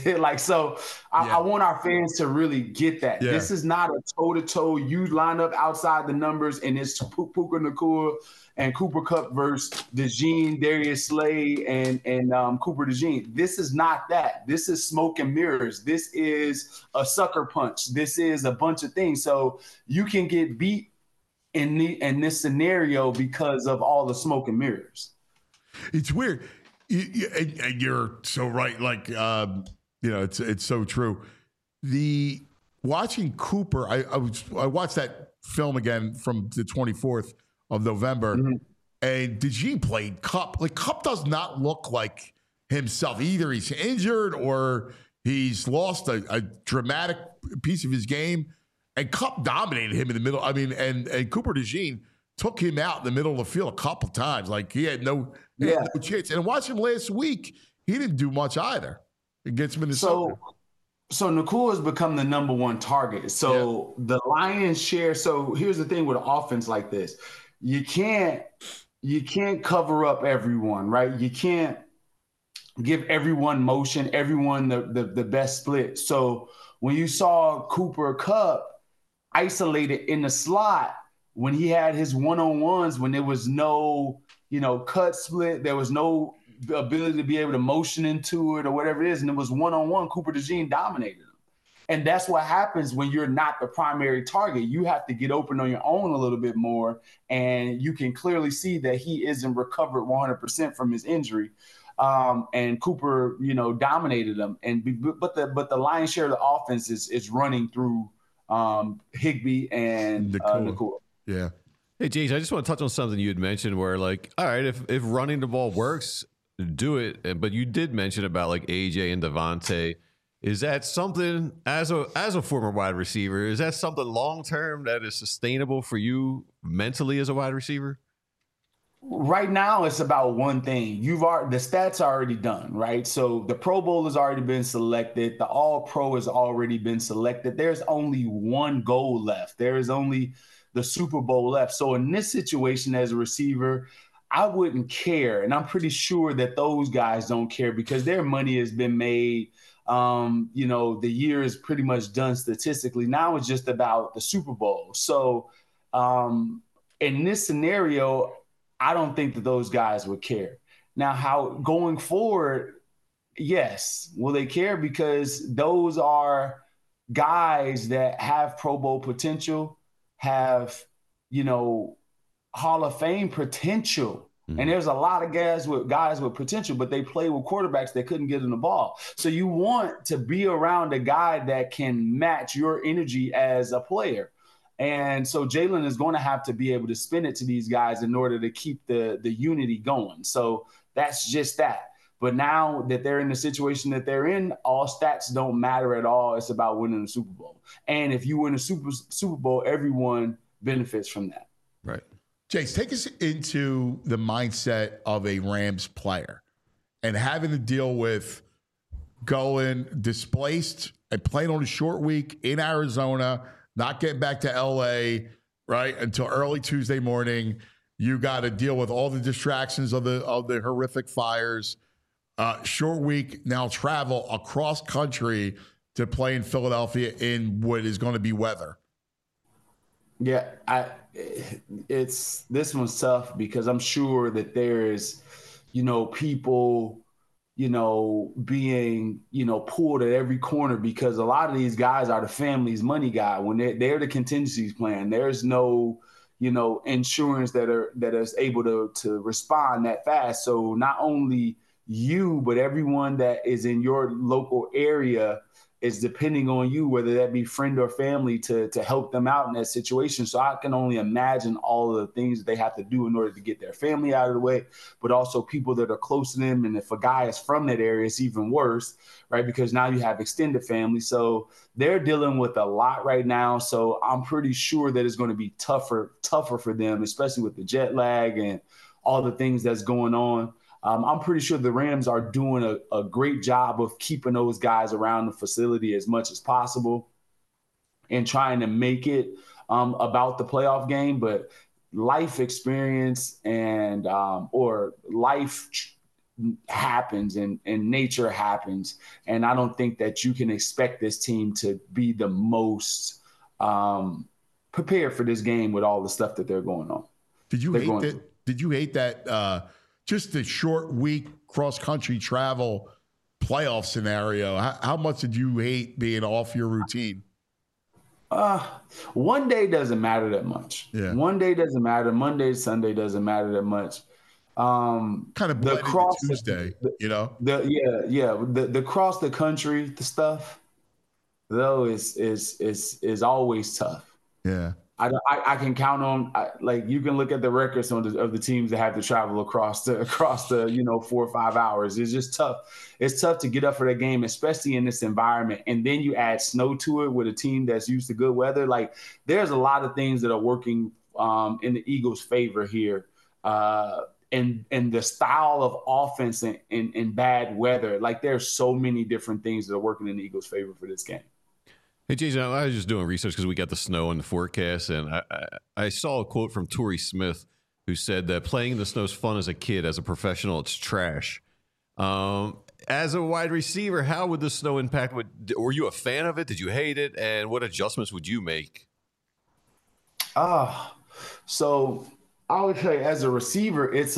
I want our fans to really get that. Yeah. This is not a toe to toe. You line up outside the numbers, and it's Puka Nacua and Cooper Kupp versus DeJean, Darius Slay, and Cooper DeJean. This is not that. This is smoke and mirrors. This is a sucker punch. This is a bunch of things. So you can get beat in this scenario because of all the smoke and mirrors. It's weird. And you're so right. Like, it's so true. Watching Cooper, I watched that film again from the 24th of November, and DeJean played Kupp. Like, Kupp does not look like himself. Either he's injured or he's lost a dramatic piece of his game. And Kupp dominated him in the middle. I mean, and Cooper DeJean took him out in the middle of the field a couple times. Like, he had no chance. And watch him last week. He didn't do much either against Minnesota. So Nacua has become the number one target. So the lion's share. So here's the thing with an offense like this. You can't cover up everyone, right? You can't give everyone motion, everyone the best split. So when you saw Cooper Kupp isolated in the slot, when he had his one-on-ones, when there was no, cut split, there was no ability to be able to motion into it or whatever it is, and it was one-on-one, Cooper DeJean dominated him. And that's what happens when you're not the primary target. You have to get open on your own a little bit more, and you can clearly see that he isn't recovered 100% from his injury. And Cooper, dominated him. But the lion's share of the offense is running through Higbee and Nacua. Yeah. Hey, James, I just want to touch on something you had mentioned where, like, all right, if running the ball works, do it. But you did mention about, like, AJ and Devontae. Is that something, as a former wide receiver, is that something long-term that is sustainable for you mentally as a wide receiver? Right now, it's about one thing. The stats are already done, right? So the Pro Bowl has already been selected. The All-Pro has already been selected. There's only one goal left. There is only the Super Bowl left. So in this situation as a receiver, I wouldn't care. And I'm pretty sure that those guys don't care because their money has been made. The year is pretty much done statistically. Now it's just about the Super Bowl. So in this scenario, I don't think that those guys would care. Now, how going forward, yes. Will they care? Because those are guys that have Pro Bowl potential, have, Hall of Fame potential. Mm-hmm. And there's a lot of guys with potential, but they play with quarterbacks that couldn't get in the ball. So you want to be around a guy that can match your energy as a player. And so Jalen is going to have to be able to spin it to these guys in order to keep the unity going. So that's just that. But now that they're in the situation that they're in, all stats don't matter at all. It's about winning the Super Bowl. And if you win a Super Bowl, everyone benefits from that. Right. Jace, take us into the mindset of a Rams player and having to deal with going displaced and playing on a short week in Arizona, not getting back to LA, right, until early Tuesday morning. You got to deal with all the distractions of the horrific fires. Short week, now travel across country to play in Philadelphia in what is going to be weather. Yeah, this one's tough because I'm sure that there's, people, being, pulled at every corner because a lot of these guys are the family's money guy. When they're the contingencies plan, there's no, insurance that is able to respond that fast. So not only you, but everyone that is in your local area it's depending on you, whether that be friend or family, to help them out in that situation. So I can only imagine all of the things that they have to do in order to get their family out of the way, but also people that are close to them. And if a guy is from that area, it's even worse, right? Because now you have extended family. So they're dealing with a lot right now. So I'm pretty sure that it's going to be tougher for them, especially with the jet lag and all the things that's going on. I'm pretty sure the Rams are doing a great job of keeping those guys around the facility as much as possible and trying to make it about the playoff game. But life experience and or life happens and nature happens. And I don't think that you can expect this team to be the most prepared for this game with all the stuff that they're going on. Did you hate that just the short week cross-country travel playoff scenario? How much did you hate being off your routine? One day doesn't matter that much. Yeah. One day doesn't matter. Monday, Sunday doesn't matter that much. Kind of blended to Tuesday, you know? The cross the country, the stuff, though, is always tough. Yeah. I can count on, like, you can look at the records of the teams that have to travel across the 4 or 5 hours. It's just tough. It's tough to get up for that game, especially in this environment. And then you add snow to it with a team that's used to good weather. Like, there's a lot of things that are working in the Eagles' favor here. And the style of offense in bad weather. Like, there's so many different things that are working in the Eagles' favor for this game. Hey, Jason, I was just doing research because we got the snow in the forecast, and I saw a quote from Torrey Smith who said that playing in the snow is fun as a kid. As a professional, it's trash. As a wide receiver, how would the snow impact? Were you a fan of it? Did you hate it? And what adjustments would you make? So I would say as a receiver, it's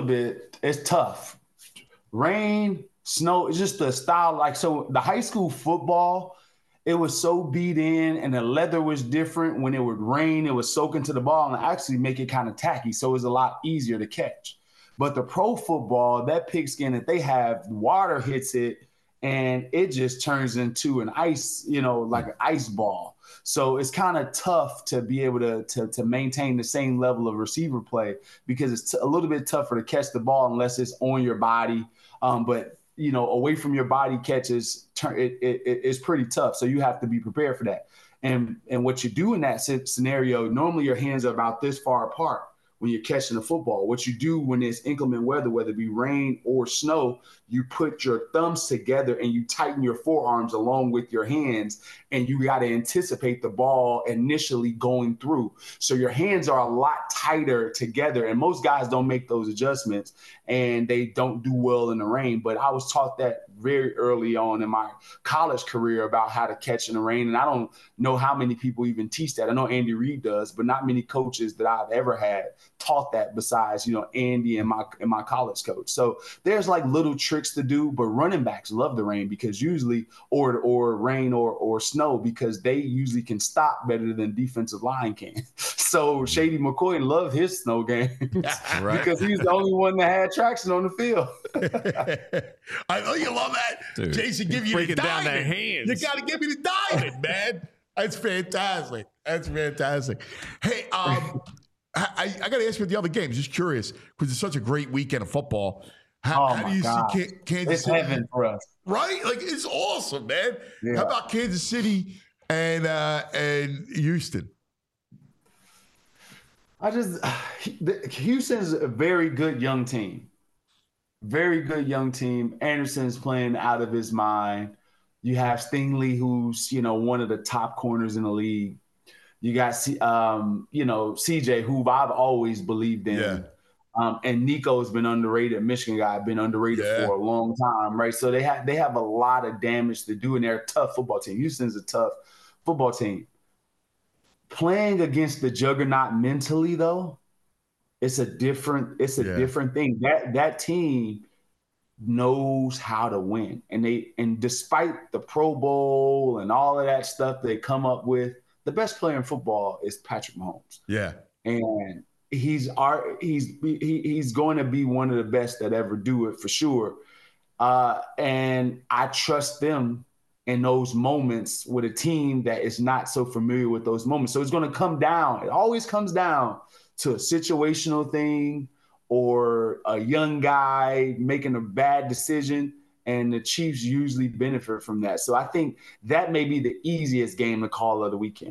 tough. Rain, snow, it's just the style. Like, so the high school football, it was so beat in and the leather was different. When it would rain, it would soak into the ball and actually make it kind of tacky. So it was a lot easier to catch. But the pro football, that pigskin that they have, water hits it and it just turns into an ice, like an ice ball. So it's kind of tough to be able to maintain the same level of receiver play because it's a little bit tougher to catch the ball unless it's on your body. But away from your body catches, it's pretty tough. So you have to be prepared for that. And what you do in that scenario, normally your hands are about this far apart when you're catching the football. What you do when it's inclement weather, whether it be rain or snow, you put your thumbs together and you tighten your forearms along with your hands, and you got to anticipate the ball initially going through. So your hands are a lot tighter together, and most guys don't make those adjustments, and they don't do well in the rain. But I was taught that very early on in my college career about how to catch in the rain, and I don't know how many people even teach that. I know Andy Reid does, but not many coaches that I've ever had taught that besides, Andy and my college coach. So there's like little tricks to do, but running backs love the rain because usually, or rain or snow, because they usually can stop better than defensive line can. So Shady McCoy loved his snow game Right. because he's the only one that had traction on the field. I know you love that. Dude, Jason, give you the breaking down diamond. their hands. You got to give me the diamond, man. That's fantastic. That's fantastic. Hey, I got to ask you about the other games. Just curious, because it's such a great weekend of football. How do you see Kansas City? It's heaven for us. Right? Like, it's awesome, man. Yeah. How about Kansas City and Houston? Houston's a very good young team. Very good young team. Anderson's playing out of his mind. You have Stingley, who's, one of the top corners in the league. You got, CJ, who I've always believed in. Yeah. And Nico's been underrated. Michigan guy, been underrated for a long time, right? So they have a lot of damage to do, and they're a tough football team. Houston's a tough football team. Playing against the juggernaut mentally, though, it's a different thing. That team knows how to win, and despite the Pro Bowl and all of that stuff they come up with, the best player in football is Patrick Mahomes. Yeah, and he's going to be one of the best that ever do it for sure. And I trust them in those moments with a team that is not so familiar with those moments. So it's going to come down. It always comes down to a situational thing or a young guy making a bad decision, and the Chiefs usually benefit from that. So I think that may be the easiest game to call of the weekend.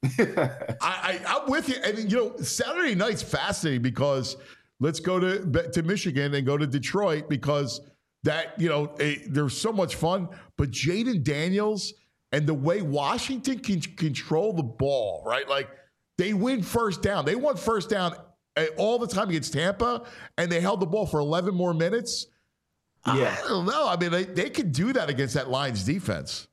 I'm with you. And, Saturday night's fascinating because let's go to Michigan and go to Detroit because there's so much fun. But Jaden Daniels and the way Washington can control the ball, right? Like they win first down. They won first down all the time against Tampa, and they held the ball for 11 more minutes. Yeah. I don't know. I mean, they could do that against that Lions defense.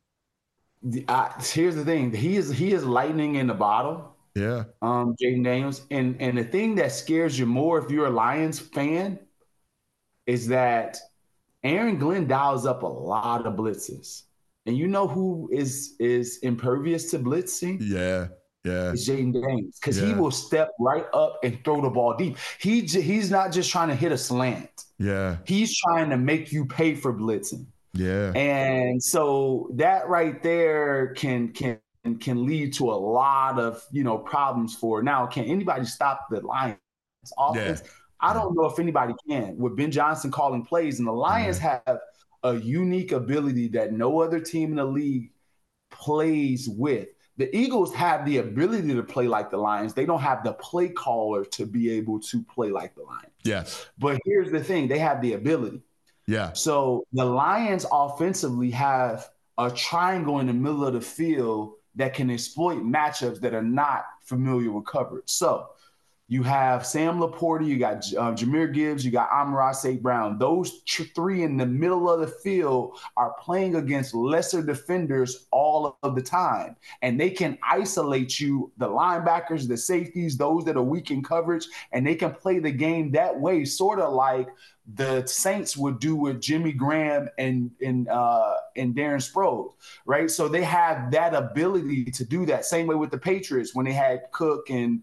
Here's the thing. He is lightning in the bottle. Yeah. Jaden Daniels. And the thing that scares you more if you're a Lions fan is that Aaron Glenn dials up a lot of blitzes. And you know who is impervious to blitzing? Yeah. It's Jaden Daniels, because he will step right up and throw the ball deep. He's not just trying to hit a slant. Yeah. He's trying to make you pay for blitzing. Yeah. And so that right there can lead to a lot of, problems for now. Can anybody stop the Lions offense? Yeah. I don't know if anybody can. With Ben Johnson calling plays, and the Lions have a unique ability that no other team in the league plays with. The Eagles have the ability to play like the Lions. They don't have the play caller to be able to play like the Lions. Yes. But here's the thing. They have the ability. Yeah. So the Lions offensively have a triangle in the middle of the field that can exploit matchups that are not familiar with coverage. So you have Sam Laporta, you got Jahmyr Gibbs, you got Amon-Ra St. Brown. Those three in the middle of the field are playing against lesser defenders all of the time. And they can isolate you, the linebackers, the safeties, those that are weak in coverage, and they can play the game that way, sort of like the Saints would do with Jimmy Graham and Darren Sproles, right? So they have that ability to do that. Same way with the Patriots when they had Cook and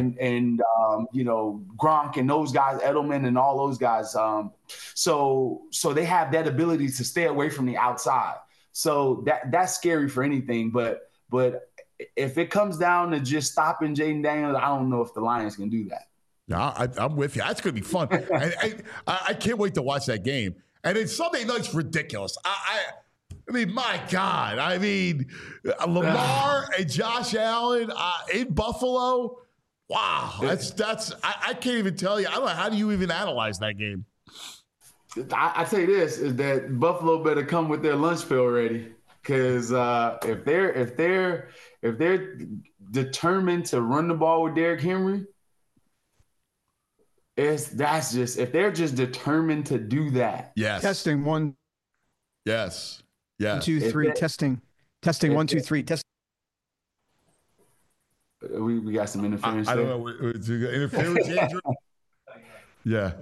Gronk and those guys, Edelman and all those guys. So they have that ability to stay away from the outside. So that's scary for anything. But if it comes down to just stopping Jaden Daniels, I don't know if the Lions can do that. No, I'm with you. That's going to be fun. I can't wait to watch that game. And then Sunday night's ridiculous. I mean, my God. I mean, Lamar and Josh Allen in Buffalo. Wow. I can't even tell you. I don't know. How do you even analyze that game? I tell you this, is that Buffalo better come with their lunch pill ready. Because if they're determined to run the ball with Derrick Henry, if they're just determined to do that. Yes. Testing one. Yes. 1, 2, 3. Testing. 1, 2, 3. Testing. We got some interference. I don't know. Interference, Andrew? Yeah.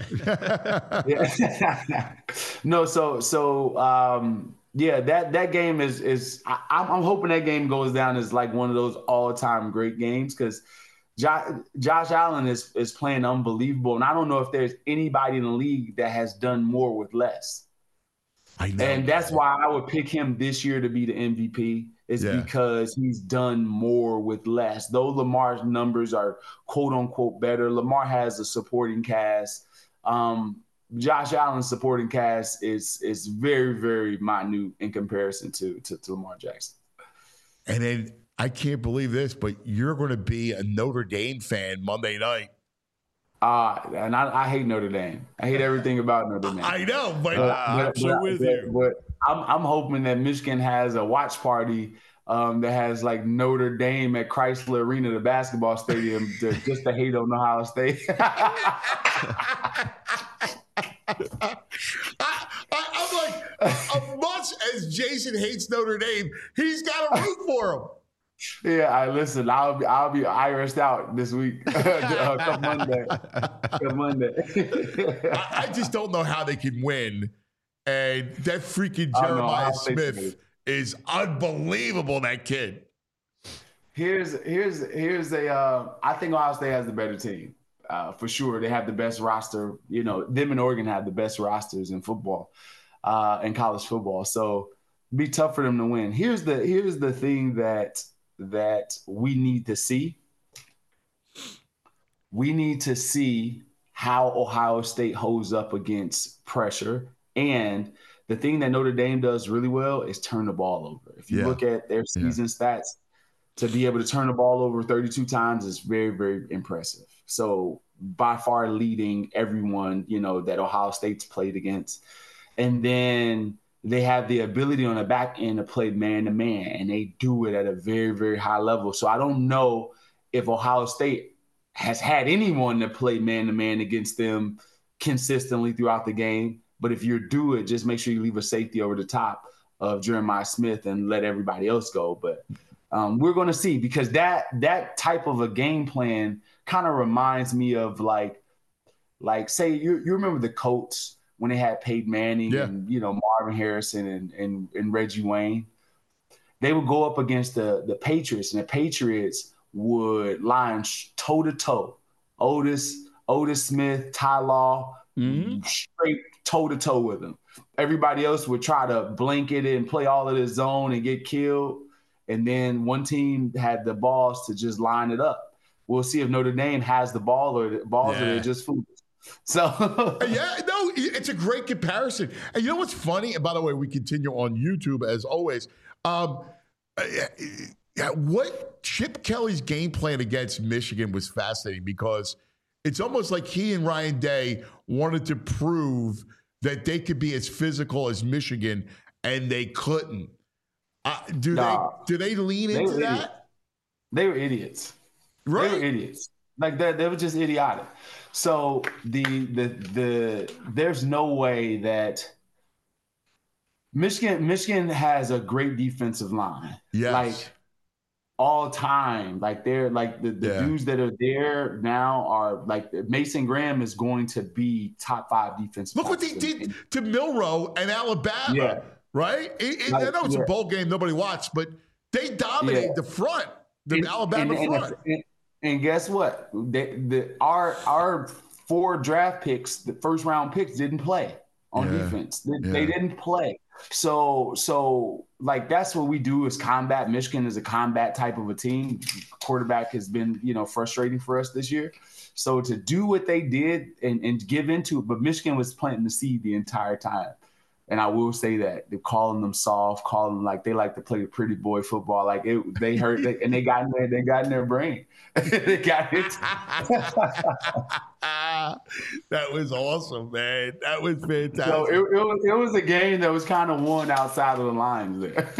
No. That game is. I'm hoping that game goes down as like one of those all-time great games because Josh Allen is playing unbelievable, and I don't know if there's anybody in the league that has done more with less. I know, and that's why I would pick him this year to be the MVP. Because he's done more with less. Though Lamar's numbers are quote unquote better, Lamar has a supporting cast. Josh Allen's supporting cast is very, very minute in comparison to Lamar Jackson. And then I can't believe this, but you're going to be a Notre Dame fan Monday night. And I hate Notre Dame. I hate everything about Notre Dame. I know, but I'm so with you. But I'm hoping that Michigan has a watch party that has like Notre Dame at Chrysler Arena, the basketball stadium, just to hate on Ohio State. I'm like, as much as Jason hates Notre Dame, he's got to root for him. Yeah, listen. I'll be Irised out this week. Come Monday. I just don't know how they can win. And that freaking Jeremiah Smith is unbelievable. That kid. Here's a. I think Ohio State has the better team for sure. They have the best roster. You know, them and Oregon have the best rosters in football, in college football. So Be tough for them to win. Here's the thing that we need to see. We need to see how Ohio State holds up against pressure. And the thing that Notre Dame does really well is turn the ball over. If you look at their season stats, to be able to turn the ball over 32 times is very, very impressive. So by far leading everyone, that Ohio State's played against. And then they have the ability on the back end to play man-to-man, and they do it at a very, very high level. So I don't know if Ohio State has had anyone that played man-to-man against them consistently throughout the game. But if you do it, just make sure you leave a safety over the top of Jeremiah Smith and let everybody else go. But we're going to see, because that type of a game plan kind of reminds me of like say you remember the Colts when they had Peyton Manning and Marvin Harrison and Reggie Wayne. They would go up against the Patriots, and the Patriots would line toe to toe. Otis Smith, Ty Law, straight toe to toe with them. Everybody else would try to blanket it and play all of this zone and get killed. And then one team had the balls to just line it up. We'll see if Notre Dame has the ball or the balls or they're just foolish. So it's a great comparison. And you know what's funny? And by the way, we continue on YouTube as always. What Chip Kelly's game plan against Michigan was fascinating, because it's almost like he and Ryan Day wanted to prove that they could be as physical as Michigan, and they couldn't. Do they lean into that? They were idiots. Right? They were idiots. Like that, they were just idiotic. So there's no way that Michigan has a great defensive line. Yes. Like all time. Like they're like the dudes that are there now are like Mason Graham is going to be top 5 defensive. Look what they did to Milroe and Alabama. Yeah. Right? I know it's a bowl game nobody watched, but they dominated the front, Alabama front. And guess what? Our 4 draft picks, the first round picks, didn't play on defense. They didn't play. So like that's what we do is combat. Michigan is a combat type of a team. Quarterback has been, frustrating for us this year. So to do what they did and give into it, but Michigan was planting the seed the entire time. And I will say that they're calling them soft, calling them like they like to play the pretty boy football. Like they hurt, and they got in their brain. They got it. That was awesome, man. That was fantastic. So it was a game that was kind of won outside of the lines there.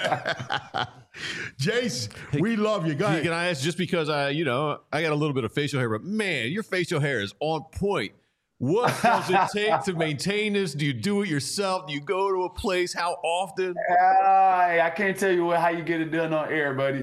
Jace, we love you. Go ahead. Can I ask, just because I got a little bit of facial hair, but man, your facial hair is on point. What does it take to maintain this? Do you do it yourself? Do you go to a place? How often? I can't tell you how you get it done on air, buddy.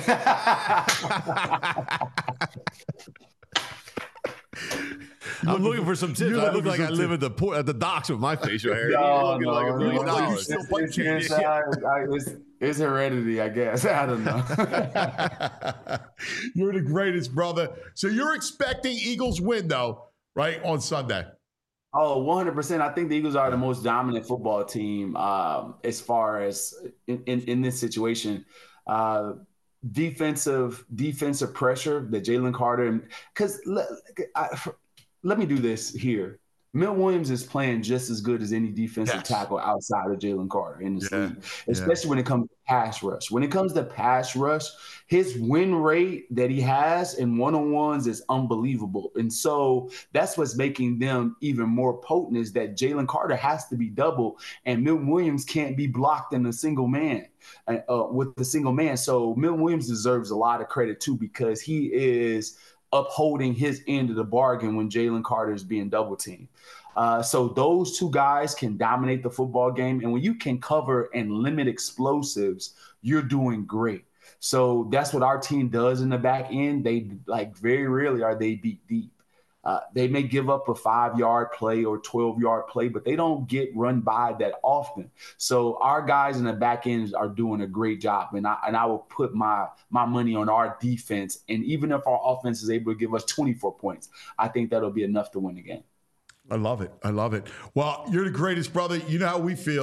I'm looking for some tips. I look like I live at the docks with my facial hair. Like $1 million. It's heredity, I guess. I don't know. You're the greatest, brother. So you're expecting Eagles win, though, right, on Sunday? Oh, 100%. I think the Eagles are the most dominant football team as far as in this situation. Defensive pressure that Jalen Carter – because let me do this here. Milt Williams is playing just as good as any defensive tackle outside of Jalen Carter in this league, especially when it comes to pass rush. When it comes to pass rush, his win rate that he has in one-on-ones is unbelievable. And so that's what's making them even more potent, is that Jalen Carter has to be double, and Milt Williams can't be blocked in a single man with the single man. So Milt Williams deserves a lot of credit too, because he is upholding his end of the bargain when Jalen Carter is being double teamed. So those two guys can dominate the football game. And when you can cover and limit explosives, you're doing great. So that's what our team does in the back end. They very rarely are they beat deep. They may give up a 5-yard play or 12-yard play, but they don't get run by that often. So our guys in the back end are doing a great job. And I will put my money on our defense. And even if our offense is able to give us 24 points, I think that'll be enough to win the game. I love it. Well, you're the greatest, brother. You know how we feel.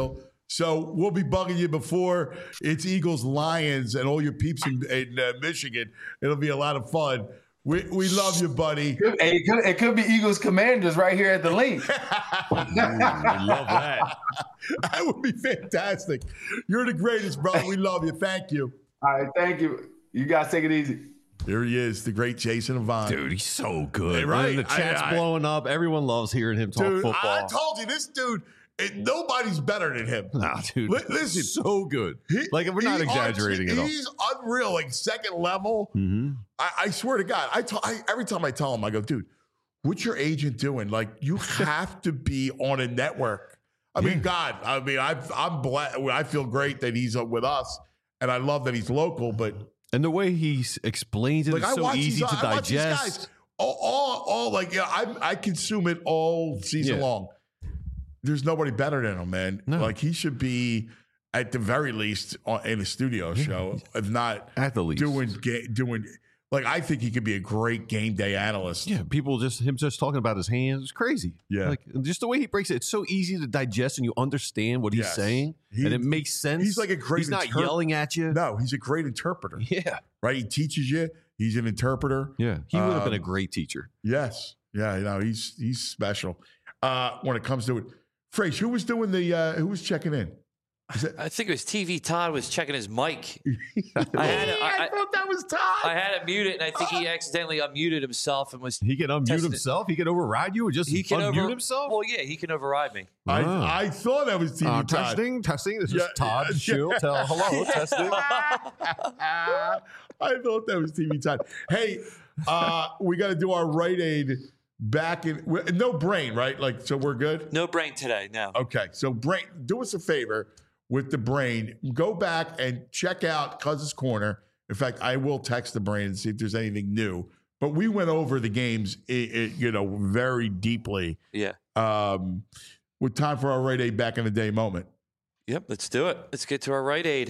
So we'll be bugging you before it's Eagles Lions and all your peeps in Michigan. It'll be a lot of fun. We love you, buddy. It could be Eagles Commanders right here at the link. We love that. That would be fantastic. You're the greatest, brother. We love you. Thank you. All right, thank you. You guys take it easy. Here he is, the great Jason Avant. Dude, he's so good. Hey, right? The chat's blowing up. Everyone loves hearing him talk football. I told you, this dude, nobody's better than him. Nah, dude. Listen, so good. We're not exaggerating at all. He's unreal, like second level. Mm-hmm. I swear to God, every time I tell him, I go, dude, what's your agent doing? Like, you have to be on a network. I'm blessed. I feel great that he's with us, and I love that he's local, but. And the way he explains it is so easy to digest. I consume it all season long. There's nobody better than him, man. No. Like, he should be at the very least in a studio show, if not at the least doing. Like, I think he could be a great game day analyst. Yeah, him just talking about his hands is crazy. Yeah, like just the way he breaks it, it's so easy to digest, and you understand what he's saying, and it makes sense. He's like a great. He's not yelling at you. No, he's a great interpreter. Yeah, right. He teaches you. He's an interpreter. Yeah, he would have been a great teacher. Yes. Yeah. He's special. When it comes to it, Fraser, who was doing who was checking in? I think it was TV Todd was checking his mic. I thought that was Todd. I had it muted, and I think he accidentally unmuted himself and was. He can unmute himself. He can override you, or just unmute himself. Well, yeah, he can override me. I thought that was TV Todd. Testing. This is Todd. She'll tell hello. Testing. I thought that was TV Todd. Hey, we got to do our Rite Aid. Back in no brain, right? Like, so we're good. No brain today. No. Okay, so brain. Do us a favor with the brain. Go back and check out Cuz's Corner. In fact, I will text the brain and see if there's anything new. But we went over the games, very deeply. Yeah. With time for our Rite Aid back in the day moment. Yep. Let's do it. Let's get to our Rite Aid.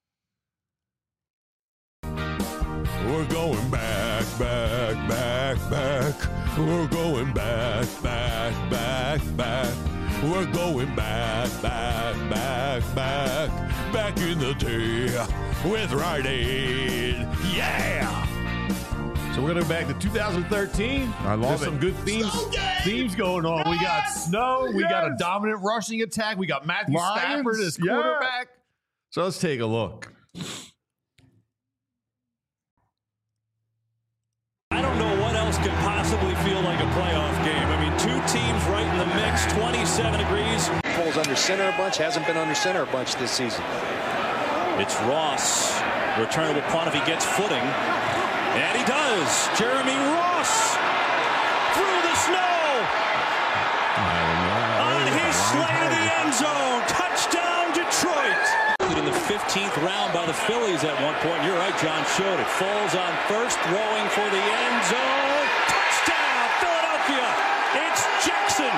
We're going back, back, back, back. We're going back, back, back, back. We're going back, back, back, back. Back in the day with Rite Aid. Yeah! So we're going to go back to 2013. I love There's some good themes going on. We got snow. We got a dominant rushing attack. We got Matthew Stafford as quarterback. So let's take a look. I don't know what else could possibly feel like a playoff game. I mean, two teams right in the mix, 27 degrees. Pulls under center a bunch, hasn't been under center a bunch this season. It's Ross. Returnable punt if he gets footing. And he does. Jeremy Ross through the snow. On his slide to the end zone. Touchdown, Detroit. In the 15th round by the Phillies at one point. You're right, John showed it. Falls on first, throwing for the end zone. Touchdown, Philadelphia. It's Jackson.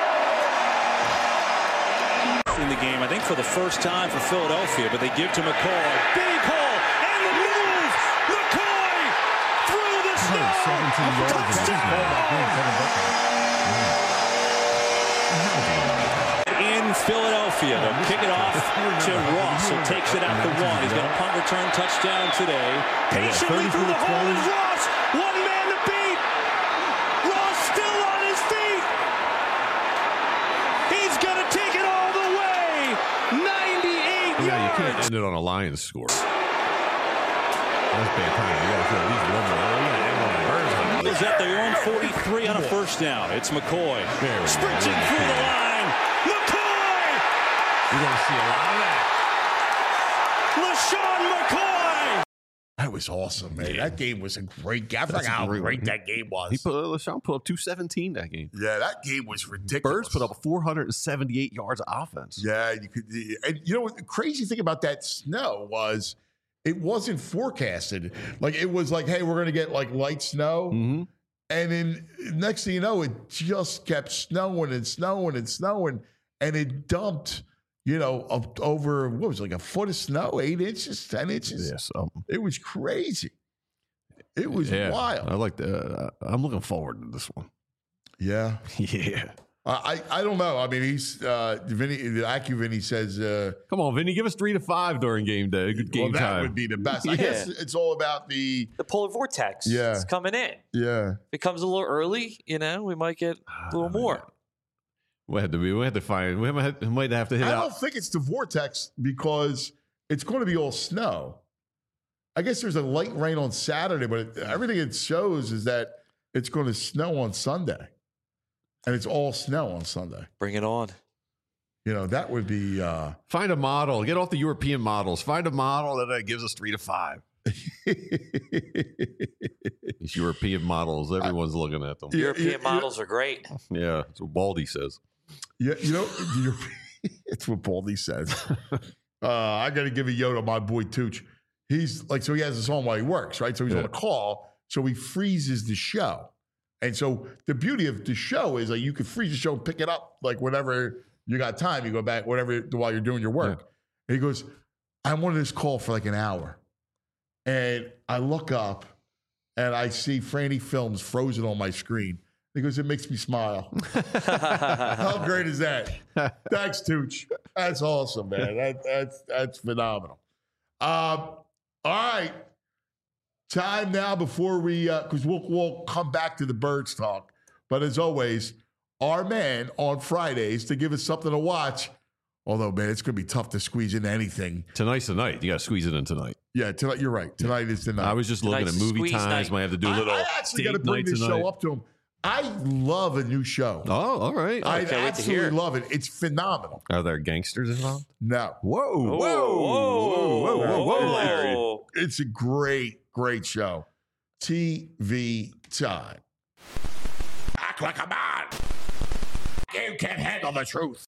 In the game, I think for the first time for Philadelphia, but they give to McCoy. Big hole, and the move. McCoy through the snow. In Philadelphia, they'll kick it off to Ross, who takes it at the one. He's got a punt return touchdown today. Patiently through the hole is Ross. One man to beat. Ross still on his feet. He's going to take it all the way. 98 yards. You can't end it on a Lions score. That's bad time. You got to at least one more. Is at their own 43 on a first down. It's McCoy. Sprinting through the line. McCoy! You're going to see a lot of that. LaShawn McCoy! That was awesome, man. That game was a great game. I forgot how great that game was. LaShawn put up 217 that game. Yeah, that game was ridiculous. Birds put up 478 yards of offense. Yeah, you could. And you know what the crazy thing about that snow was? It wasn't forecasted. Like, it was like, hey, we're going to get like light snow. Mm-hmm. And then next thing you know, it just kept snowing and snowing and snowing. And it dumped, up over, what was it, like a foot of snow, 8 inches, 10 inches. Yes. It was crazy. It was wild. I like that. I'm looking forward to this one. Yeah. Yeah. I don't know. I mean, he's Vinny. The IQ Vinny says, "Come on, Vinny, give us 3 to 5 during game day. Good game that time would be the best. I guess it's all about the polar vortex. Yeah, it's coming in. Yeah, if it comes a little early, we might get a little more. We might have to hit I out. don't think it's the vortex because it's going to be all snow. I guess there's a light rain on Saturday, but everything it shows is that it's going to snow on Sunday. And it's all snow on Sunday. Bring it on. That would be... Find a model. Get off the European models. Find a model that gives us 3 to 5. These European models, everyone's looking at them. European models are great. Yeah, that's what Baldy says. Yeah, it's what Baldy says. I got to give a yo to my boy Tooch. He's like, so he has this on while he works, right? So he's on a call, so he freezes the show. And so the beauty of the show is like you can freeze the show and pick it up like whenever you got time. You go back, whatever, while you're doing your work. Yeah. And he goes, I wanted this call for like an hour. And I look up and I see Franny Films frozen on my screen. He goes, it makes me smile. How great is that? Thanks, Tooch. That's awesome, man. That's phenomenal. All right. Time now before we, because we'll come back to the Birds talk. But as always, our man on Fridays to give us something to watch. Although, man, it's going to be tough to squeeze into anything. Tonight's the night. You got to squeeze it in tonight. Yeah, tonight. You're right. Tonight is the night. I was just looking at movie times. Might have to do a little. I actually got to bring this show up to him. I love a new show. Oh, all right. I absolutely love it. It's phenomenal. Are there gangsters involved? No. Whoa. It's a great show. TV time. Act like a man. You can't handle the truth.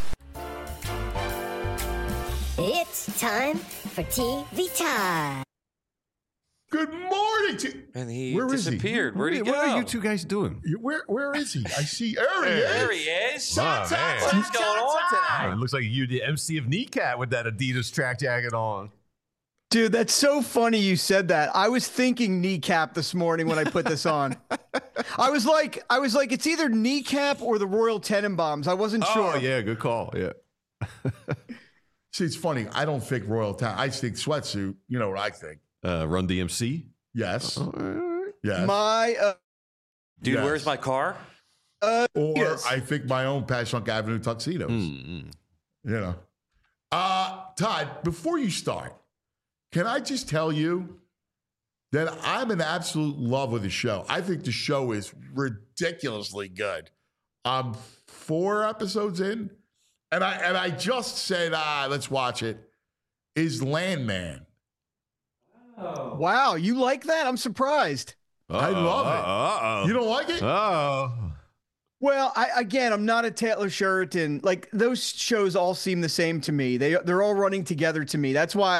It's time for TV time. Good morning to... And he Where disappeared. Where'd he go? What are you two guys doing? Where is he? I see. There he is. What's going on tonight? It looks like you the MC of Kneecap with that Adidas track jacket on. Dude, that's so funny you said that. I was thinking Kneecap this morning when I put this on. I was like, it's either Kneecap or the Royal Tenenbaums. I wasn't sure. Oh, yeah, good call. Yeah. See, it's funny. I don't think Royal Town. I think Sweatsuit. You know what I think. Run DMC? Yes. Yes. My dude, yes. Where's my car? Or yes. I think my own Passyunk Avenue tuxedos. You know. Todd, before you start, can I just tell you that I'm in absolute love with the show. I think the show is ridiculously good. I'm 4 episodes in, and I just said, let's watch it. Is Landman. Oh. Wow, you like that? I'm surprised. I love it. You don't like it? Oh. Well, I'm not a Taylor Sheridan. Like, those shows all seem the same to me. They're all running together to me. That's why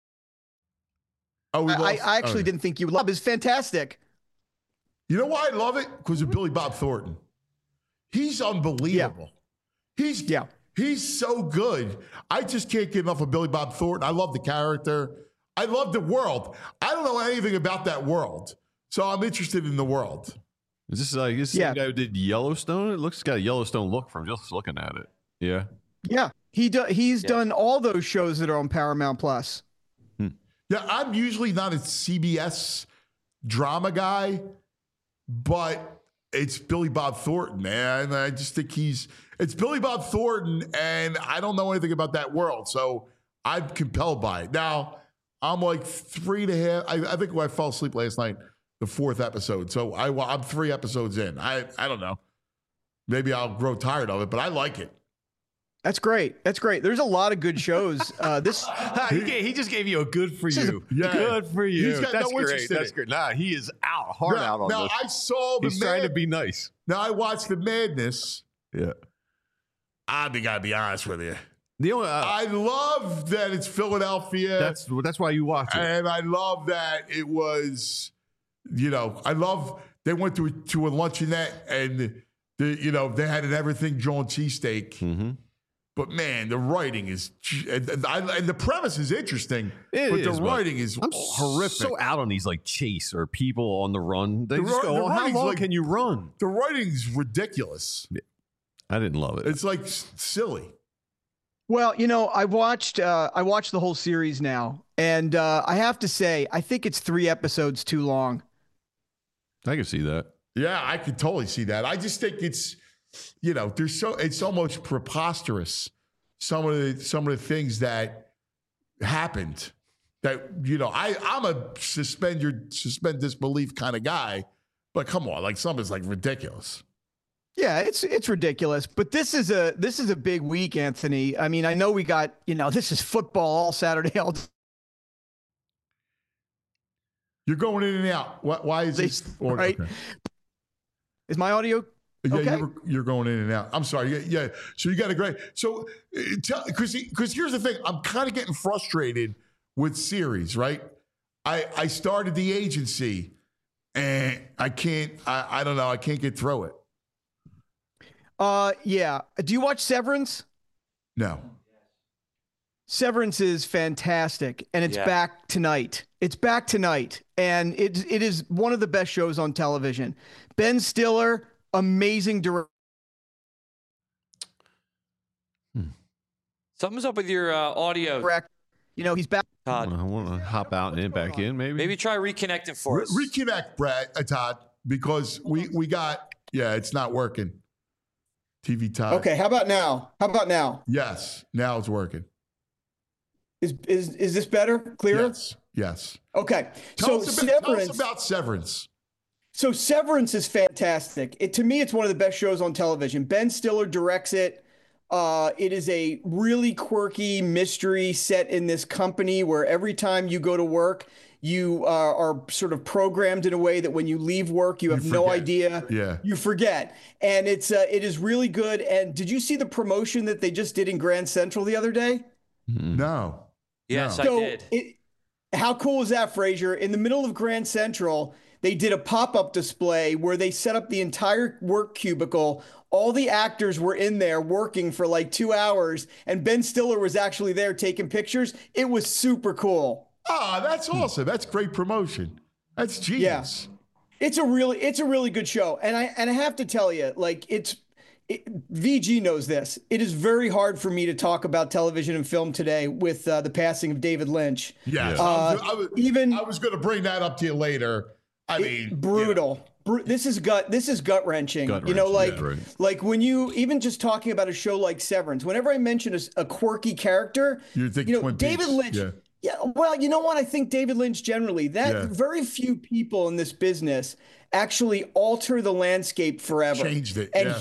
I actually didn't think you would love it. It's fantastic. You know why I love it? Because of Billy Bob Thornton. He's unbelievable. Yeah. He's so good. I just can't get enough of Billy Bob Thornton. I love the character. I love the world. I don't know anything about that world, so I'm interested in the world. Is this like the guy who did Yellowstone? It looks got a Yellowstone look from just looking at it. Yeah. Yeah. He's done all those shows that are on Paramount Plus. Yeah, I'm usually not a CBS drama guy, but it's Billy Bob Thornton, man. I just think it's Billy Bob Thornton, and I don't know anything about that world, so I'm compelled by it. Now, I'm like 3.5. I think when I fell asleep last night, the 4th episode. So I'm 3 episodes in. I don't know. Maybe I'll grow tired of it, but I like it. That's great. There's a lot of good shows. He just gave you a good for you. Good for you. He's got That's no great. That's great. Nah, he is out on this. Now I saw the. He's trying to be nice. Now I watched the madness. Yeah. I gotta be honest with you. I love that it's Philadelphia. That's why you watch it. And I love that it was, I love they went to a luncheonette and they had an everything John cheesesteak. Mm-hmm. But man, the writing is and the premise is interesting. The writing is horrific. So out on these like chase or people on the run. They just go, how long can you run? The writing's ridiculous. I didn't love it. It's like silly. Well, you know, I watched the whole series now, and I have to say, I think it's 3 episodes too long. I can see that. Yeah, I could totally see that. I just think it's, you know, it's almost preposterous. Some of the things that happened that, you know, I'm a suspend disbelief kind of guy, but come on, like some is like ridiculous. Yeah, it's ridiculous, but this is a big week, Anthony. I mean, I know we got, you know, this is football all Saturday. You're going in and out. Why is this? Right? Okay. Is my audio okay? Yeah, you're going in and out. I'm sorry. Yeah. So you got a great. So because here's the thing, I'm kind of getting frustrated with series, right? I started The Agency, and I can't. I don't know. I can't get through it. Yeah. Do you watch Severance? No. Severance is fantastic, and it's back tonight. It's back tonight, and it is one of the best shows on television. Ben Stiller, amazing director. Something's up with your audio. You know, he's back. Todd. I want to hop out and back in, maybe. Maybe try reconnecting for us. Reconnect, Todd, because we got, it's not working. TV Todd. Okay, how about now? Yes, now it's working. Is this better? Clearer? Yes. Okay. Tell us about Severance. So Severance is fantastic. To me, it's one of the best shows on television. Ben Stiller directs it. It is a really quirky mystery set in this company where every time you go to work, you are sort of programmed in a way that when you leave work, you have no idea. Yeah. You forget. And it is really good. And did you see the promotion that they just did in Grand Central the other day? No. Yes, no. I did. How cool is that, Frazier? In the middle of Grand Central, they did a pop-up display where they set up the entire work cubicle. All the actors were in there working for like 2 hours, and Ben Stiller was actually there taking pictures. It was super cool. Oh, that's awesome. That's great promotion. That's genius. Yeah. It's a really good show. And I have to tell you, like, VG knows this. It is very hard for me to talk about television and film today with the passing of David Lynch. Yeah. I was going to bring that up to you later. I mean, brutal. This is gut wrenching. You know, like when you even just talking about a show like Severance. Whenever I mention a quirky character, you think David Lynch. Yeah. Well, you know what? I think David Lynch generally. Very few people in this business actually alter the landscape forever. Changed it, and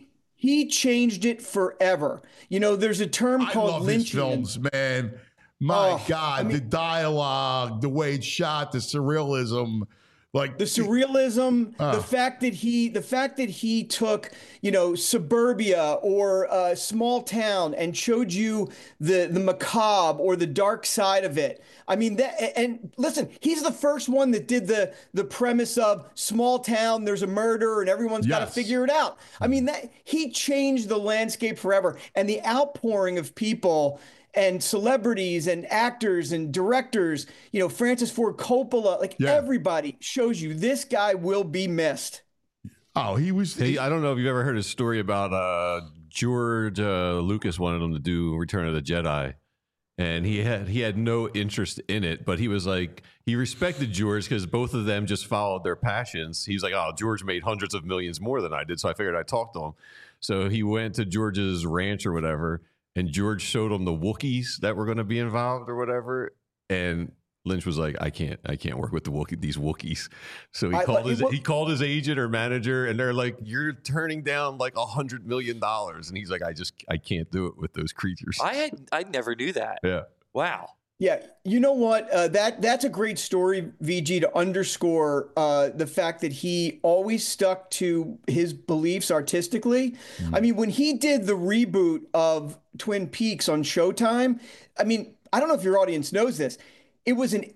he changed it forever. You know, there's a term called Lynchian. His films, man. My God, the dialogue, the way it's shot, the surrealism. Like the surrealism, the fact that he took, you know, suburbia or a small town and showed you the macabre or the dark side of it. I mean, and listen, he's the first one that did the premise of small town, there's a murder and everyone's got to figure it out. I mean, he changed the landscape forever, and the outpouring of people and celebrities and actors and directors, you know, Francis Ford Coppola, everybody shows you this guy will be missed. Oh, he was. I don't know if you've ever heard a story about George Lucas wanted him to do Return of the Jedi, and he had no interest in it, but he was like, he respected George because both of them just followed their passions. He's like, oh, George made hundreds of millions more than I did, so I figured I'd talk to him. So he went to George's ranch or whatever, and George showed him the Wookiees that were going to be involved or whatever. And Lynch was like, I can't work with these Wookiees. So he called his agent or manager, and they're like, you're turning down like $100 million. And he's like, I can't do it with those creatures. I never knew that. Yeah. Wow. Yeah, you know what? That's a great story, VG, to underscore the fact that he always stuck to his beliefs artistically. I mean, when he did the reboot of Twin Peaks on Showtime, I mean, I don't know if your audience knows this. It was an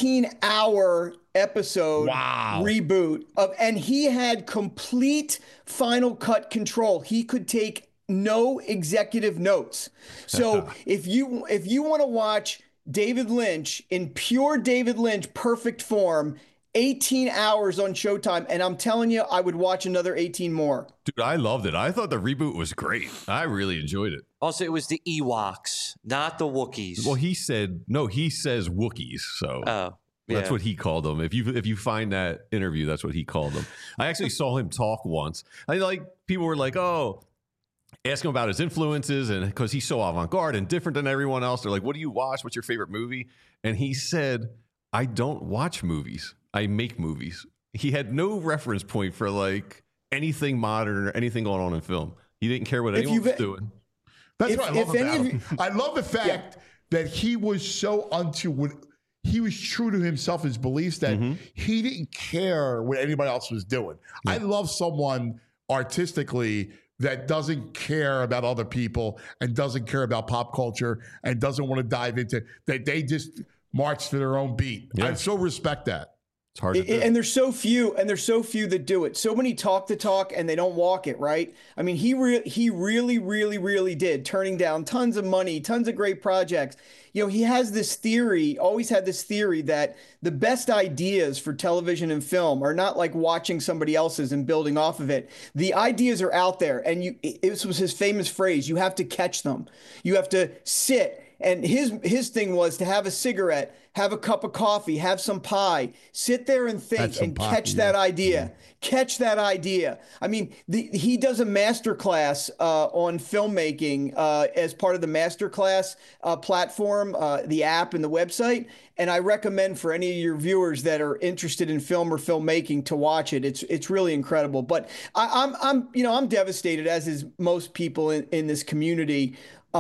18-hour episode reboot and he had complete final cut control. He could take no executive notes. So if you want to watch David Lynch in pure David Lynch perfect form, 18 hours on Showtime, and I'm telling you, I would watch another 18 more. Dude, I loved it. I thought the reboot was great. I really enjoyed it. Also, it was the Ewoks, not the Wookiees. Well, he says Wookiees, so that's what he called them. If you find that interview, that's what he called them. I actually saw him talk once. People were like, oh, ask him about his influences, and because he's so avant-garde and different than everyone else. They're like, what do you watch? What's your favorite movie? And he said, I don't watch movies. I make movies. He had no reference point for like anything modern or anything going on in film. He didn't care what anyone was doing. That's what I love about him. I love the fact that he was so he was true to himself, his beliefs, that he didn't care what anybody else was doing. Yeah. I love someone artistically that doesn't care about other people and doesn't care about pop culture and doesn't want to dive into that. They just march to their own beat. Yeah. I so respect that. It's hard to do. And there's so few that do it. So many talk the talk and they don't walk it, right? I mean, he really did, turning down tons of money, tons of great projects. You know, he has this theory, always had this theory that the best ideas for television and film are not like watching somebody else's and building off of it. The ideas are out there, and this was his famous phrase, you have to catch them. You have to sit. And his thing was to have a cigarette, have a cup of coffee, have some pie, sit there and think and catch that idea. Catch that idea. I mean, he does a masterclass on filmmaking as part of the masterclass platform, the app and the website. And I recommend for any of your viewers that are interested in film or filmmaking to watch it. It's really incredible. But I'm devastated, as is most people in this community.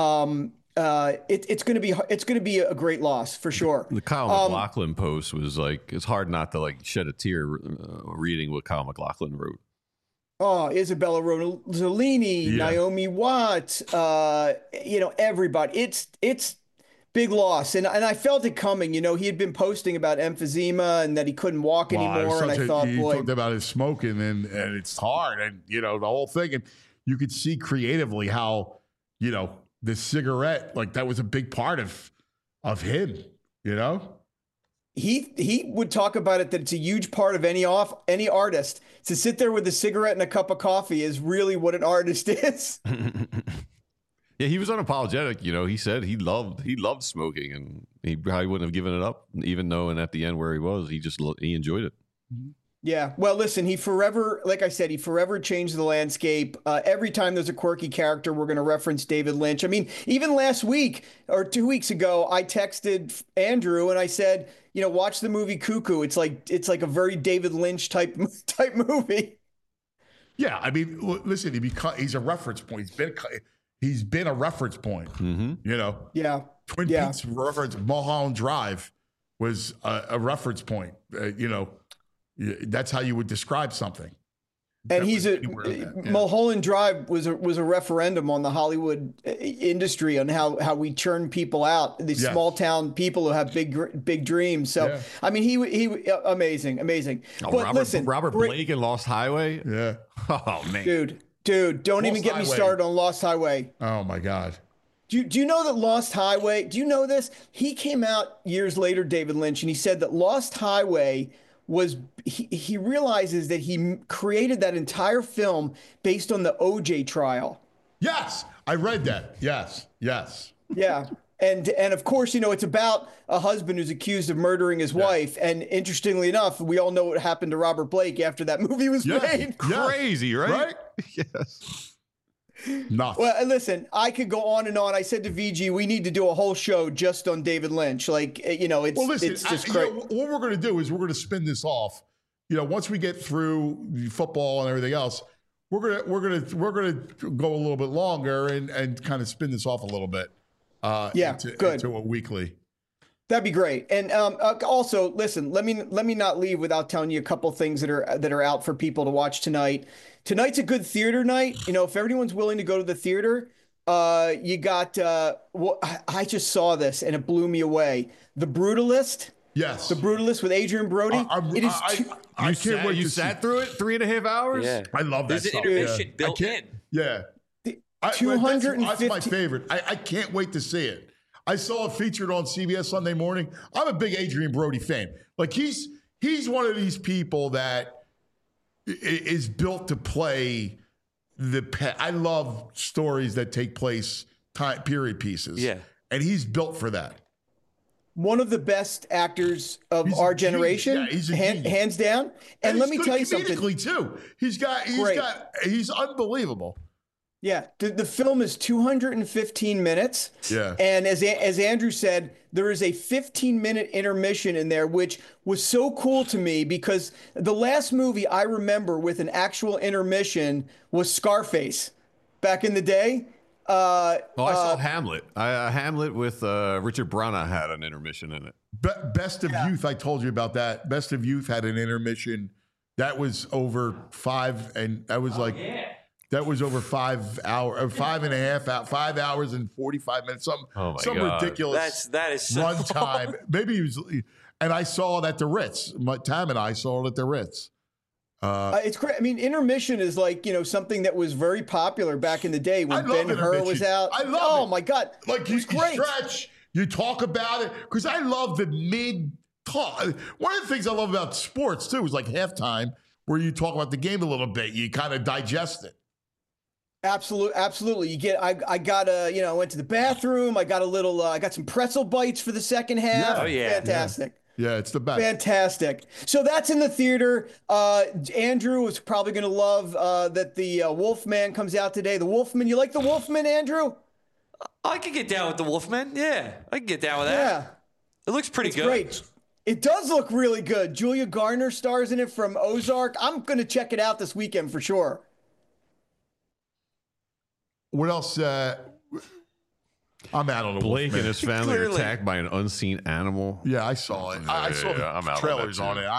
It's going to be a great loss for sure. The Kyle MacLachlan post was like, it's hard not to like shed a tear reading what Kyle MacLachlan wrote. Oh, Isabella Rossellini, Naomi Watts, everybody. It's big loss, and I felt it coming. You know, he had been posting about emphysema and that he couldn't walk anymore, and I thought, he talked about his smoking, and it's hard, and the whole thing, and you could see creatively how the cigarette, like that was a big part of him, He would talk about it, that it's a huge part of any artist. To sit there with a cigarette and a cup of coffee is really what an artist is. Yeah, he was unapologetic. He said he loved smoking, and he probably wouldn't have given it up, even though, and at the end where he was, he enjoyed it. Yeah. Well, listen, he forever changed the landscape. Every time there's a quirky character, we're going to reference David Lynch. I mean, even last week or 2 weeks ago, I texted Andrew and I said, watch the movie Cuckoo. It's like a very David Lynch type movie. Yeah. I mean, listen, he's a reference point. He's been a reference point, Yeah. Twin Peaks reference, Mulholland Drive was a reference point, That's how you would describe something. And Mulholland Drive was a referendum on the Hollywood industry, on how we churn people out, these small town people who have big dreams. So I mean, he amazing. Oh, but Robert Blake in Lost Highway. Yeah. Oh man, dude, don't even get me started on Lost Highway. Oh my God. Do you know that Lost Highway? Do you know this? He came out years later, David Lynch, and he said that Lost Highway was he realizes that he created that entire film based on the OJ trial. Yes, I read that. Yes. Yeah. And of course, it's about a husband who's accused of murdering his wife. And interestingly enough, we all know what happened to Robert Blake after that movie was made. Crazy, right? Yes. Nuts. Well, listen, I could go on and on. I said to VG, we need to do a whole show just on David Lynch. Like, it's just crazy. What we're going to do is we're going to spin this off. Once we get through football and everything else, we're going to go a little bit longer and kind of spin this off a little bit. Into a weekly. That'd be great. And also, listen, let me not leave without telling you a couple things that are out for people to watch tonight. Tonight's a good theater night. If everyone's willing to go to the theater, you got. I just saw this and it blew me away. The Brutalist. Yes. The Brutalist with Adrian Brody. I can't wait. You sat through it 3.5 hours. Yeah. I love that. There's an intermission built in. Yeah. 250. That's my favorite. I can't wait to see it. I saw it featured on CBS Sunday Morning. I'm a big Adrian Brody fan. Like he's he's one of these people that is built to play I love stories that take place period pieces. Yeah. And he's built for that. One of the best actors of our generation, hands down. And let me tell you something. Too. He's unbelievable. Yeah, the film is 215 minutes. Yeah. And as Andrew said, there is a 15-minute intermission in there, which was so cool to me because the last movie I remember with an actual intermission was Scarface back in the day. I saw Hamlet. Hamlet with Richard Branagh had an intermission in it. Best of Youth, I told you about that. Best of Youth had an intermission that was over 5, and that was that was over 5 hours, 5.5 hours, 5 hours and 45 minutes. Some ridiculous. That is so run time. Maybe he was, and I saw it at the Ritz. Tam and I saw it at the Ritz. It's great. I mean, intermission is something that was very popular back in the day when Ben-Hur was out. I love it. Oh my God. Like you stretch, you talk about it. Because I love the mid-talk. One of the things I love about sports, too, is like halftime where you talk about the game a little bit. You kind of digest it. Absolutely. I got I went to the bathroom. I got I got some pretzel bites for the second half. Yeah. Oh, yeah. Fantastic. Yeah, it's the best. Fantastic. So that's in the theater. Andrew is probably going to love that the Wolfman comes out today. The Wolfman. You like the Wolfman, Andrew? I could get down with the Wolfman. Yeah, I can get down with that. Yeah. It looks pretty good. Great. It does look really good. Julia Garner stars in it from Ozark. I'm going to check it out this weekend for sure. What else? I'm out on the Blake Wolfman. and his family are attacked by an unseen animal. Yeah, I saw it. I saw the trailers on it.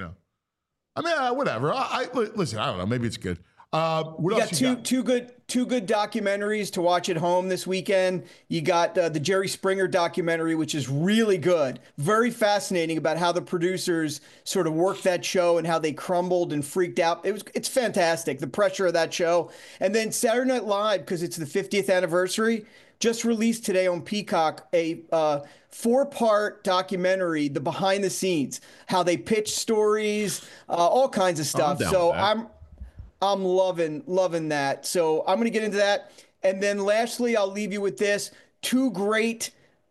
Whatever. Listen. I don't know. Maybe it's good. What else you got? Two good documentaries to watch at home this weekend. You got the Jerry Springer documentary, which is really good, very fascinating about how the producers sort of worked that show and how they crumbled and freaked out. It's fantastic, the pressure of that show. And then Saturday Night Live, because it's the 50th anniversary, just released today on Peacock a 4-part documentary, the behind the scenes, how they pitch stories, all kinds of stuff. So I'm loving that. So I'm going to get into that. And then lastly, I'll leave you with this. 2 great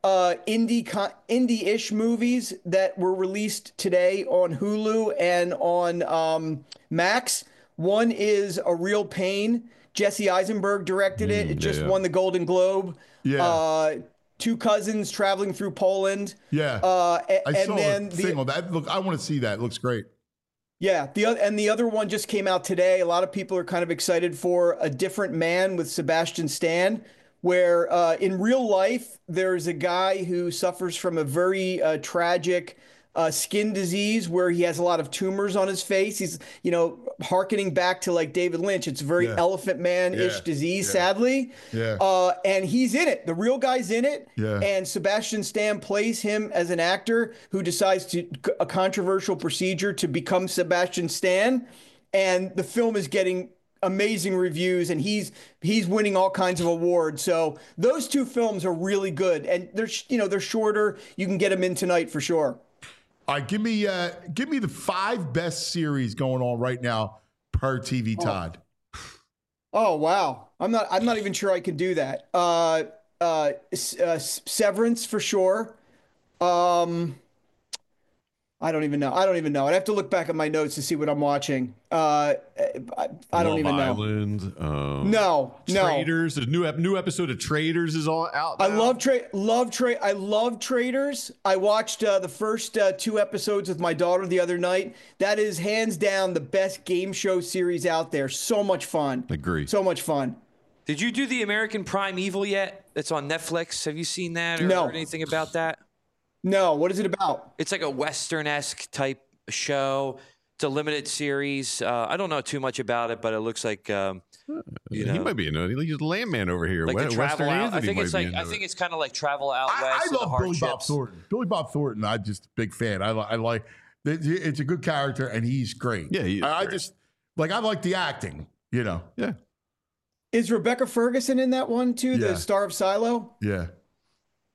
indie-ish movies that were released today on Hulu and on Max. One is A Real Pain. Jesse Eisenberg directed it. It just won the Golden Globe. Yeah. 2 cousins traveling through Poland. Yeah. I saw a thing on that. Look, I want to see that. It looks great. Yeah, the other one just came out today. A lot of people are kind of excited for A Different Man with Sebastian Stan, where in real life there's a guy who suffers from a very tragic skin disease where he has a lot of tumors on his face. He's, hearkening back to like David Lynch. It's a very Elephant Man-ish disease, sadly. Yeah. And he's in it. The real guy's in it. Yeah. And Sebastian Stan plays him as an actor who decides a controversial procedure to become Sebastian Stan. And the film is getting amazing reviews, and he's winning all kinds of awards. So those 2 films are really good, and they're shorter. You can get them in tonight for sure. All right, give me the 5 best series going on right now per TV Todd. Oh wow, I'm not even sure I can do that. Severance for sure. I don't even know. I'd have to look back at my notes to see what I'm watching. I don't even know. Island, no. Traitors. The new episode of Traitors is all out now. I love Traitors. I watched the first 2 episodes with my daughter the other night. That is hands down the best game show series out there. So much fun. Agree. So much fun. Did you do the American Prime Evil yet? That's on Netflix. Have you seen that or No. heard anything about that? No. What is it about? It's like a Western-esque type show. It's a limited series. I don't know too much about it, but it looks like he might be he's a landman over here. Like the travel out. I think it's kind of like travel out west. I love Billy Bob Thornton. Billy Bob Thornton, I'm just a big fan. I like it's a good character and he's great. Yeah, I like the acting. Yeah. Is Rebecca Ferguson in that one too? Yeah. The star of Silo. Yeah.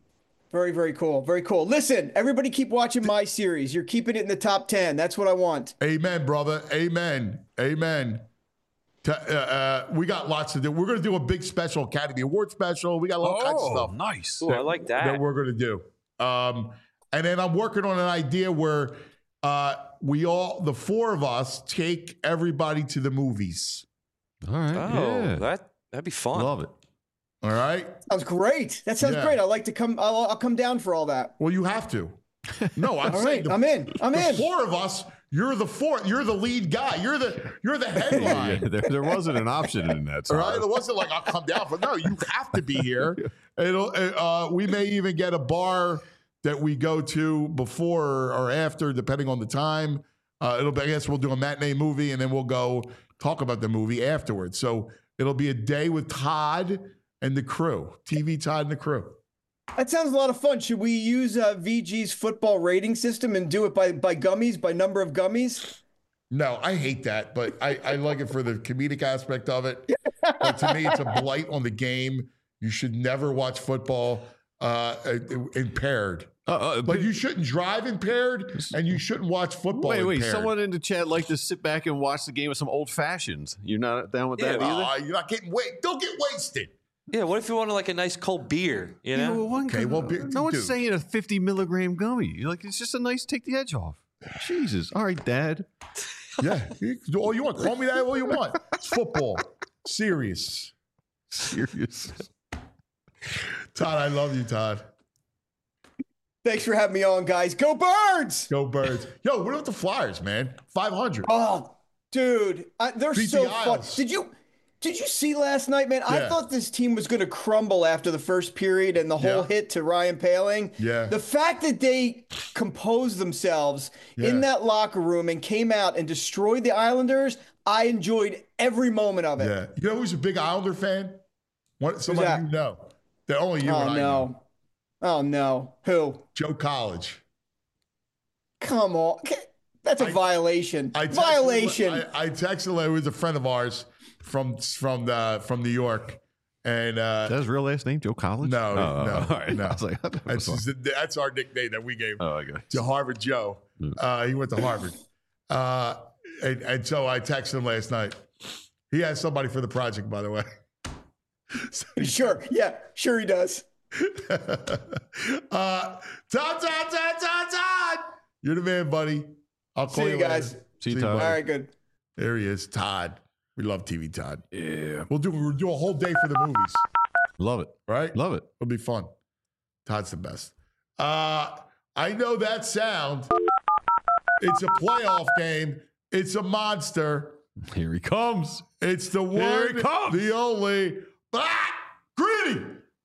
Very, very cool. Very cool. Listen, everybody keep watching my series. You're keeping it in the top 10. That's what I want. Amen, brother. Amen. Amen. We got lots to do. We're going to do a big special Academy Award special. We got all kinds of stuff. Nice. Ooh, I like that. That we're going to do. And then I'm working on an idea where the four of us, take everybody to the movies. All right. Oh, yeah. that'd be fun. Love it. All right. Sounds great. That sounds great. I'd like to come. I'll come down for all that. Well, you have to. No, I'm All saying right, I'm in. I'm in. Four of us. You're the fourth. You're the lead guy. You're the headline. Yeah, there wasn't an option in that. All right. It wasn't like I'll come down for. No, you have to be here. We may even get a bar that we go to before or after, depending on the time. I guess we'll do a matinee movie and then we'll go talk about the movie afterwards. So it'll be a day with Todd and the crew, TV Todd and the crew. That sounds a lot of fun. Should we use VG's football rating system and do it by gummies, by number of gummies? No, I hate that, but I like it for the comedic aspect of it. But to me, it's a blight on the game. You should never watch football impaired. Like you shouldn't drive impaired, and you shouldn't watch football Wait, impaired. someone in the chat like to sit back and watch the game with some old fashions. You're not down with that either? You're not getting Don't get wasted. Yeah, what if you wanted like a nice cold beer, you know? No one's saying a 50 milligram gummy. Like, it's just a nice take the edge off. Jesus. All right, Dad. Yeah. All you want. Call me that all you want. It's football. Serious. Todd, I love you, Todd. Thanks for having me on, guys. Go Birds! Go Birds. Yo, what about the Flyers, man? 500. Oh, dude. They're Beat so the fun. Isles. Did you see last night, man? I thought this team was going to crumble after the first period and the whole hit to Ryan Poehling. Yeah. The fact that they composed themselves in that locker room and came out and destroyed the Islanders, I enjoyed every moment of it. Yeah. You know who's a big Islander fan? Somebody you know. That only you and I know. Oh, no. Who? Joe College. Come on. That's a violation. Violation. I texted him. He was a friend of ours from New York. And is that his real last name, Joe College? No, no. All right. No. I was like, that's our nickname that we gave to Harvard Joe. He went to Harvard. And so I texted him last night. He has somebody for the project, by the way. Sure. Yeah, sure he does. Todd. You're the man, buddy. I'll call See you guys. See you, Todd. All right, good. There he is, Todd. We love TV Todd. Yeah. We'll do a whole day for the movies. Love it. Right? Love it. It'll be fun. Todd's the best. I know that sound. It's a playoff game. It's a monster. Here he comes. It's the one, the only, Gritty.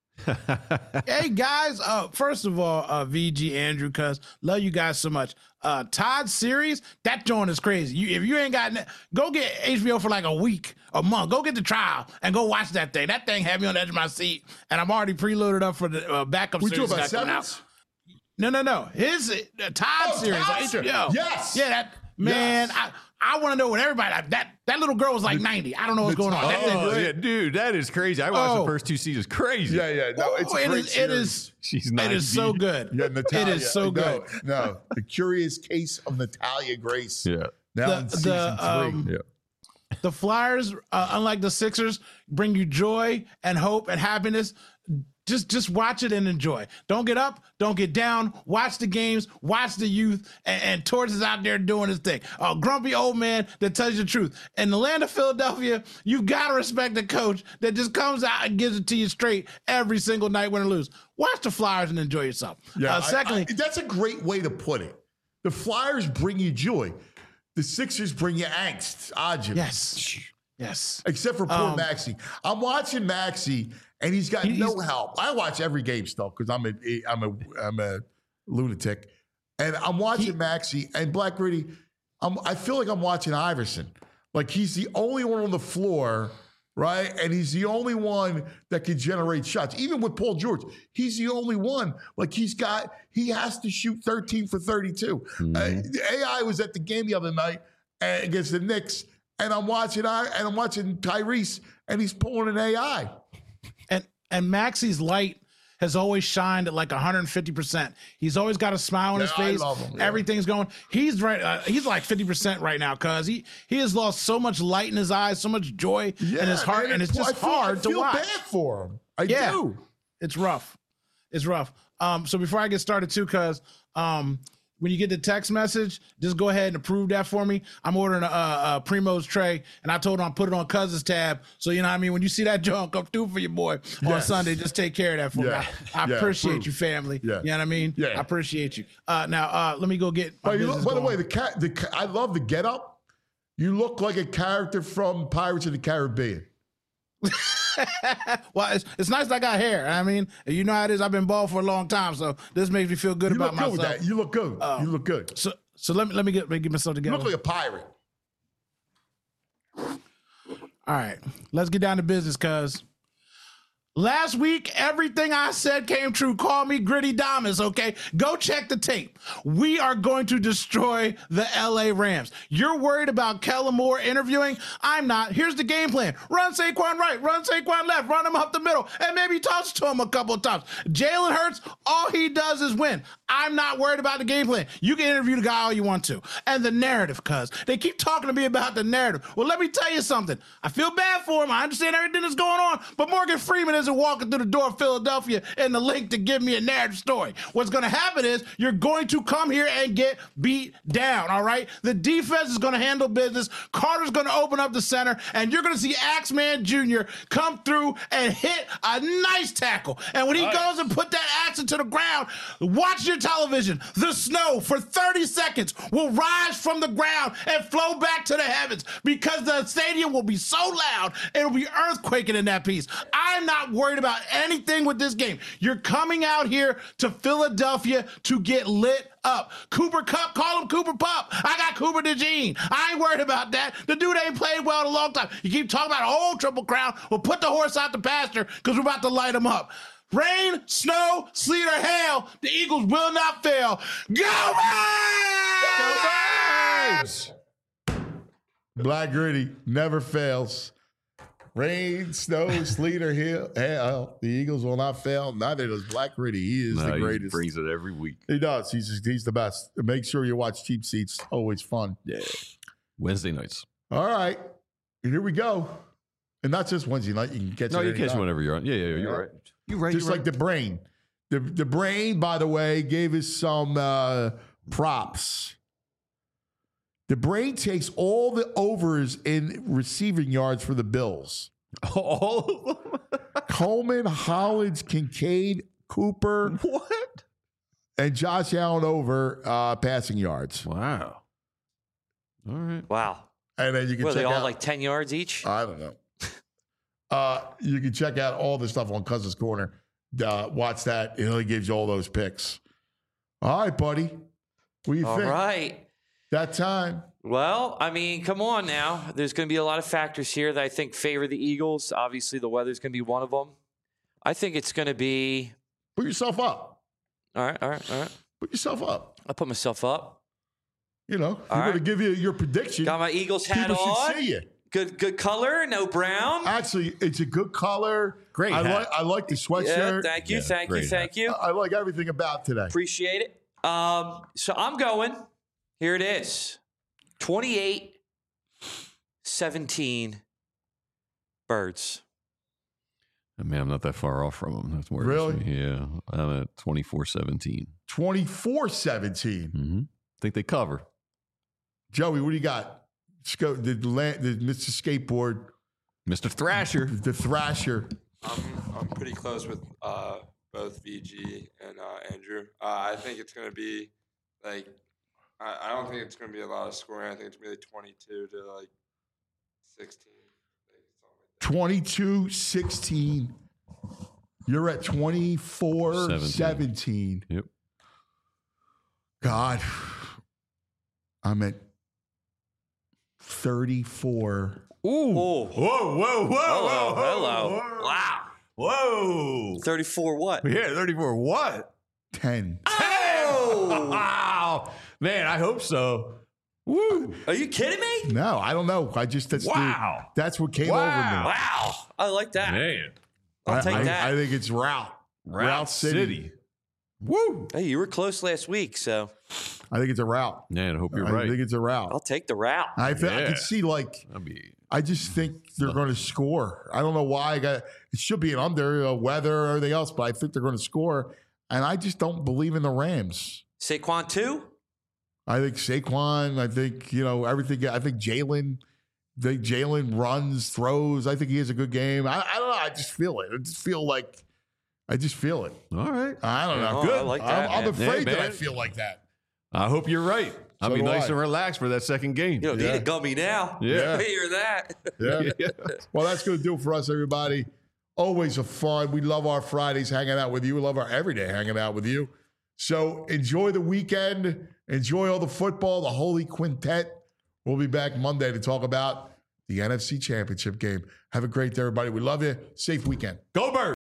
Hey guys, first of all, VG, Andrew, cuz love you guys so much. Todd's series, that joint is crazy. If you ain't got go get HBO for like a month. Go get the trial and go watch that thing. That thing had me on the edge of my seat, and I'm already preloaded up for the backup We series talking about that's coming out. Sevens? No. His Todd series on Todd series. HBO. Yes. Yeah, that man. Yes. I want to know what everybody that little girl was like 90. I don't know what's going on. Yeah, dude, that is crazy. I watched the first two seasons. Crazy. Yeah. No, it's a great series. She's It is so good. Yeah, Natalia. It is so good. No, The Curious Case of Natalia Grace. Yeah. Now in season 3. The Flyers, unlike the Sixers, bring you joy and hope and happiness. Just watch it and enjoy. Don't get up, don't get down. Watch the games, watch the youth, and Torts is out there doing his thing. A grumpy old man that tells you the truth. In the land of Philadelphia, you got to respect the coach that just comes out and gives it to you straight every single night, win or lose. Watch the Flyers and enjoy yourself. Yeah, Secondly, that's a great way to put it. The Flyers bring you joy. The Sixers bring you angst. Ajit. Yes. Except for poor Maxey. I'm watching Maxey, and he's got no help. I watch every game still because I'm a lunatic, and I'm watching Maxey and Black Gritty. I feel like I'm watching Iverson. Like he's the only one on the floor, right? And he's the only one that can generate shots. Even with Paul George, he's the only one. Like he has to shoot 13 for 32. AI was at the game the other night against the Knicks. And I'm watching Tyrese, and he's pulling an AI. And Maxey's light has always shined at like 150%. He's always got a smile on his face. I love him. Yeah. Everything's going. He's right. He's like 50% right now because he has lost so much light in his eyes, so much joy in his heart, and it's just hard to watch. I feel bad for him. I do. It's rough. It's rough. So before I get started too, cuz when you get the text message, just go ahead and approve that for me. I'm ordering a Primo's tray, and I told him I'll put it on Cousins tab. So, you know what I mean? When you see that junk come through for your boy on Sunday, just take care of that for me. I appreciate you, family. Yeah. You know what I mean? Yeah. I appreciate you. Now, let me go get my business by the going. way, I love the getup. You look like a character from Pirates of the Caribbean. Well, it's nice I got hair. I mean, you know how it is. I've been bald for a long time, so this makes me feel good about myself. With that. You look good. You look good. So let me get myself together. You look like a pirate. All right, let's get down to business, cuz. Last week, everything I said came true. Call me Gritty Damas, okay? Go check the tape. We are going to destroy the LA Rams. You're worried about Kellen Moore interviewing? I'm not. Here's the game plan. Run Saquon right, run Saquon left, run him up the middle, and maybe toss to him a couple of times. Jalen Hurts, all he does is win. I'm not worried about the game plan. You can interview the guy all you want to. And the narrative, cuz. They keep talking to me about the narrative. Well, let me tell you something. I feel bad for him. I understand everything that's going on, but Morgan Freeman isn't walking through the door of Philadelphia and the link to give me a narrative story. What's going to happen is you're going to come here and get beat down, all right? The defense is going to handle business. Carter's going to open up the center, and you're going to see Axeman Jr. come through and hit a nice tackle. And when he goes and put that axe into the ground, watch your television. The snow for 30 seconds will rise from the ground and flow back to the heavens because the stadium will be so loud, it'll be earthquaking in that piece. I'm not worried about anything with this game. You're coming out here to Philadelphia to get lit up. Cooper Kupp, call him Cooper Pup. I got Cooper DeJean. I ain't worried about that. The dude ain't played well in a long time. You keep talking about a whole Triple Crown. We'll put the horse out the pasture because we're about to light him up. Rain, snow, sleet, or hail, the Eagles will not fail. Go Birds! Black Gritty never fails. Rain, snow, sleet, or hail, the Eagles will not fail. Neither does Black Gritty. He is the greatest. He brings it every week. He does. He's the best. Make sure you watch Cheap Seats. Always fun. Yeah. Wednesday nights. All right. Here we go. And not just Wednesday night. You can catch it. No, you catch it whenever you're on. Yeah, you're right. You're right. Just like the Brain. The Brain, by the way, gave us some props. The Brain takes all the overs in receiving yards for the Bills. All of them? Coleman, Hollins, Kincaid, Cooper. What? And Josh Allen over passing yards. Wow. All right. Wow. And then you can check they all out, like 10 yards each? I don't know. You can check out all the stuff on Cousins Corner. Watch that. It only gives you all those picks. All right, buddy. What do you think? All right. That time. Well, I mean, come on now. There's going to be a lot of factors here that I think favor the Eagles. Obviously, the weather's going to be one of them. I think it's going to be... Put yourself up. All right. Put yourself up. I'll put myself up. You know, you're going to give you your prediction. Got my Eagles hat People on. should see you. Good color, no brown. Actually, it's a good color. Great hat. I like the sweatshirt. Yeah, thank you. I like everything about today. Appreciate it. So I'm going... Here it is. 28-17 Birds. Man, I'm not that far off from them. That's more really? Yeah. I'm at 24-17. 24-17. Mm-hmm. Think they cover. Joey, what do you got? The Mr. Skateboard. Mr. Thrasher. The Thrasher. I'm pretty close with both VG and Andrew. I think it's going to be like... I don't think it's going to be a lot of scoring. I think it's going to be like 22 to like 16. 22-16. You're at 24-17. Yep. God. I'm at 34. Ooh. Whoa. Hello. Wow. Whoa. 34 what? Yeah, 34 what? 10. Oh! Wow. Man, I hope so. Woo. Are you kidding me? No, I don't know. That's what came over me. Wow. I like that. Man. I'll take that. I think it's route. Route City. Woo! Hey, you were close last week, so I think it's a route. Man, I hope you're right. I think it's a route. I'll take the route. I can see, like, I just think they're going to score. I don't know why. It should be an under, weather, everything else, but I think they're going to score. And I just don't believe in the Rams. Saquon too? I think Saquon. I think, everything. I think Jalen. Jalen runs, throws. I think he has a good game. I don't know. I just feel it. I just feel it. All right. I don't know. Oh, Good. I like that, I'm afraid that I man. feel like that. I hope you're right. I'll So be do nice I. and relaxed for that second game. You don't need a gummy now. Yeah. I hear that. Yeah. Well, that's going to do it for us, everybody. Always a fun. We love our Fridays hanging out with you. We love our everyday hanging out with you. So enjoy the weekend. Enjoy all the football, the Holy Quintet. We'll be back Monday to talk about the NFC Championship game. Have a great day, everybody. We love you. Safe weekend. Go Birds!